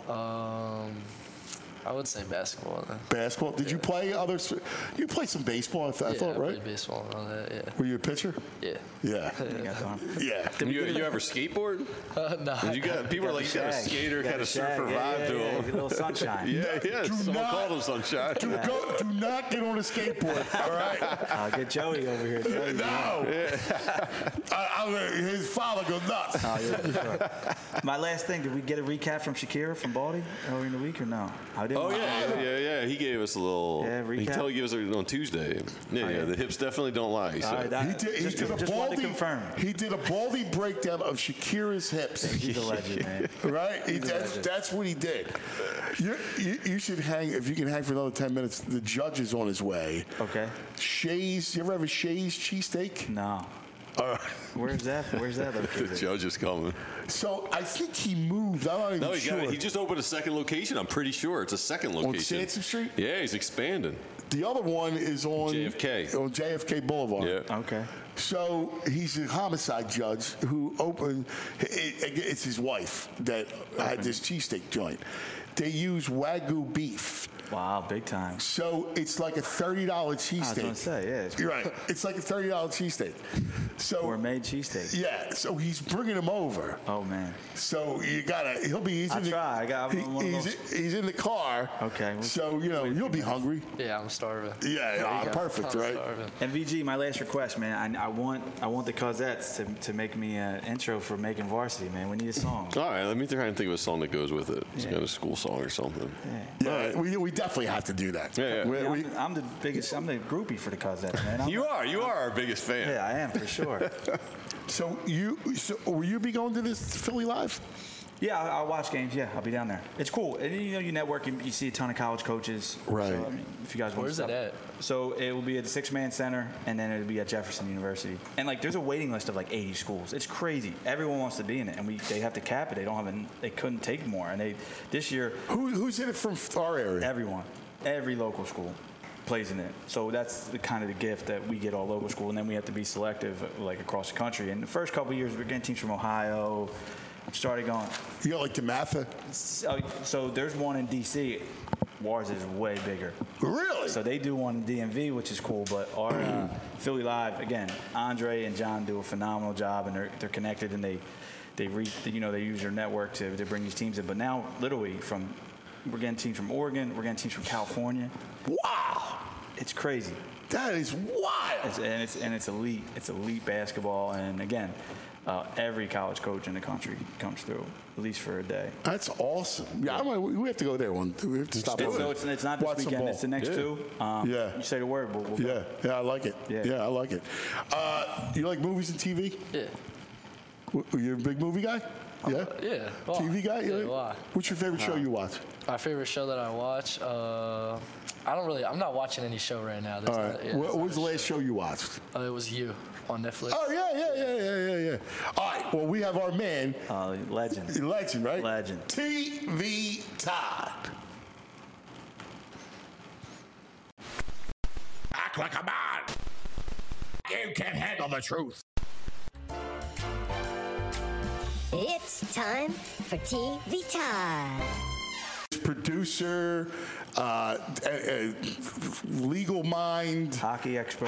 I would say basketball. Then. Basketball? Did you play others? You played some baseball, I thought, right? I played baseball and all that, yeah. Were you a pitcher? Yeah. Yeah. Yeah. You ever skateboard? No. People are like, you got a skater, kind of surfer vibe to him. A little sunshine. Yeah. Someone called him sunshine. Do not get on a skateboard, all right? I'll get Joey over here. No. His father goes nuts. Oh, yeah, sure. My last thing, did we get a recap from Shakira from Baldy earlier in the week or no? Yeah. He gave us a little. Yeah, recap. He gave us on Tuesday. Yeah. The hips definitely don't lie. He said. He did a Baldy breakdown of Shakira's hips. He's a legend, man. Right? That's what he did. You should hang, if you can hang for another 10 minutes. The judge is on his way. Okay. Shays. You ever have a Shays cheesesteak? No. Where's that located? The judge is coming. So I think he moved. I'm not even sure. He just opened a second location. I'm pretty sure it's a second location. On Sansom Street? Yeah, he's expanding. The other one is on JFK. On JFK Boulevard. Yeah. Okay. So he's a homicide judge who opened. It's his wife that had this cheesesteak joint. They use Wagyu beef. Wow, big time. So it's like a $30 cheesesteak. I was going to say, yeah. You're right. It's like a $30 cheesesteak. So gourmet cheesesteak. Yeah. So he's bringing him over. Oh man. So you gotta. He's in the car. Okay. So you'll be hungry. Yeah, I'm starving. Yeah. Perfect. Right. Starving. And VG, my last request, man. I want the Causettes to make me an intro for Making Varsity, man. We need a song. All right, let me try and think of a song that goes with it. It's got a school song or something. Yeah. We definitely have to do that. Yeah. I'm the groupie for the Causettes, man. You are our biggest fan. Yeah, I am for sure. So will you be going to this Philly Live? Yeah, I'll watch games. Yeah, I'll be down there. It's cool. And you network. You see a ton of college coaches. Right. So, I mean, if you guys want Where's to it at? So it will be at the Six-Man Center, and then it'll be at Jefferson University. And there's a waiting list of 80 schools. It's crazy. Everyone wants to be in it, and they have to cap it. They couldn't take more. And this year. Who's in it from our area? Everyone. Every local school plays in it. So that's the kind of the gift that we get all local school, and then we have to be selective across the country. And the first couple of years, we're getting teams from Ohio. Started going. You got DeMatha? So there's one in D.C. Ours is way bigger. Really? So they do one in DMV, which is cool. But our Philly Live, again, Andre and John do a phenomenal job, and they're connected, and they use their network to bring these teams in. But now, literally, we're getting teams from Oregon, we're getting teams from California. Wow, it's crazy. That is wild. It's elite. It's elite basketball, and again. Every college coach in the country comes through, at least for a day. That's awesome. Yeah, we have to go there one. We have to stop over. So it's not this weekend. It's the next two. You say the word. We'll go. Yeah, I like it. Yeah, I like it. You like movies and TV? Yeah. You're a big movie guy? Yeah. Yeah. TV guy? Yeah, why? What's your favorite show you watch? My favorite show that I watch. I'm not watching any show right now. All right. What was the last show you watched? It was You on Netflix. Oh, yeah. All right. Well, we have our man. Legend. Legend, right? Legend. TV Todd. Act like a man. You can't handle the truth. It's time for TV Time. Producer, legal mind, hockey expert.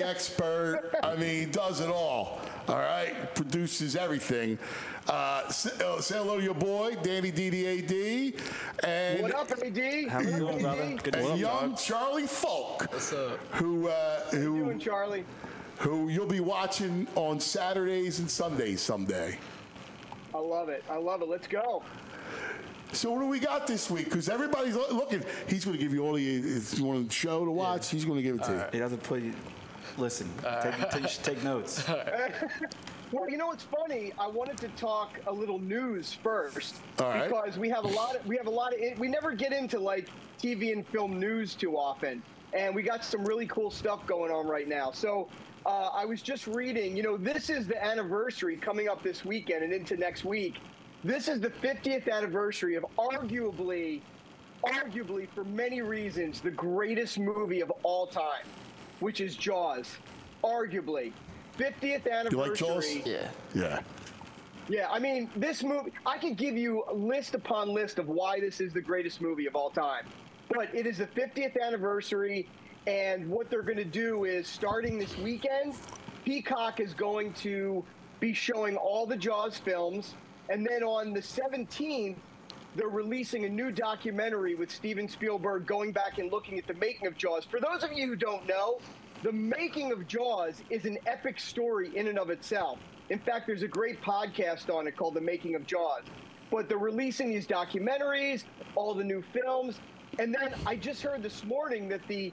I mean, does it all. All right, produces everything. Say hello to your boy, Danny DDAD, and what up, AD? How you doing, brother? Good to see you. Young Charlie Folk. What's up? Who you doing, Charlie? Who you'll be watching on Saturdays and Sundays someday. I love it. Let's go. So what do we got this week? Because everybody's looking. He's going to give you all if you want the show to watch, he's going to give it to you. He doesn't put you. Listen, you should take notes. Well, you know what's funny? I wanted to talk a little news first, all right. Because we have a lot of we never get into TV and film news too often, and we got some really cool stuff going on right now. So I was just reading. This is the anniversary coming up this weekend and into next week. This is the 50th anniversary of arguably for many reasons, the greatest movie of all time, which is Jaws. Arguably. 50th anniversary. You like Jaws? Yeah. Yeah, I mean, this movie, I could give you list upon list of why this is the greatest movie of all time. But it is the 50th anniversary, and what they're going to do is, starting this weekend, Peacock is going to be showing all the Jaws films. And then on the 17th, they're releasing a new documentary with Steven Spielberg going back and looking at the making of Jaws. For those of you who don't know, the making of Jaws is an epic story in and of itself. In fact, there's a great podcast on it called The Making of Jaws. But they're releasing these documentaries, all the new films. And then I just heard this morning that the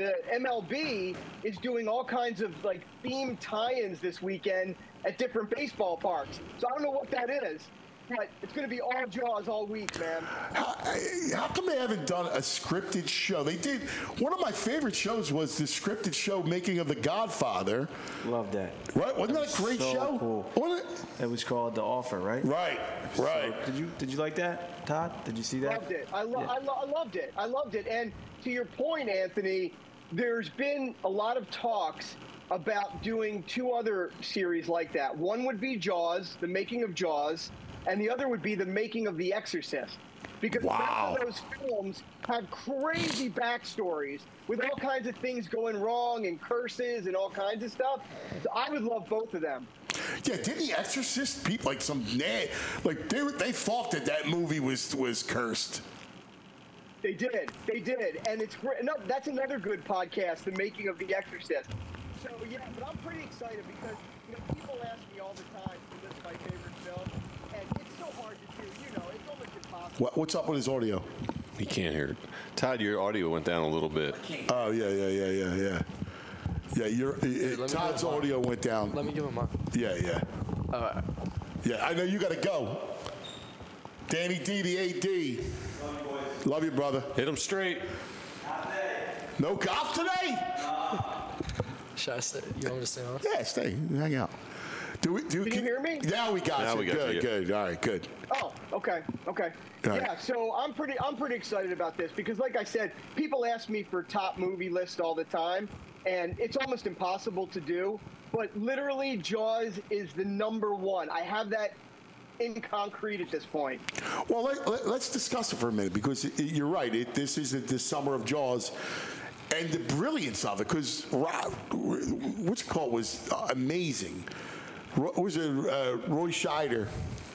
MLB is doing all kinds of themed tie-ins this weekend at different baseball parks. So I don't know what that is, but it's going to be all Jaws all week, man. How come they haven't done a scripted show? They did. One of my favorite shows was the scripted show Making of The Godfather. Loved that. Right? Wasn't that a great show? Cool. Wasn't it? It was called The Offer, right? Right. Did you like that, Todd? Did you see that? Loved it. I loved it. I loved it. And to your point, Anthony, there's been a lot of talks about doing two other series like that. One would be Jaws, the making of Jaws, and the other would be the making of The Exorcist. Because both of those films have crazy backstories with all kinds of things going wrong and curses and all kinds of stuff. So I would love both of them. Yeah, didn't The Exorcist people they thought that movie was cursed. They did, and it's great. No, that's another good podcast, The Making of The Exorcist. So yeah, but I'm pretty excited because people ask me all the time to list my favorite film, and it's so hard to do. It's almost impossible. What's up with his audio? He can't hear it. Todd, your audio went down a little bit. Oh yeah. Yeah, Todd's audio went down. Let me give him mine. Yeah. All right. Yeah, I know you got to go. Danny D, the AD. Love you, brother. Hit him straight. No golf today? Should I stay? You want me to stay on? Yeah, stay. Hang out. Can you hear me? Now we got Now you. we got Good, you. good. All right, good. Oh, okay. All right. Yeah, so I'm pretty excited about this because, like I said, people ask me for top movie list all the time, and it's almost impossible to do. But literally, Jaws is the number one. I have that in concrete at this point. Well, let's discuss it for a minute because you're right. This is the summer of Jaws. And the brilliance of it, because what's it called was amazing. Was it Roy Scheider?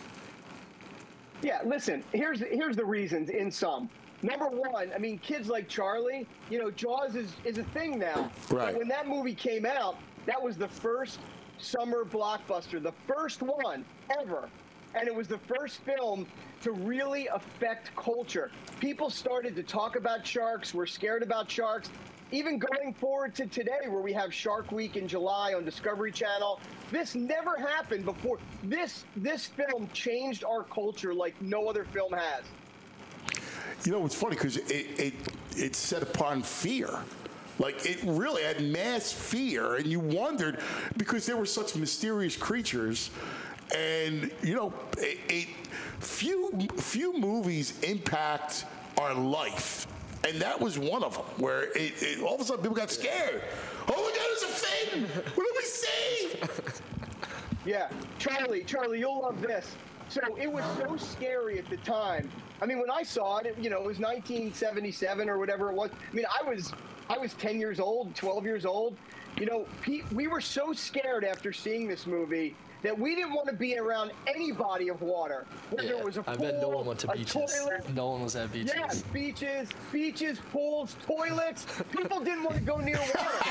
Yeah, listen, here's the reasons in sum. Number one, I mean, kids like Charlie, Jaws is a thing now. Right. But when that movie came out, that was the first summer blockbuster, the first one ever. And it was the first film to really affect culture. People started to talk about sharks, were scared about sharks. Even going forward to today, where we have Shark Week in July on Discovery Channel, this never happened before. This film changed our culture like no other film has. It's funny because it set upon fear. Like, it really had mass fear, and you wondered, because there were such mysterious creatures, and, few movies impact our life. And that was one of them, where all of a sudden people got scared. Oh my God, there's a fin! What did we see? Yeah, Charlie, you'll love this. So it was so scary at the time. I mean, when I saw it, it was 1977 or whatever it was. I mean, I was 10 years old, 12 years old. We were so scared after seeing this movie that we didn't want to be around any body of water. Whether it was a pool, I bet no one went to beaches. Toilet. No one was at beaches. Yeah, beaches, pools, toilets. People didn't want to go near water.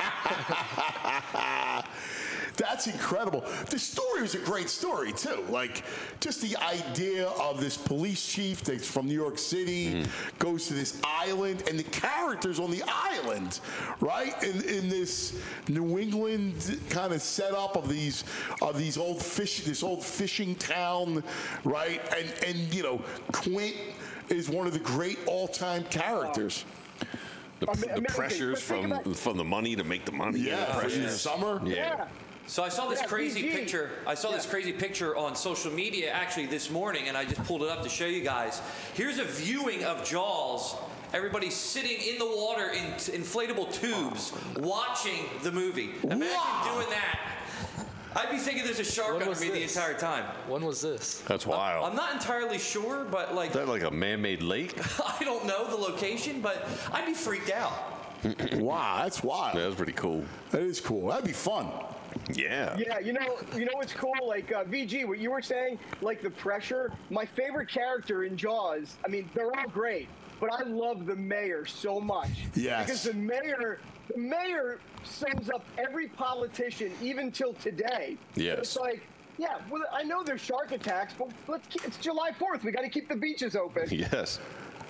That's incredible. The story was a great story, too. Like, just the idea of this police chief that's from New York City, goes to this island, and the characters on the island, right? In this New England kind of setup of this old fishing town, right? And Quint is one of the great all-time characters. The pressures from the money to make the money. Yeah, in the summer. Yeah. So I saw this crazy picture. I saw this crazy picture on social media actually this morning, and I just pulled it up to show you guys. Here's a viewing of Jaws. Everybody's sitting in the water in inflatable tubes watching the movie. Imagine doing that. I'd be thinking there's a shark under me the entire time. When was this? That's wild. I'm not entirely sure, but Is that like a man-made lake? I don't know the location, but I'd be freaked out. Wow, that's wild. That was pretty cool. That is cool. That'd be fun. Yeah. Yeah, you know what's cool? Like, VG, what you were saying, like the pressure. My favorite character in Jaws, I mean, they're all great, but I love the mayor so much. Yes. Because the mayor sums up every politician, even till today. Yes. It's like, yeah, well, I know there's shark attacks, but it's July 4th. We got to keep the beaches open. Yes.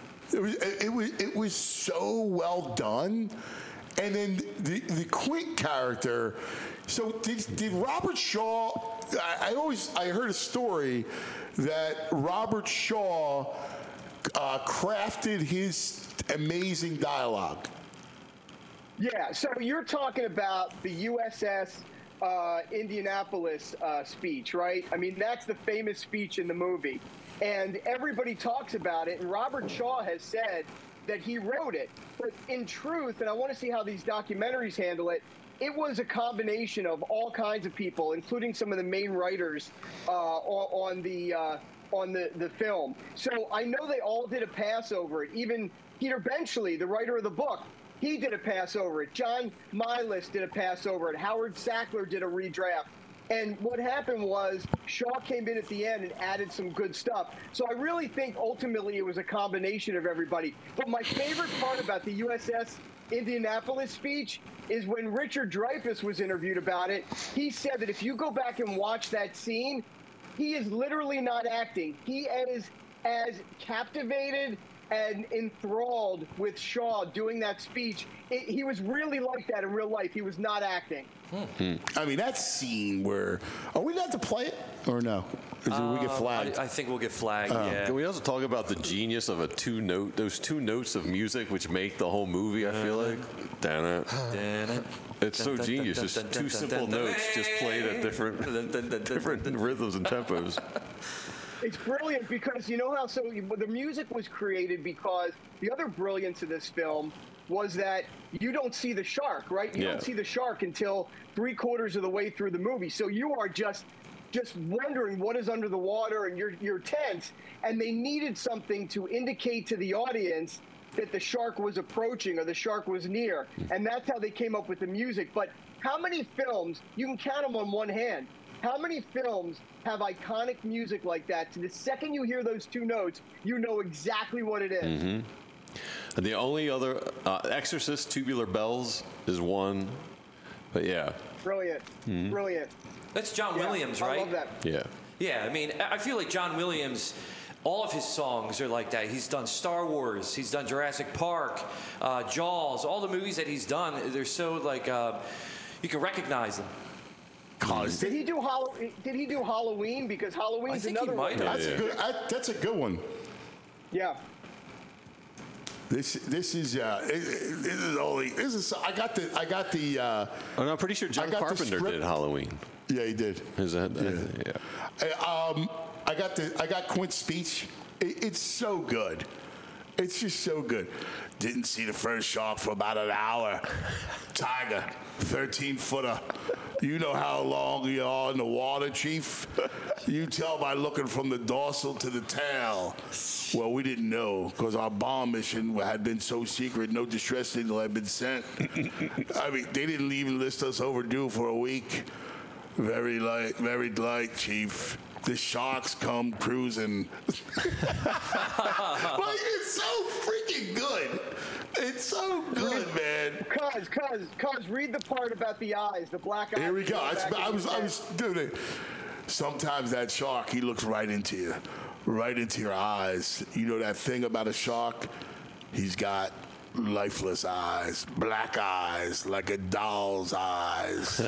It was so well done. And then the Quint character. So did Robert Shaw? I heard a story that Robert Shaw crafted his amazing dialogue. Yeah. So you're talking about the USS Indianapolis speech, right? I mean, that's the famous speech in the movie, and everybody talks about it. And Robert Shaw has said that he wrote it, but in truth, and I want to see how these documentaries handle it, it was a combination of all kinds of people, including some of the main writers on the film. So I know they all did a pass over it. Even Peter Benchley, the writer of the book, he did a pass over it. John Milas did a pass over it. Howard Sackler did a redraft. And what happened was Shaw came in at the end and added some good stuff. So I really think ultimately it was a combination of everybody. But my favorite part about the USS Indianapolis speech is when Richard Dreyfuss was interviewed about it. He said that if you go back and watch that scene, he is literally not acting. He is as captivated and enthralled with Shaw doing that speech. He was really like that in real life. He was not acting. I mean, that scene where... Are we allowed to play it or no? Or we get flagged? I think we'll get flagged. Yeah. Can we also talk about the genius of those two notes of music which make the whole movie? I feel like. It's so genius. Just two simple notes just played at different rhythms and tempos. It's brilliant because you know how the music was created because the other brilliance of this film was that you don't see the shark, right? You don't see the shark until 3/4 of the way through the movie. So you are just wondering what is under the water, and you're tense. And they needed something to indicate to the audience that the shark was approaching or the shark was near. And that's how they came up with the music. But how many films, you can count them on one hand, how many films have iconic music like that? So the second you hear those two notes, you know exactly what it is. Mm-hmm. And the only other, Exorcist, Tubular Bells is one. But yeah. Brilliant. Mm-hmm. Brilliant. That's John Williams, right? I love that. Yeah. Yeah, I mean, I feel like John Williams, all of his songs are like that. He's done Star Wars, he's done Jurassic Park, Jaws, all the movies that he's done, they're so like, you can recognize them. Did he do Halloween? Because Halloween's another one. That's a good one. Yeah. This is I got the. Oh, no, I'm pretty sure John Carpenter did Halloween. Yeah, he did. Yeah. I got Quint's speech. It's so good. It's just so good. Didn't see the first shark for about an hour. Tiger, 13-footer. You know how long you are in the water, Chief? You tell by looking from the dorsal to the tail. Well, we didn't know because our bomb mission had been so secret, no distress signal had been sent. I mean, they didn't even list us overdue for a week. Very light, Chief. The sharks come cruising. Like, it's so freaking good. It's so good, man. Cuz, read the part about the eyes, the black eyes. Here we go. I was doing it. Sometimes that shark, he looks right into you, right into your eyes. You know that thing about a shark? He's got lifeless eyes, black eyes, like a doll's eyes.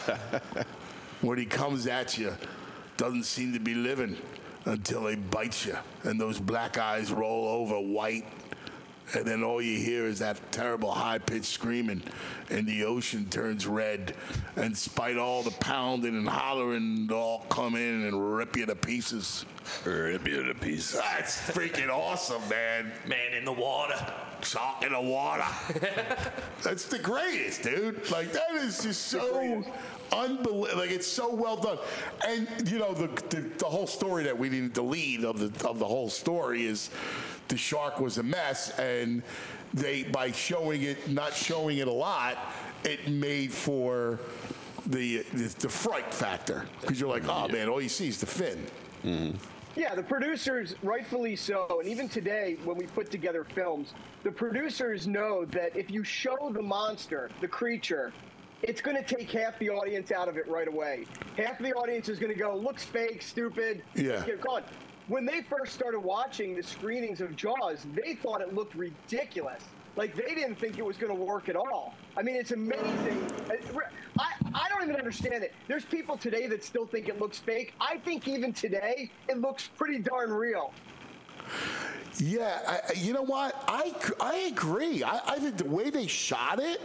When he comes at you, doesn't seem to be living until he bites you, and those black eyes roll over white, and then all you hear is that terrible high-pitched screaming, and the ocean turns red, and spite all the pounding and hollering, they'll all come in and rip you to pieces. Rip you to pieces. That's freaking awesome, man. Man in the water. Shark in the water. That's the greatest, dude. Like, that is just so unbelievable. Like, it's so well done. And, you know, the whole story that we needed, the lead of the whole story is the shark was a mess, and they, by showing it, not showing it a lot, it made for the fright factor. Because you're like, oh, man, all you see is the fin. Mm-hmm. Yeah, the producers, rightfully so, and even today when we put together films, the producers know that if you show the monster, the creature, it's going to take half the audience out of it right away. Half the audience is going to go, looks fake, stupid, get gone. When they first started watching the screenings of Jaws, they thought it looked ridiculous. Like, they didn't think it was going to work at all. I mean, it's amazing. I don't even understand it. There's people today that still think it looks fake. I think even today, it looks pretty darn real. Yeah, you know what? I agree. I think the way they shot it,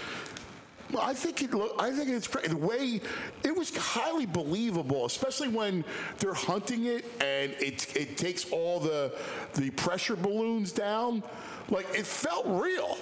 I think it's great. The way it was highly believable, especially when they're hunting it and it takes all the pressure balloons down. Like, it felt real.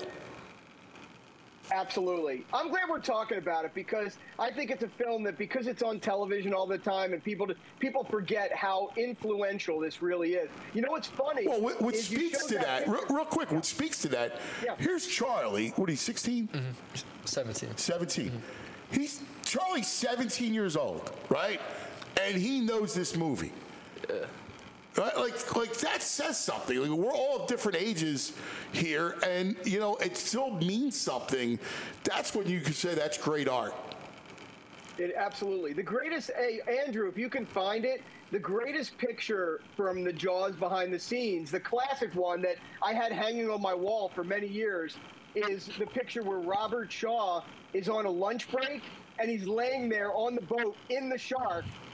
Absolutely. I'm glad we're talking about it because I think it's a film that, because it's on television all the time and people forget how influential this really is. You know what's funny? Well, what speaks to that, real quick, what speaks to that, here's Charlie. What, he's 16? Mm-hmm. 17. 17. Mm-hmm. Charlie's 17 years old, right? And he knows this movie. Right? Like that says something. Like, we're all of different ages here, and you know it still means something. That's when you can say that's great art. Absolutely, the greatest. Hey, Andrew, if you can find it, the greatest picture from the Jaws behind the scenes, the classic one that I had hanging on my wall for many years, is the picture where Robert Shaw is on a lunch break and he's laying there on the boat in the shark.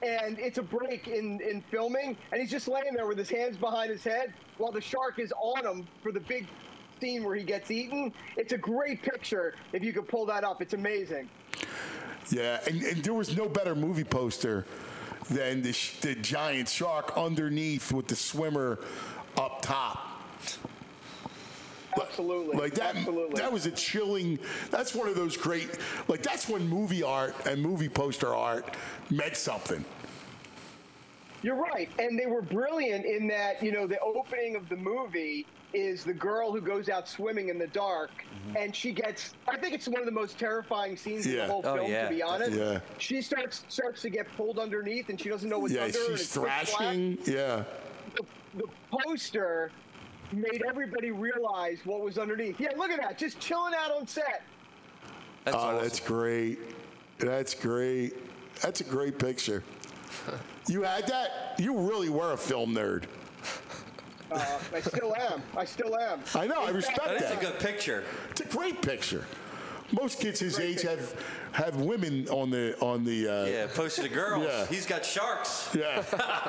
and it's a break in filming, and he's just laying there with his hands behind his head while the shark is on him for the big scene where he gets eaten. It's a great picture. If you could pull that up, it's amazing. Yeah, and there was no better movie poster than the giant shark underneath with the swimmer up top. Absolutely. Like that, Absolutely. That was a chilling. That's one of those great. Like that's when movie art and movie poster art meant something. You're right, and they were brilliant in that. The opening of the movie is the girl who goes out swimming in the dark, and she gets. I think it's one of the most terrifying scenes in the whole film. To be honest, she starts to get pulled underneath, and she doesn't know what's under her. Yeah, she's thrashing. Yeah. The poster made everybody realize what was underneath. Yeah, look at that, just chilling out on set. That's awesome. That's great. That's great. That's a great picture. You had that? You really were a film nerd. I still am. I know. I respect that. That is a good picture. It's a great picture. Most kids his age have women on the. Yeah, posted to girls. Yeah. He's got sharks. Yeah.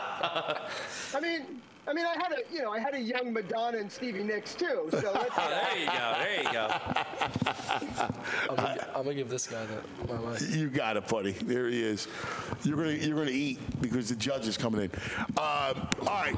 I mean, I had a young Madonna and Stevie Nicks too. So that's there you go. I'm gonna give this guy my mic. You got it, buddy. There he is. You're gonna eat because the judge is coming in. All right.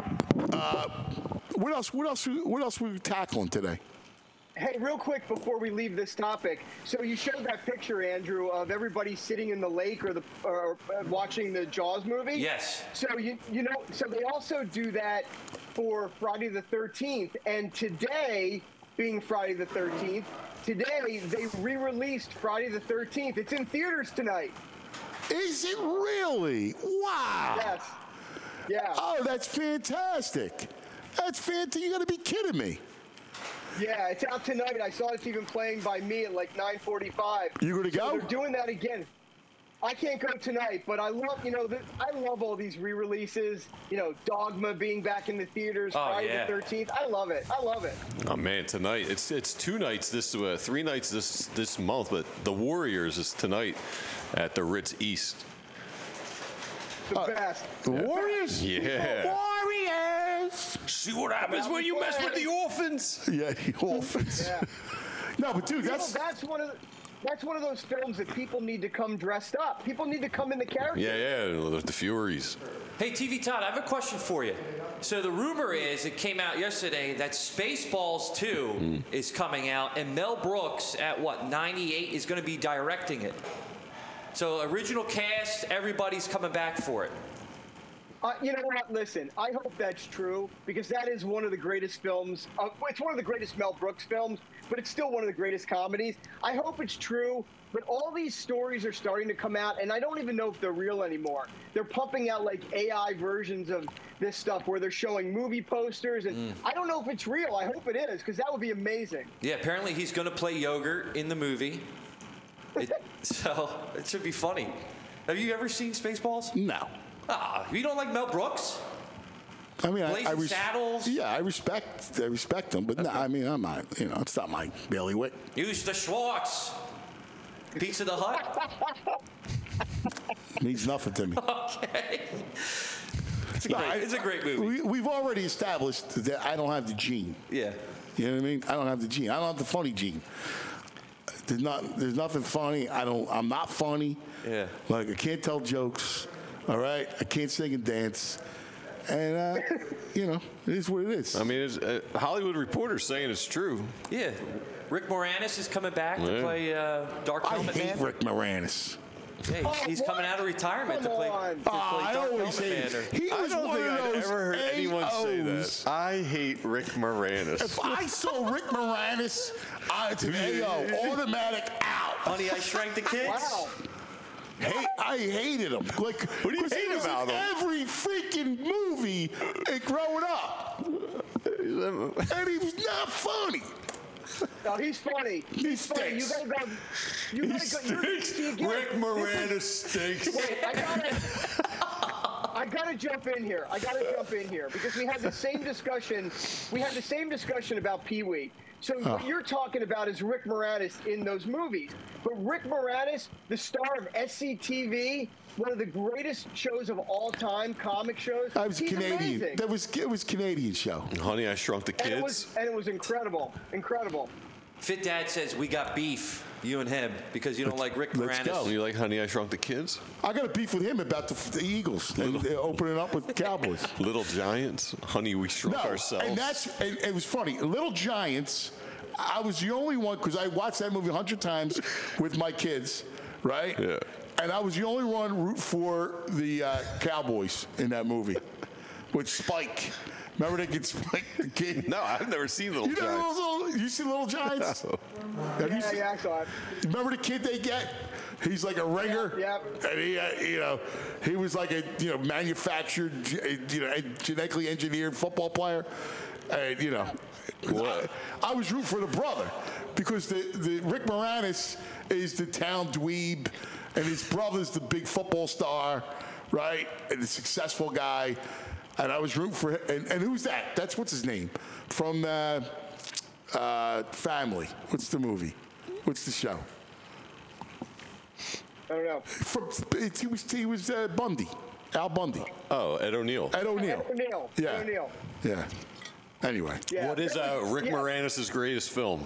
What else we tackling today? Hey, real quick before we leave this topic, so you showed that picture, Andrew, of everybody sitting in the lake or watching the Jaws movie. Yes. So so they also do that for Friday the 13th, and today, being Friday the 13th, today they re-released Friday the 13th. It's in theaters tonight. Is it really? Wow. Yes. Yeah. Oh, that's fantastic. That's fantastic. You got to be kidding me. Yeah, it's out tonight. I saw it's even playing by me at like 9:45. You gonna go? They're doing that again. I can't go tonight, but I love, I love all these re-releases. Dogma being back in the theaters Friday the 13th. I love it. Oh man, tonight it's 2 nights 3 nights this month, but The Warriors is tonight at the Ritz East. The best. The Warriors? Yeah. Warriors. See what happens when you mess with the orphans. Yeah, the orphans. Yeah. No, but dude, that's one of those films that people need to come dressed up. People need to come in the character. Yeah, the Furies. Hey, TV Todd, I have a question for you. So the rumor is, it came out yesterday, that Spaceballs 2 is coming out, and Mel Brooks at 98 is going to be directing it. So original cast, everybody's coming back for it. You know what? Listen, I hope that's true because that is one of the greatest films. It's one of the greatest Mel Brooks films, but it's still one of the greatest comedies. I hope it's true, but all these stories are starting to come out, and I don't even know if they're real anymore. They're pumping out like AI versions of this stuff where they're showing movie posters, and I don't know if it's real. I hope it is because that would be amazing. Yeah, apparently he's going to play yogurt in the movie. So it should be funny. Have you ever seen Spaceballs? No. You don't like Mel Brooks? I mean, Blazing Saddles? Yeah, I respect them, but no, I mean, I'm not. It's not my bailiwick. Use the Schwartz. Pizza the Hut. Means nothing to me. Okay. It's a great movie. We've already established that I don't have the gene. Yeah. You know what I mean? I don't have the gene. I don't have the funny gene. There's nothing funny. I'm not funny. Yeah. Like I can't tell jokes. All right. I can't sing and dance. And it is what it is. I mean, Hollywood Reporter saying it's true. Yeah. Rick Moranis is coming back to play Dark Helmet Man. I hate Rick Moranis. Yeah, he's coming out of retirement to play Dark Helmet Man. I don't think I've ever heard anyone say that. I hate Rick Moranis. If I saw Rick Moranis, it's an AO, automatic out. Honey, I Shrank the Kids. Wow. I hated him. Like, what do you hate about him? Every freaking movie growing up, and he was not funny. No, he's funny. He's funny. You gotta go. You gotta go. Rick Moranis stinks. Wait, I got it. I gotta jump in here. Because we had the same discussion. We had the same discussion about Pee-wee. So what you're talking about is Rick Moranis in those movies. But Rick Moranis, the star of SCTV, one of the greatest shows of all time, comic shows. I was he's Canadian. amazing. It was Canadian show. Honey, I Shrunk the Kids. And it was incredible. Incredible. Fit Dad says we got beef, you and him, because you don't like Rick Let's Moranis. go. You like Honey, I Shrunk the Kids? I got a beef with him about the Eagles and opening up with the Cowboys. Little Giants. Honey, we shrunk ourselves. And it was funny. Little Giants. I was the only one because I watched that movie 100 times with my kids, right? Yeah. And I was the only one root for the Cowboys in that movie with Spike. Remember they get Spike the kid? No, I've never seen Little Giants. You see Little Giants? No. Yeah, I saw it. Remember the kid they get? He's like a ringer. Yep. And he was like a manufactured, genetically engineered football player. And What? I was rooting for the brother because the Rick Moranis is the town dweeb, and his brother's the big football star, right? And the successful guy. And I was rooting for him. And who's that? That's what's his name from Family. What's the movie? What's the show? I don't know. He was Bundy, Al Bundy. Oh, Ed O'Neill. Ed O'Neill. Yeah. Ed O'Neill. Yeah. Anyway. Yeah. What is Rick Moranis' greatest film?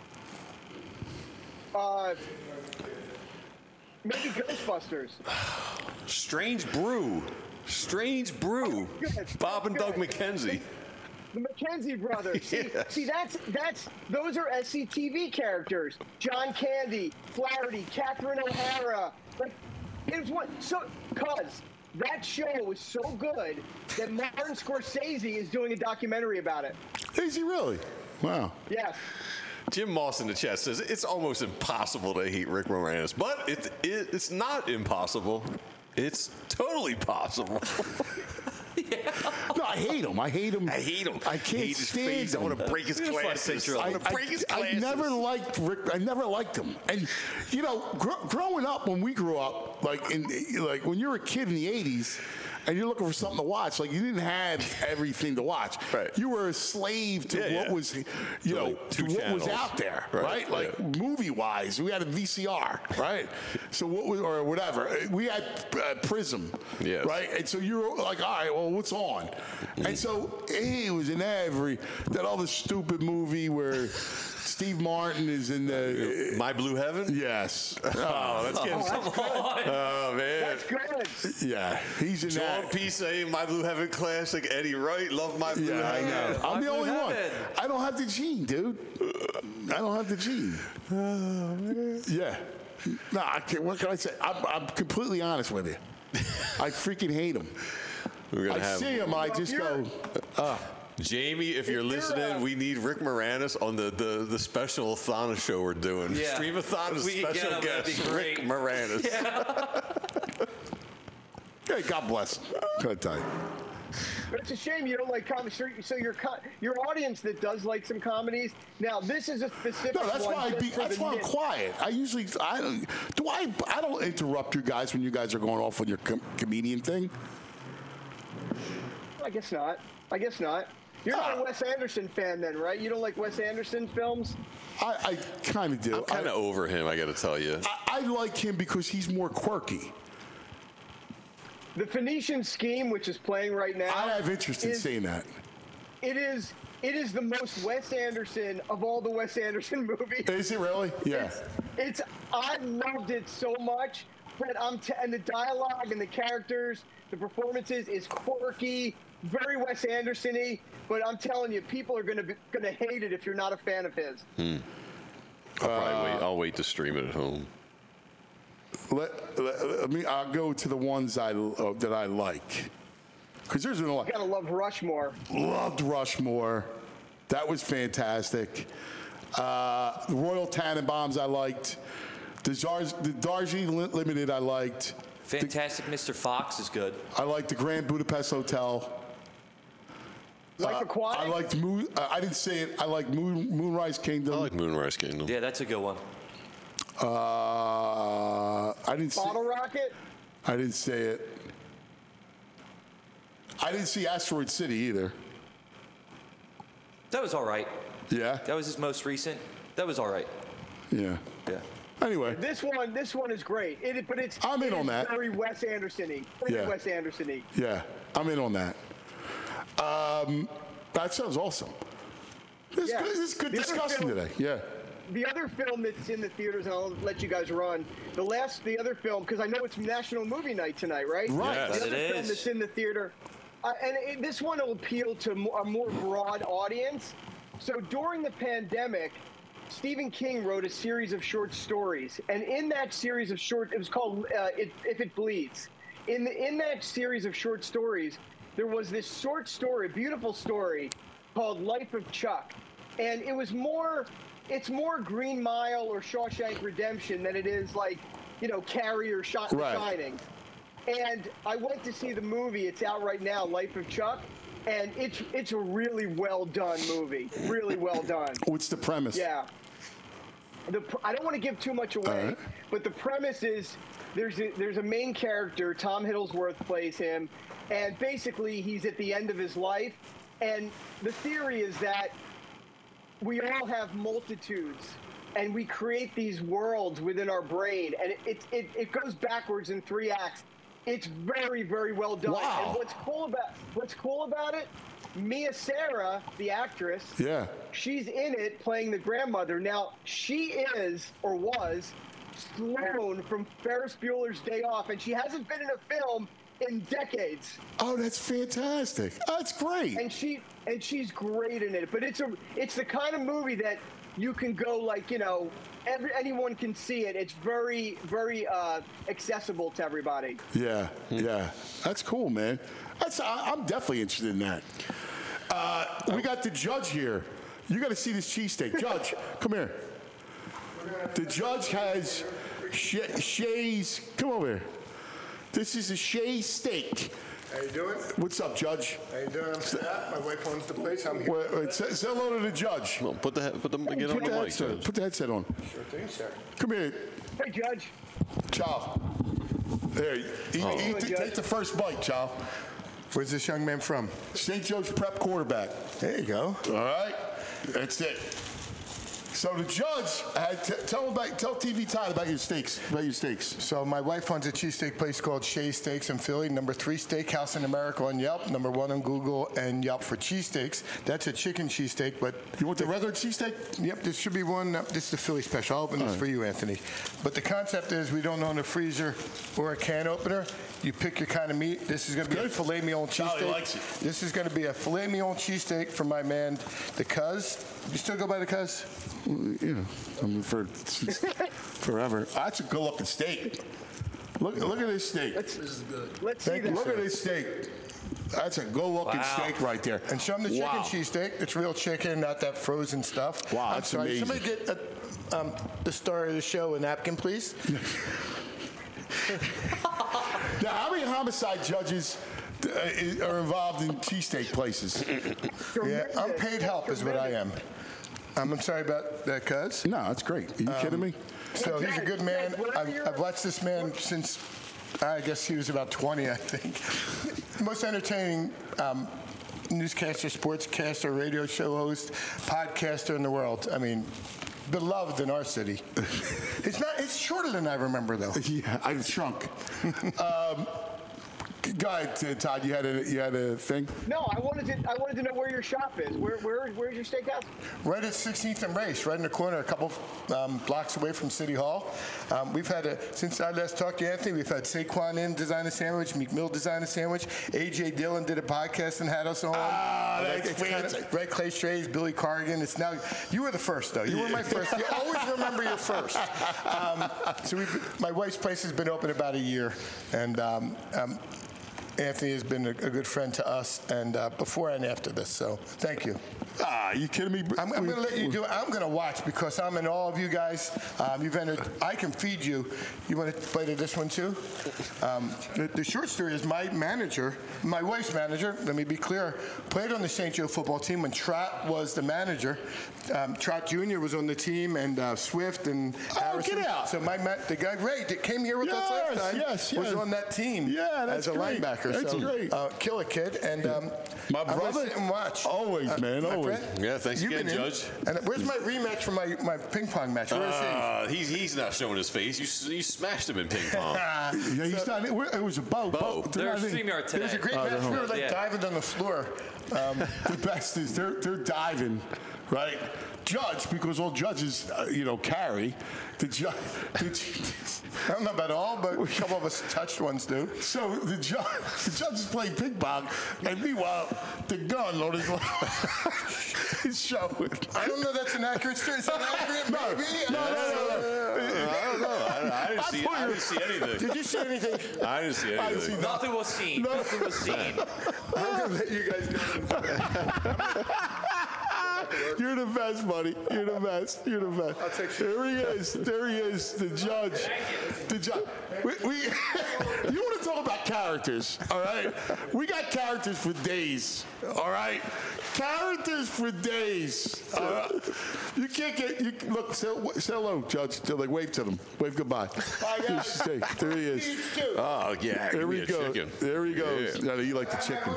Maybe Ghostbusters. Strange Brew. Good. Bob and Doug Good. McKenzie. The McKenzie brothers. See, that's those are SCTV characters. John Candy, Flaherty, Catherine O'Hara. Like, cause that show was so good that Martin Scorsese is doing a documentary about it. Is he really? Wow. Yes. Jim Moss in the chat says it's almost impossible to hate Rick Moranis, but it's not impossible. It's totally possible. No, I hate him. I hate him. I can't hate his stand face. him. I want to break his glasses. I want to break his glasses. I never liked Rick. I never liked him. And growing up, when we grew up, like when you were a kid in the '80s, and you're looking for something to watch, like you didn't have everything to watch. Right. You were a slave to what was, to what was out there, right? Like movie-wise, we had a VCR, right? So what was, or whatever, we had Prism, right? And so you were like, all right, well, what's on? And so he was in that other stupid movie where Steve Martin is in the My Blue Heaven. Yes. Oh, that's getting Oh man, that's good. Yeah, he's in John that. P. saying My Blue Heaven classic. Eddie Wright, love My Blue Heaven. I know. I'm the only one. I don't have the gene, dude. I don't have the gene. Yeah. No, I can't, what can I say? I'm completely honest with you. I freaking hate him. I see him, I just go. Jamie, if you're listening, we need Rick Moranis on the special Athana show we're doing. Yeah. Stream-a-thon is special guest Rick Moranis. Hey, God bless him. Can I tell you? But it's a shame you don't like comedy. So your audience that does like some comedies. Now this is a specific. No, that's one why that's why I'm quiet. I don't interrupt you guys when you guys are going off on your comedian thing. I guess not. You're not a Wes Anderson fan then, right? You don't like Wes Anderson films? I kind of do. I'm kind of over him, I got to tell you. I like him because he's more quirky. The Phoenician Scheme, which is playing right now. I have interest in seeing that. It is the most Wes Anderson of all the Wes Anderson movies. Is it really? Yeah. I loved it so much, but and the dialogue and the characters, the performances is quirky, very Wes Anderson-y. But I'm telling you, people are gonna hate it if you're not a fan of his. I'll wait to stream it at home. I'll go to the ones that I like. Because there's a lot. You gotta love Rushmore. Loved Rushmore. That was fantastic. The Royal Tannenbaums I liked. The Darjeeling Limited I liked. Fantastic Mr. Fox is good. I liked the Grand Budapest Hotel. Like Aquatic? I liked I didn't say it. I like Moonrise Kingdom. I like Moonrise Kingdom. Yeah, that's a good one. I didn't say Bottle Rocket? I didn't say it. I didn't see Asteroid City either. That was all right. Yeah? That was his most recent. That was all right. Yeah. Yeah. Anyway. This one is great. I'm in on that. Very Wes Anderson-y. Yeah. Wes Anderson-y. Yeah, I'm in on that. That sounds awesome. This is good discussion today. Yeah. The other film that's in the theaters, and I'll let you guys run. The other film, because I know it's National Movie Night tonight, right? Right. Yes, the other it film is. that's in the theater. This one will appeal to a more broad audience. So during the pandemic, Stephen King wrote a series of short stories, and in that series of it was called If It Bleeds. In that series of short stories, there was this short story, beautiful story, called Life of Chuck, and it's more Green Mile or Shawshank Redemption than it is like, Carrie or Shining. And I went to see the movie. It's out right now, Life of Chuck. And it's a really well done movie. Really well done. What's the premise? Yeah. I don't want to give too much away, but the premise is there's a main character, Tom Hiddlesworth plays him, and basically he's at the end of his life. And the theory is that we all have multitudes, and we create these worlds within our brain, and it goes backwards in 3 acts. It's very, very well done. Wow. And what's cool about it, Mia Sara, the actress, she's in it playing the grandmother. Now, she is, or was, Sloane from Ferris Bueller's Day Off, and she hasn't been in a film in decades. Oh, that's fantastic. That's great. And she's great in it. But it's the kind of movie that you can go like, anyone can see it. It's very, very accessible to everybody. Yeah, yeah. That's cool, man. I'm definitely interested in that. We got the judge here. You got to see this cheesesteak. Judge, come here. The judge has Shay's. Come over here. This is a Shay's steak. How you doing? What's up, Judge? How you doing? I'm Scott. My wife owns the place. I'm here. Wait, say hello to the judge. Well, get on the mic, Judge. Put the headset on. Sure thing, sir. Come here. Hey, Judge. Ciao. There, take the first bite, Ciao. Where's this young man from? St. Joe's Prep quarterback. There you go. All right. That's it. So the judge had tell TV Tide about your steaks. So my wife owns a cheesesteak place called Shay's Steaks in Philly, number 3 steakhouse in America on Yelp, number 1 on Google and Yelp for cheesesteaks. That's a chicken cheesesteak, but you want the regular cheesesteak? Yep, this should be one. This is the Philly special. I'll open this for you, Anthony. But the concept is we don't own a freezer or a can opener. You pick your kind of meat. This is going to be a filet mignon cheesesteak. Charlie likes it. This is going to be a filet mignon cheesesteak from my man, the Cuz. You still go by the Cuz? Yeah, I mean forever. That's a good-looking steak. Look at this steak. This is good. Let's see that. Look at this steak. That's a good-looking steak right there. And show them the chicken cheesesteak. It's real chicken, not that frozen stuff. Wow, that's amazing. Somebody get the star of the show a napkin, please. Now, how many homicide judges are involved in cheesesteak places? Yeah, unpaid help is what I am. I'm sorry about that, Cuz. No, that's great. Are you kidding me? So he's a good man. I've watched this man since, I guess he was about 20, I think. Most entertaining newscaster, sportscaster, radio show host, podcaster in the world. I mean, beloved in our city. It's shorter than I remember, though. Yeah, I've shrunk. Go ahead, Todd. You had a thing. No, I wanted to know where your shop is. Where's your steakhouse? Right at 16th and Race, right in the corner, a couple blocks away from City Hall. We've had since I last talked to Anthony, we've had Saquon in design a sandwich, Meek Mill design a sandwich, AJ Dillon did a podcast and had us on. That's fantastic. Right, Clay Strays, Billy Corrigan. It's now you were the first though. You were my first. You always remember your first. So my wife's place has been open about a year, and. Anthony has been a good friend to us, and before and after this, so thank you. You kidding me? I'm going to let you do it. I'm going to watch because I'm in all of you guys. You've entered. I can feed you. You want to play to this one too? The short story is my manager, my wife's manager, let me be clear, played on the St. Joe football team when Trot was the manager. Trot Jr. was on the team, and Swift and Harrison. Get out. So the guy Ray that came here with us last time was on that team that's as a great. linebacker. That's great. Killer kid. And my I'm brother, gonna sit and watch. Always, man, always. Yeah, thanks again, Judge. And where's my rematch for my ping pong match? Where is he? He's not showing his face. You smashed him in ping pong. He's not. It was a bow. There's StreamYard today. It was a great match. We were like diving on the floor. The best is they're diving, right? Judge, because all judges, carry. The judge. I don't know about all, but a couple of us touched ones do. So the judge is playing ping pong, and meanwhile, the gun on his is showing. I don't know that's an accurate story. Is that accurate? Maybe. No. I don't know. I didn't see anything. Did you see anything? I didn't see anything. Nothing was seen. Nothing was seen. I'm going to let you guys go. You're the best, buddy. You're the best. You're the best. I'll take There he is. There he is. The judge. The judge. You want to talk about characters, all right? We got characters for days, all right? Characters for days. You can't get. Look, say hello, Judge. Wave to them. Wave goodbye. There he is. Oh yeah. There we go. Chicken. There he goes. Yeah. You like the chicken.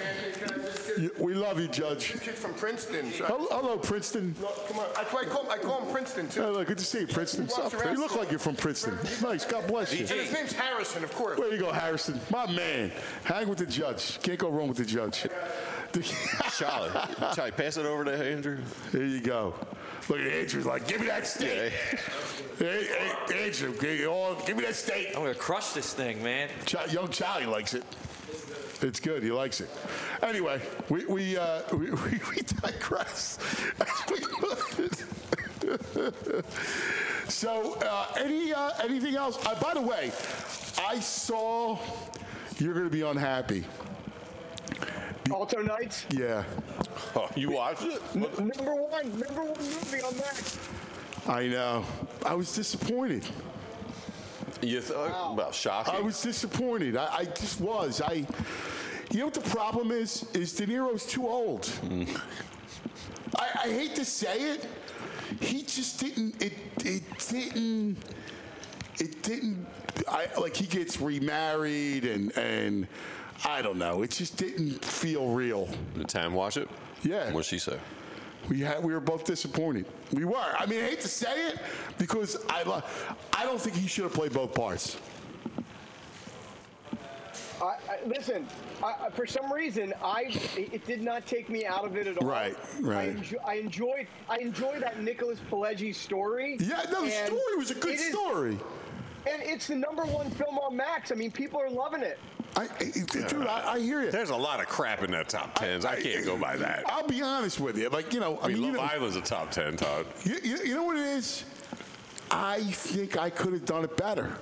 We love you, Judge. Kid from Princeton. So Hello, Princeton. look, come on. I call him Princeton too. Hello, good to see you, Princeton. You look like you're from Princeton. Nice. God bless you. And his name's Harrison, of course. There you go, Harrison. My man. Hang with the judge. Can't go wrong with the judge. Charlie, pass it over to Andrew. There you go. Look at Andrew's like, give me that steak. Hey, Andrew, give me that steak. I'm going to crush this thing, man. Young Charlie likes it. It's good. He likes it. Anyway, we digress. So, anything else? By the way, I saw you're going to be unhappy. Alto Nights? Yeah. Oh, you watched it? Number one movie on that. I know. I was disappointed. You thought about shocking? I was disappointed. I just was. You know what the problem is? De Niro's too old. I hate to say it. He just didn't. It didn't. He gets remarried and I don't know. It just didn't feel real. Did Tam watch it? Yeah. What'd she say? We were both disappointed. We were. I mean, I hate to say it because I don't think he should have played both parts. Listen, for some reason, it did not take me out of it at all. Right. I enjoyed that Nicholas Pileggi story. Yeah, no, the story was a good story. And it's the #1 film on Max. I mean, people are loving it. Dude, I hear you. There's a lot of crap in that top 10s. I can't go by that. I'll be honest with you. Love Island's a top 10, Todd. You know what it is? I think I could have done it better.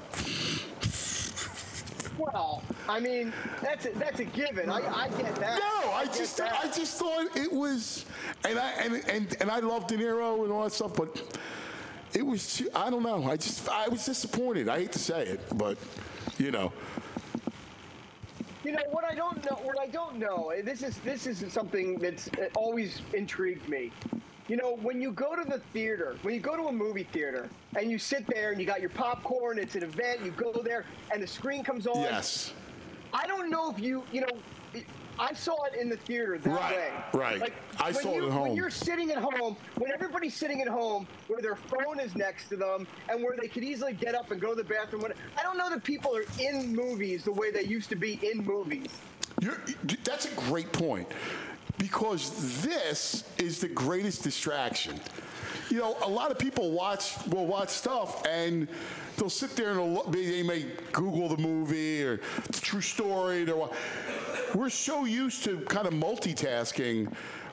Well, I mean, that's a given. I get that. No, I just thought it was, and I love De Niro and all that stuff, but it was. I don't know. I was disappointed. I hate to say it, but you know. You know what I don't know. This is something that's always intrigued me. You know, when you go to the theater, when you go to a movie theater, and you sit there and you got your popcorn, it's an event, you go there, and the screen comes on. Yes. I don't know if you know, I saw it in the theater that way. Right. Like, I saw it at home. When you're sitting at home, when everybody's sitting at home, where their phone is next to them, and where they could easily get up and go to the bathroom. I don't know that people are in movies the way they used to be in movies. That's a great point. Because this is the greatest distraction. You know, a lot of people will watch stuff and they'll sit there and they may Google the movie or it's a true story. We're so used to kind of multitasking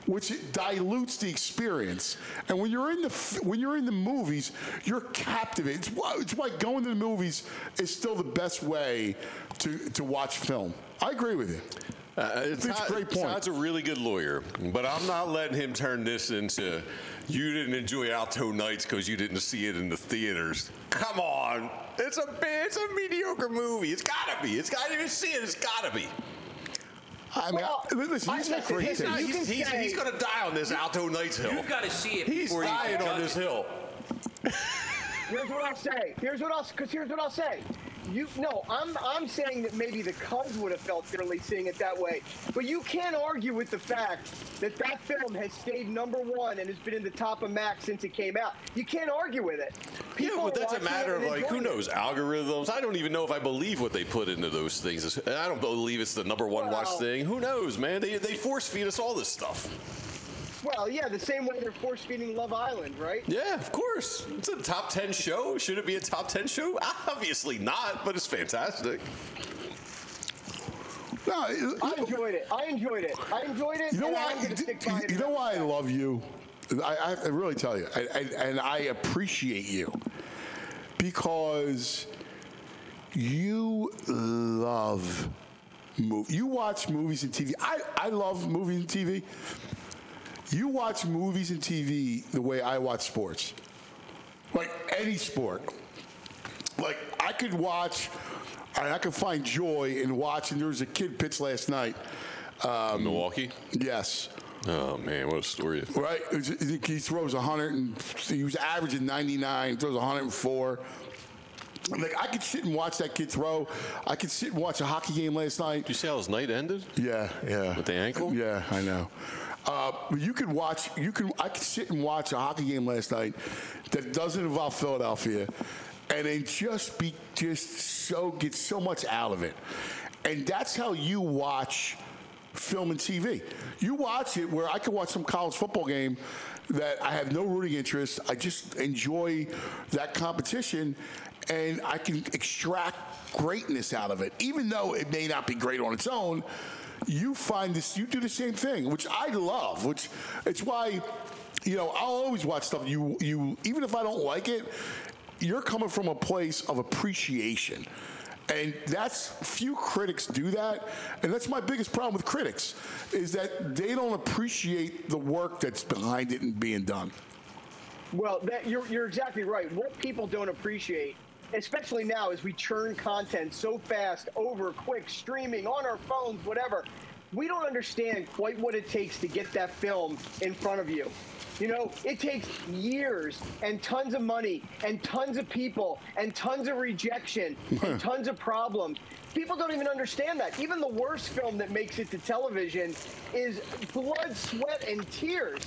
which dilutes the experience. And when you're in the movies, you're captivated. It's why going to the movies is still the best way to watch film. I agree with you. It's a great point. Todd's a really good lawyer, but I'm not letting him turn this into you didn't enjoy Alto Nights because you didn't see it in the theaters. Come on. It's a mediocre movie. It's got to be. It's got to see it. It's got to be. I mean, listen, he's got great taste. He's going to die on this Alto Nights hill. You've got to see it He's before you dying judge on this it. hill. Here's what I'll say. I'm saying that maybe the Cubs would have felt differently seeing it that way. But you can't argue with the fact that film has stayed #1 and has been in the top of Max since it came out. You can't argue with it. Yeah, but that's a matter of like, who knows, algorithms. I don't even know if I believe what they put into those things. I don't believe it's the #1 watch thing. Who knows, man? They force feed us all this stuff. Well, yeah, the same way they're force feeding Love Island, right? Yeah, of course. It's a top 10 show. Should it be a top 10 show? Obviously not, but it's fantastic. No, I enjoyed it. You know why? You know why I love you? I really tell you, and I appreciate you because you love movies. You watch movies and TV. I love movies and TV. You watch movies and TV the way I watch sports, like any sport. Like I could watch. I could find joy in watching. There was a kid pitch last night. Milwaukee? Yes. Oh, man, what a story. Right? He throws 100, and he was averaging 99, throws 104. Like, I could sit and watch that kid throw. I could sit and watch a hockey game last night. Did you see how his night ended? Yeah. With the ankle? Yeah, I know. But I could sit and watch a hockey game last night that doesn't involve Philadelphia, and then get so much out of it. And that's how you watch film and TV. You watch it where I could watch some college football game that I have no rooting interest. I just enjoy that competition, and I can extract greatness out of it. Even though it may not be great on its own, you do the same thing, which I love, which it's why, I'll always watch stuff you even if I don't like it, you're coming from a place of appreciation. And few critics do that. And that's my biggest problem with critics, is that they don't appreciate the work that's behind it and being done. Well, you're exactly right. What people don't appreciate, especially now as we churn content so fast, over quick, streaming, on our phones, whatever, we don't understand quite what it takes to get that film in front of you. It takes years and tons of money and tons of people and tons of rejection and tons of problems. People don't even understand that. Even the worst film that makes it to television is blood, sweat, and tears.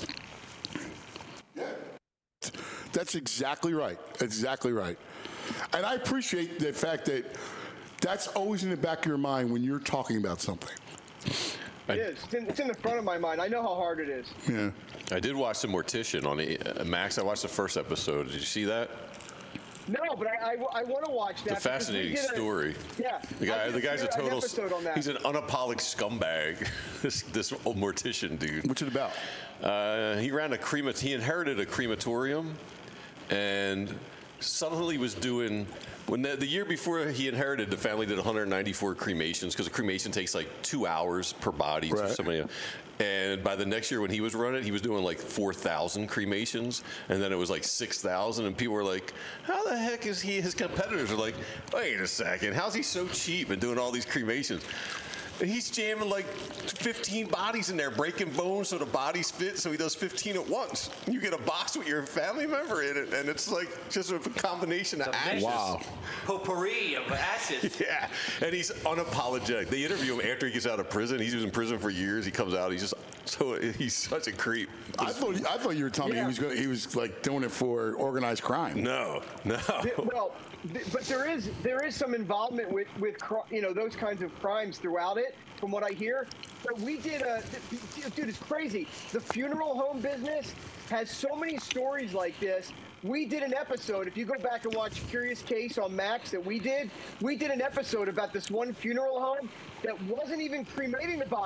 That's exactly right. Exactly right. And I appreciate the fact that that's always in the back of your mind when you're talking about something. It is. It's in the front of my mind. I know how hard it is. Yeah. I did watch The Mortician on Max. I watched the first episode. Did you see that? No, but I want to watch that. It's a fascinating story. Yeah. The guy's a total. On he's an unapologetic scumbag. this old Mortician dude. What's it about? He ran he inherited a crematorium, and suddenly was doing. When the year before he inherited, the family did 194 cremations, because a cremation takes like 2 hours per body. Right. To somebody. And by the next year when he was running, he was doing like 4,000 cremations, and then it was like 6,000, and people were like, how the heck is he? His competitors are like, wait a second, how's he so cheap and doing all these cremations? And he's jamming like 15 bodies in there, breaking bones so the bodies fit, so he does 15 at once. You get a box with your family member in it, and it's like just a combination of ashes. Wow. Potpourri of ashes. Yeah, and he's unapologetic. They interview him after he gets out of prison. He's been in prison for years. He comes out. He's such a creep. I thought you were telling me he was like doing it for organized crime. No. Well, but there is some involvement with those kinds of crimes throughout it, from what I hear. But we did dude, it's crazy. The funeral home business has so many stories like this. We did an episode, if you go back and watch Curious Case on Max that we did an episode about this one funeral home that wasn't even cremating the bodies.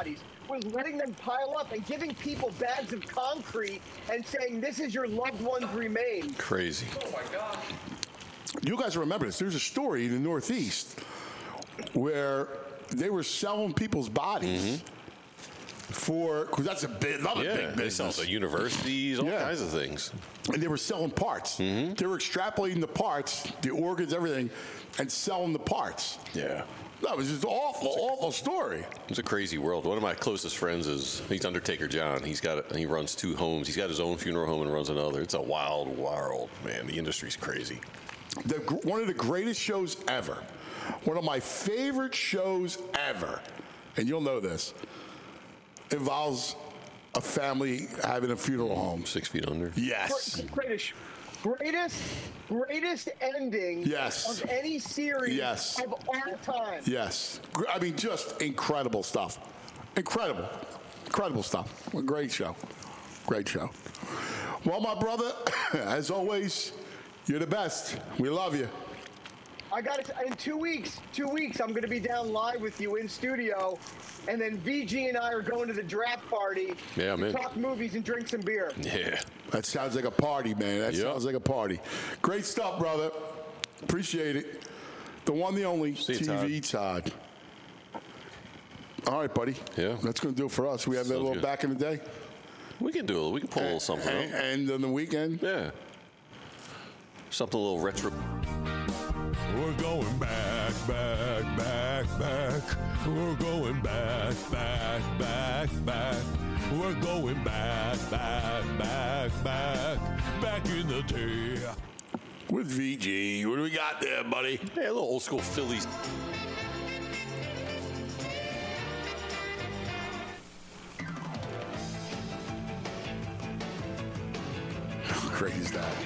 was letting them pile up and giving people bags of concrete and saying, this is your loved one's remains. Crazy. Oh, my God. You guys remember this. There's a story in the Northeast where they were selling people's bodies because that's another big they sell business. to universities, all kinds of things. And they were selling parts. They were extrapolating the parts, the organs, everything, and selling the parts. Yeah. That was just an awful story. It's a crazy world. One of my closest friends he's Undertaker John. He runs 2 homes. He's got his own funeral home and runs another. It's a wild world, man. The industry's crazy. One of the greatest shows ever. One of my favorite shows ever, and you'll know this, involves a family having a funeral home. 6 Feet Under. Yes. Greatest ending of any series of all time. Yes. I mean, just incredible stuff. Incredible stuff. A great show. Great show. Well, my brother, as always, you're the best. We love you. I got it. In 2 weeks, I'm going to be down live with you in studio, and then VG and I are going to the draft party to talk movies and drink some beer. Yeah. That sounds like a party, man. That sounds like a party. Great stuff, brother. Appreciate it. The one, the only, TV Todd. All right, buddy. Yeah. That's going to do it for us. We have that little good. back in the day. We can do it. We can pull a little something out. And on the weekend? Yeah. Something a little retro. We're going back. We're going back. We're going back in the day. With VG. What do we got there, buddy? Hey, a little old school Phillies. How great is that?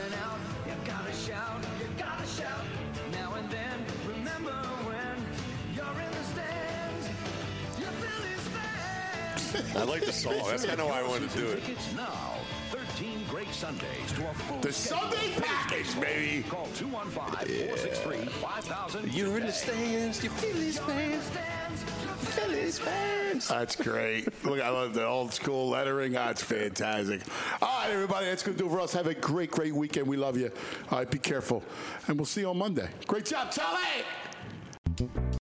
I like the song. That's kind of why I wanted to do it. Tickets now. 13 great Sundays to a full The Sunday package, baby. Call 215-463-5000. You're in the stands. You Phillies fans. Phillies fans. That's great. Look, I love the old school lettering. That's fantastic. All right, everybody. That's going to do it for us. Have a great weekend. We love you. All right, be careful. And we'll see you on Monday. Great job, Charlie.